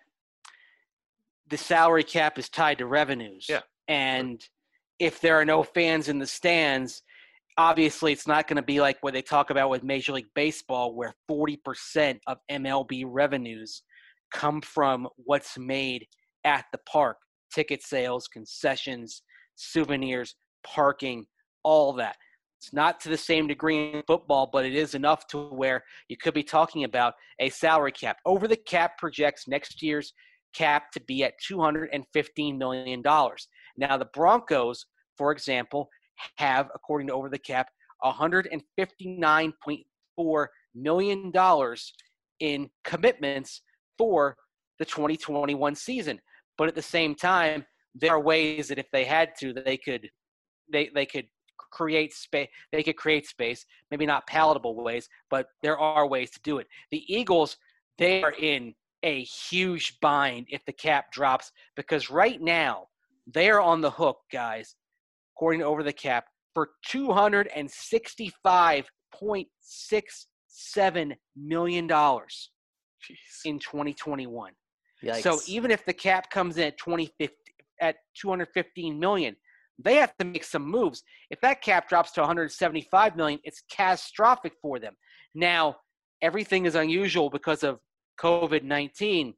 the salary cap is tied to revenues. Yeah. And if there are no fans in the stands, obviously it's not going to be like what they talk about with Major League Baseball, where forty percent of M L B revenues come from what's made at the park. Ticket sales, concessions, souvenirs, parking, all that. It's not to the same degree in football, but it is enough to where you could be talking about a salary cap. Over the cap projects next year's cap to be at two hundred fifteen million dollars. Now, the Broncos, for example, have, according to Over the Cap, one hundred fifty-nine point four million dollars in commitments for the twenty twenty-one season. But at the same time, there are ways that if they had to, that they could they they could create space. They could create space, maybe not palatable ways, but there are ways to do it. The Eagles, they are in a huge bind if the cap drops, because right now they are on the hook, guys, according to Over the Cap, for two hundred sixty-five point six seven million dollars in twenty twenty-one. Yikes. So even if the cap comes in at twenty fifty at two hundred fifteen million, they have to make some moves. If that cap drops to one hundred seventy-five million, it's catastrophic for them. Now, everything is unusual because of COVID nineteen.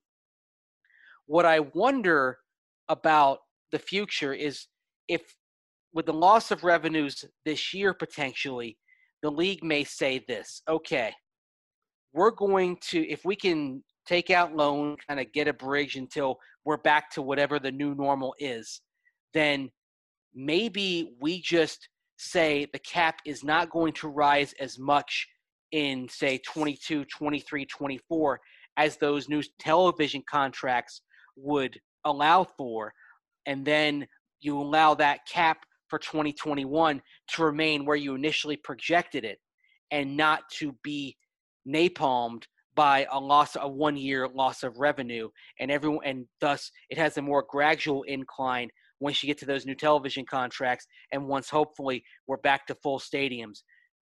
What I wonder about the future is if, with the loss of revenues this year potentially, the league may say this: okay, we're going to, if we can take out loan, kind of get a bridge until we're back to whatever the new normal is, then maybe we just say the cap is not going to rise as much in, say, twenty-two, twenty-three, twenty-four as those new television contracts would allow for. And then you allow that cap for twenty twenty-one to remain where you initially projected it and not to be napalmed by a loss, a one-year loss of revenue, and everyone, and thus it has a more gradual incline once you get to those new television contracts, and once hopefully we're back to full stadiums,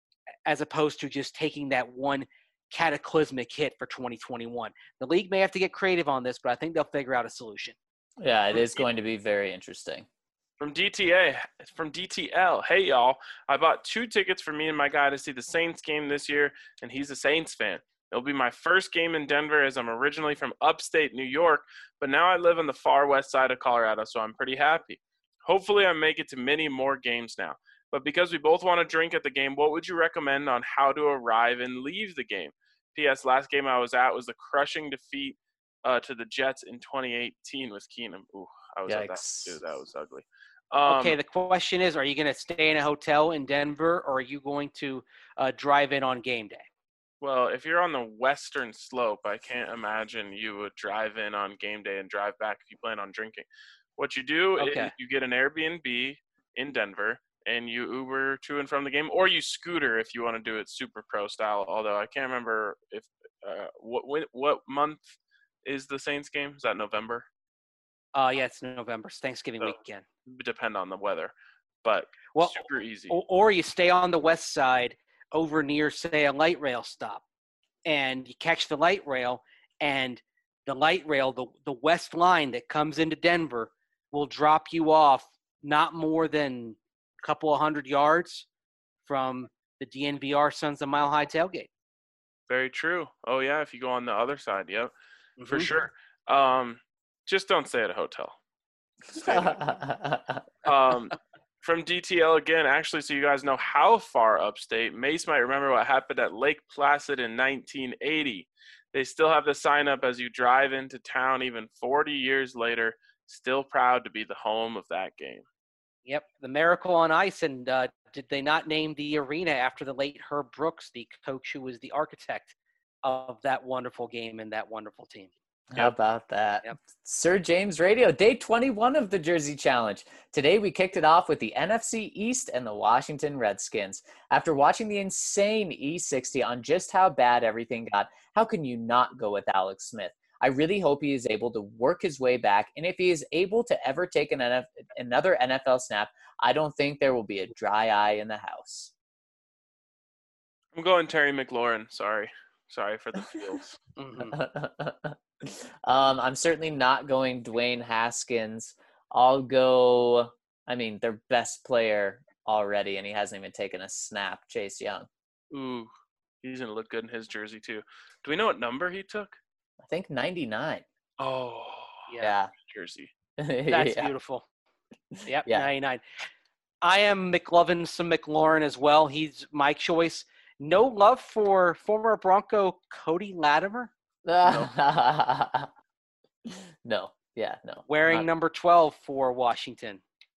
as opposed to just taking that one cataclysmic hit for twenty twenty-one. The league may have to get creative on this, but I think they'll figure out a solution. Yeah, it is going to be very interesting. From D T A, from D T L, hey y'all, I bought two tickets for me and my guy to see the Saints game this year, and he's a Saints fan. It'll be my first game in Denver, as I'm originally from upstate New York, but now I live on the far west side of Colorado, so I'm pretty happy. Hopefully I make it to many more games now. But because we both want to drink at the game, what would you recommend on how to arrive and leave the game? P S. Last game I was at was the crushing defeat uh, to the Jets in twenty eighteen with Keenum. Ooh, I was Yikes. at that too. That was ugly. Um, Okay, the question is, are you going to stay in a hotel in Denver, or are you going to uh, drive in on game day? Well, if you're on the western slope, I can't imagine you would drive in on game day and drive back if you plan on drinking. What you do Okay. is you get an Airbnb in Denver and you Uber to and from the game, or you scooter if you want to do it super pro style. Although I can't remember if uh, what when, what month is the Saints game? Is that November? Uh, yeah, it's November. It's Thanksgiving So, weekend. depend on the weather, but Well, super easy. Or, or you stay on the west side over near, say, a light rail stop, and you catch the light rail, and the light rail, the, the west line that comes into Denver, will drop you off not more than a couple of hundred yards from the D N V R Sons of Mile High tailgate. Very true. Oh yeah, if you go on the other side, yep, for Mhm. sure. Um, just don't stay at a hotel. Stay there. um, from D T L again, actually, so you guys know how far upstate. Mace might remember what happened at Lake Placid in nineteen eighty. They still have the sign up as you drive into town even forty years later. Still proud to be the home of that game. Yep, the Miracle on Ice, and uh, did they not name the arena after the late Herb Brooks, the coach who was the architect of that wonderful game and that wonderful team? How about that? Yep. Sir James Radio, day twenty-one of the Jersey Challenge. Today we kicked it off with the N F C East and the Washington Redskins. After watching the insane E sixty on just how bad everything got, how can you not go with Alex Smith? I really hope he is able to work his way back, and if he is able to ever take an N F- another N F L snap, I don't think there will be a dry eye in the house. I'm going Terry McLaurin. Sorry. Sorry for the feels. Mhm. um, I'm certainly not going Dwayne Haskins. I'll go, I mean, their best player already, and he hasn't even taken a snap, Chase Young. Ooh, he's going to look good in his jersey, too. Do we know what number he took? I think ninety-nine. Oh, Yeah. jersey. That's Yeah. beautiful. Yep, Yeah. ninety-nine. I am McLovin, some McLaurin as well. He's my choice. No love for former Bronco Cody Latimer, No. no. Yeah, no. wearing Not- number twelve for Washington.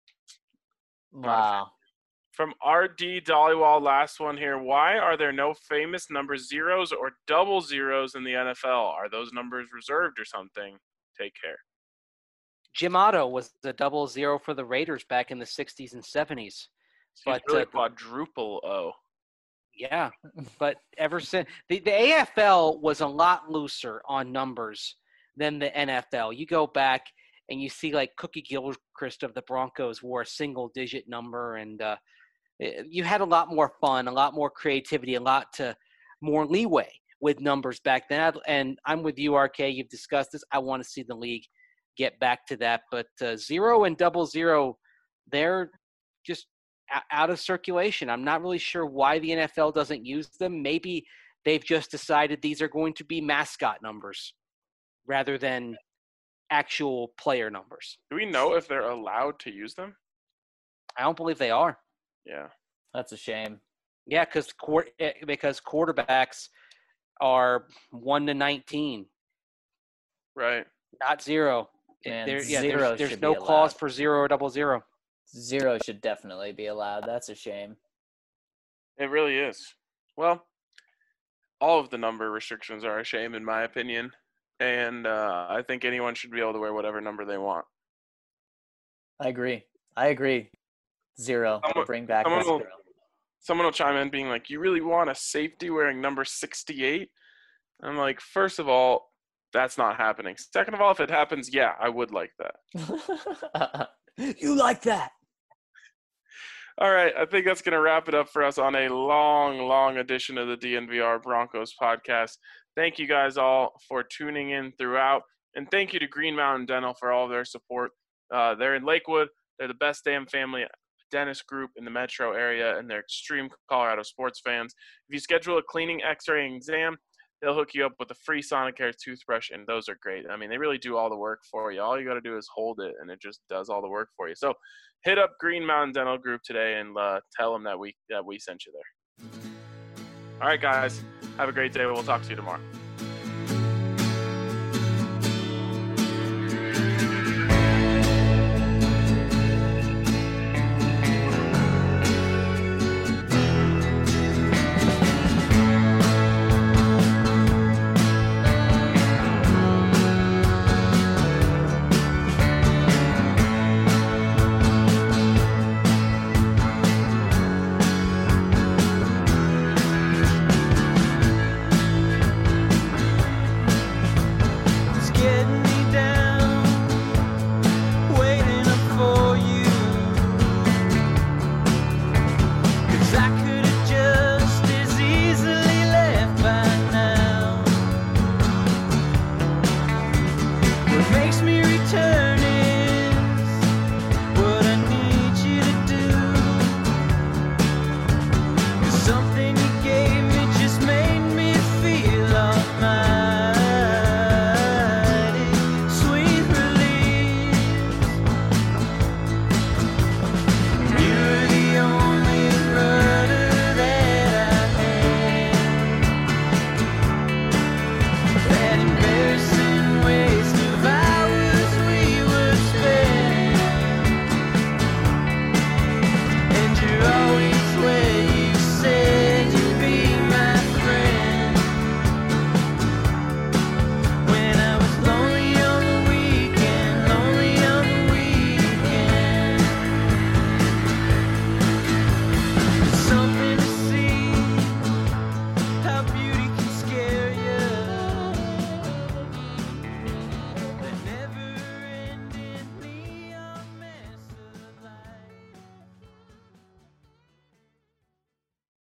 Wow. From R D Dollywall, last one here. Why are there no famous number zeros or double zeros in the N F L? Are those numbers reserved or something? Take care. Jim Otto was the double zero for the Raiders back in the sixties and seventies. So But, it's really uh, quadruple O. Yeah, but ever since the, the A F L was a lot looser on numbers than the N F L. You go back and you see like Cookie Gilchrist of the Broncos wore a single digit number, and uh, you had a lot more fun, a lot more creativity, a lot to more leeway with numbers back then. And I'm with you, R K. You've discussed this. I want to see the league get back to that. But uh, zero and double zero, they're just out of circulation. I'm not really sure why the N F L doesn't use them. Maybe they've just decided these are going to be mascot numbers rather than actual player numbers. Do we know if they're allowed to use them? I don't believe they are. Yeah. That's a shame. Yeah, because because quarterbacks are one to nineteen, Right. not zero. Man, There, yeah, zero there's, there's should no be clause allowed. for zero or double zero. Zero should definitely be allowed. That's a shame. It really is. Well, all of the number restrictions are a shame, in my opinion. And uh, I think anyone should be able to wear whatever number they want. I agree. I agree. Zero. Someone- Bring back the someone will- zero. Someone will chime in being like, you really want a safety wearing number sixty-eight? I'm like, first of all, that's not happening. Second of all, if it happens, yeah, I would like that. You like that? All right, I think that's going to wrap it up for us on a long, long edition of the D N V R Broncos podcast. Thank you guys all for tuning in throughout, and thank you to Green Mountain Dental for all of their support. Uh, they're in Lakewood. They're the best damn family dentist group in the metro area, and they're extreme Colorado sports fans. If you schedule a cleaning, x-ray, and exam, they'll hook you up with a free Sonicare toothbrush, and those are great. I mean, they really do all the work for you. All you got to do is hold it, and it just does all the work for you. So hit up Green Mountain Dental Group today and uh, tell them that we that we sent you there. All right, guys. Have a great day. We'll talk to you tomorrow. It's getting me down, waiting up for you. 'Cause I could